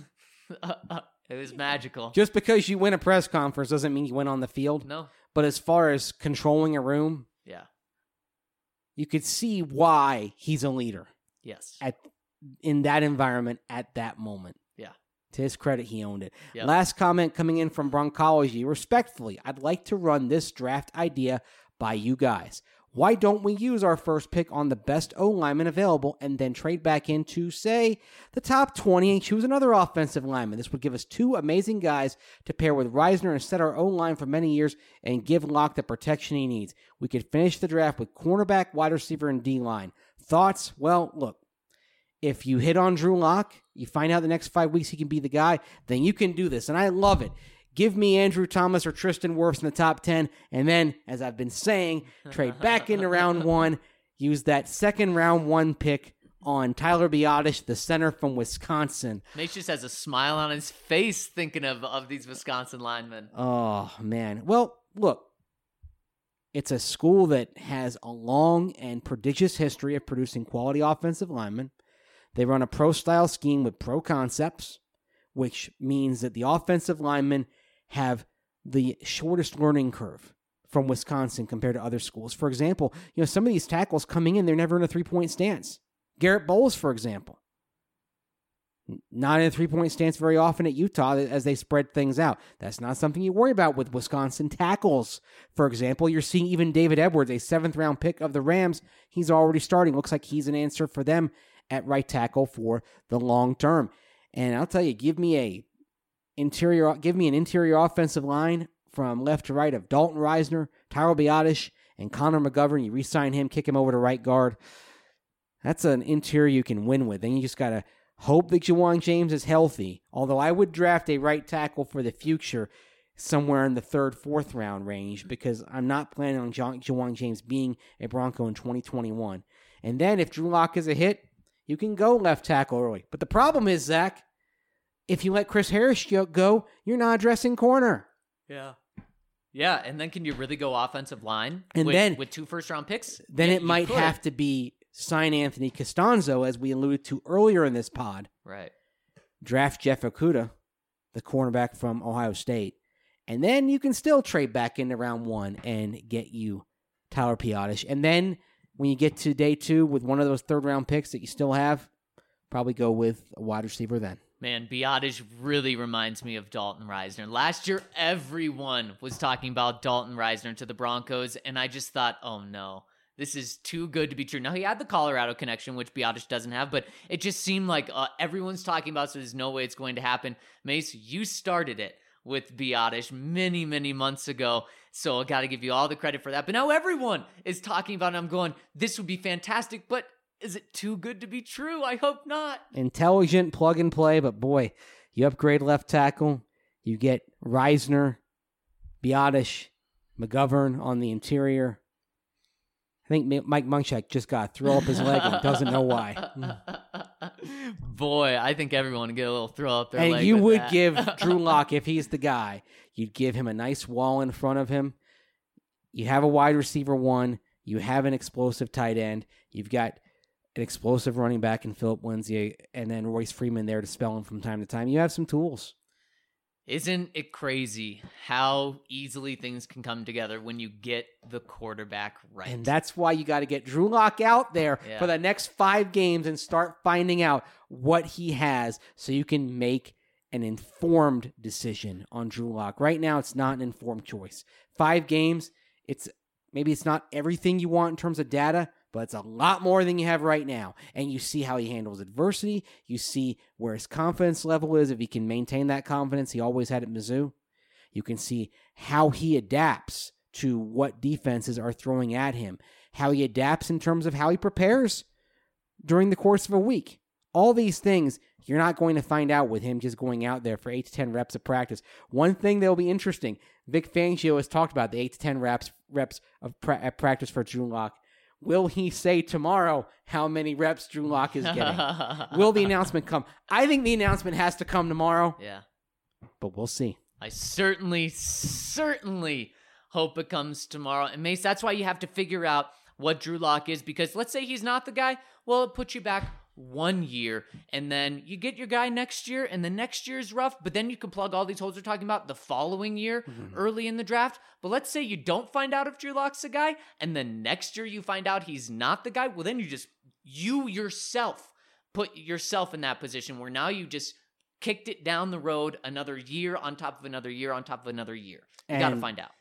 It was magical. Just because you win a press conference doesn't mean you win on the field. No. But as far as controlling a room, yeah, you could see why he's a leader. Yes. In that environment at that moment. Yeah. To his credit, he owned it. Yep. Last comment coming in from Broncology. Respectfully, I'd like to run this draft idea by you guys. Why don't we use our first pick on the best O-lineman available and then trade back into, say, the top 20 and choose another offensive lineman? This would give us two amazing guys to pair with Reisner and set our O-line for many years and give Locke the protection he needs. We could finish the draft with cornerback, wide receiver, and D-line. Thoughts? Well, look, if you hit on Drew Lock, you find out the next 5 weeks he can be the guy, then you can do this, and I love it. Give me Andrew Thomas or Tristan Wirfs in the top 10, and then, as I've been saying, trade back into round 1, use that second round 1 pick on Tyler Biadasz, the center from Wisconsin. Nate just has a smile on his face thinking of these Wisconsin linemen. Oh, man. Well, look, it's a school that has a long and prodigious history of producing quality offensive linemen. They run a pro-style scheme with pro concepts, which means that the offensive linemen have the shortest learning curve from Wisconsin compared to other schools. For example, some of these tackles coming in, they're never in a three-point stance. Garrett Bowles, for example, not in a three-point stance very often at Utah as they spread things out. That's not something you worry about with Wisconsin tackles. For example, you're seeing even David Edwards, a 7th-round pick of the Rams. He's already starting. Looks like he's an answer for them at right tackle for the long term. And I'll tell you, give me an interior offensive line from left to right of Dalton Reisner, Tyler Biadasz, and Connor McGovern. You re-sign him, kick him over to right guard. That's an interior you can win with. Then you just got to hope that Ja'Wuan James is healthy. Although I would draft a right tackle for the future somewhere in the 3rd, 4th round range because I'm not planning on Ja'Wuan James being a Bronco in 2021. And then if Drew Lock is a hit, you can go left tackle early. But the problem is, Zach, if you let Chris Harris go, you're not addressing corner. Yeah. Yeah, and then can you really go offensive line and with 2 first-round picks? Then it might have to be sign Anthony Costanzo, as we alluded to earlier in this pod. Right. Draft Jeff Okudah, the cornerback from Ohio State. And then you can still trade back into round 1 and get you Tyler Biadasz. And then when you get to day 2 with one of those 3rd-round picks that you still have, probably go with a wide receiver then. Man, Biadasz really reminds me of Dalton Reisner. Last year, everyone was talking about Dalton Reisner to the Broncos, and I just thought, oh no, this is too good to be true. Now, he had the Colorado connection, which Biadasz doesn't have, but it just seemed like everyone's talking about, so there's no way it's going to happen. Mace, you started it with Biadasz many, many months ago, so I got to give you all the credit for that. But now everyone is talking about it. I'm going, this would be fantastic, but is it too good to be true? I hope not. Intelligent plug and play, but boy, you upgrade left tackle. You get Reisner, Biadasz, McGovern on the interior. I think Mike Munchak just got to throw up his leg and doesn't know why. Boy, I think everyone would get a little throw up their leg. And you would give Drew Lock, if he's the guy, you'd give him a nice wall in front of him. You have a wide receiver 1. You have an explosive tight end. You've got an explosive running back in Philip Lindsay, and then Royce Freeman there to spell him from time to time. You have some tools. Isn't it crazy how easily things can come together when you get the quarterback right? And that's why you got to get Drew Lock out there for the next 5 games and start finding out what he has so you can make an informed decision on Drew Lock. Right now, it's not an informed choice. 5 games, maybe it's not everything you want in terms of data, but it's a lot more than you have right now. And you see how he handles adversity. You see where his confidence level is, if he can maintain that confidence he always had at Mizzou. You can see how he adapts to what defenses are throwing at him, how he adapts in terms of how he prepares during the course of a week. All these things you're not going to find out with him just going out there for 8 to 10 reps of practice. One thing that will be interesting, Vic Fangio has talked about the 8 to 10 reps of practice for Drew Lock. Will he say tomorrow how many reps Drew Lock is getting? Will the announcement come? I think the announcement has to come tomorrow. Yeah. But we'll see. I certainly hope it comes tomorrow. And Mace, that's why you have to figure out what Drew Lock is, because let's say he's not the guy. Well, it puts you back 1 year, and then you get your guy next year, and the next year is rough, but then you can plug all these holes we're talking about the following year early in the draft. But let's say you don't find out if Drew Lock's the guy, and then next year you find out he's not the guy. Well, then you yourself put yourself in that position where now you just kicked it down the road another year on top of another year on top of another year. You got to find out.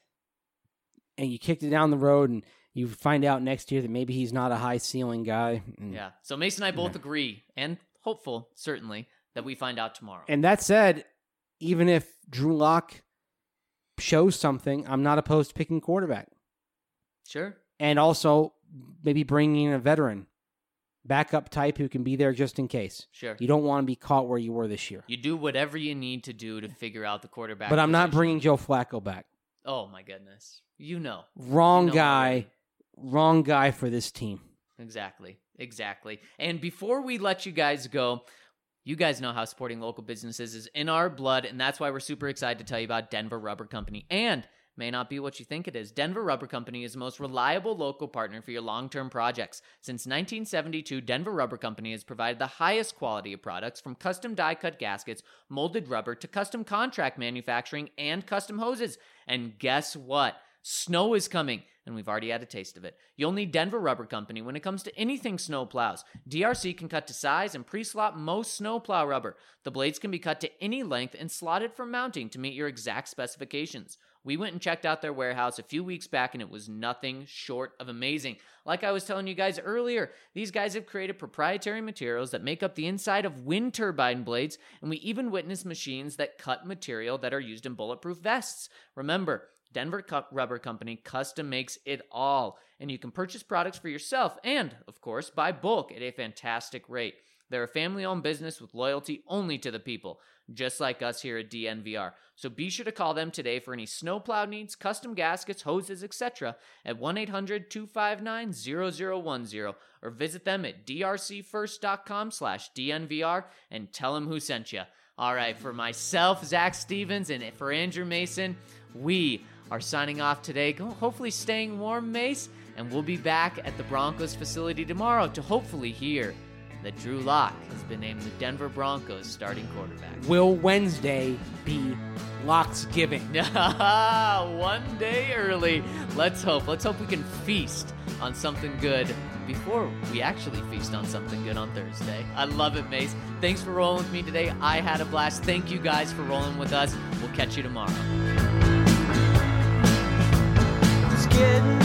And you kicked it down the road, and you find out next year that maybe he's not a high ceiling guy. Yeah. So Mason and I both agree, and hopeful, certainly, that we find out tomorrow. And that said, even if Drew Lock shows something, I'm not opposed to picking quarterback. Sure. And also maybe bringing in a veteran, backup type who can be there just in case. Sure. You don't want to be caught where you were this year. You do whatever you need to do to figure out the quarterback. But I'm not bringing Joe Flacco back. Oh, my goodness. You know. Wrong guy. Wrong guy for this team. Exactly. And before we let you guys go, you guys know how supporting local businesses is in our blood, and that's why we're super excited to tell you about Denver Rubber Company. And may not be what you think it is. Denver Rubber Company is the most reliable local partner for your long-term projects. Since 1972, Denver Rubber Company has provided the highest quality of products, from custom die-cut gaskets, molded rubber, to custom contract manufacturing and custom hoses. And guess what? Snow is coming, and we've already had a taste of it. You'll need Denver Rubber Company when it comes to anything snow plows. DRC can cut to size and pre-slot most snow plow rubber. The blades can be cut to any length and slotted for mounting to meet your exact specifications. We went and checked out their warehouse a few weeks back, and it was nothing short of amazing. Like I was telling you guys earlier, these guys have created proprietary materials that make up the inside of wind turbine blades, and we even witnessed machines that cut material that are used in bulletproof vests. Remember, Denver Rubber Company custom makes it all, and you can purchase products for yourself and, of course, buy bulk at a fantastic rate. They're a family-owned business with loyalty only to the people, just like us here at DNVR. So be sure to call them today for any snowplow needs, custom gaskets, hoses, etc. at 1-800-259-0010, or visit them at drcfirst.com/DNVR and tell them who sent you. All right, for myself, Zach Stevens, and for Andrew Mason, we are signing off today, hopefully staying warm, Mace, and we'll be back at the Broncos facility tomorrow to hopefully hear that Drew Lock has been named the Denver Broncos starting quarterback. Will Wednesday be Locksgiving? 1 day early. Let's hope we can feast on something good before we actually feast on something good on Thursday. I love it, Mace. Thanks for rolling with me today. I had a blast. Thank you guys for rolling with us. We'll catch you tomorrow. It's getting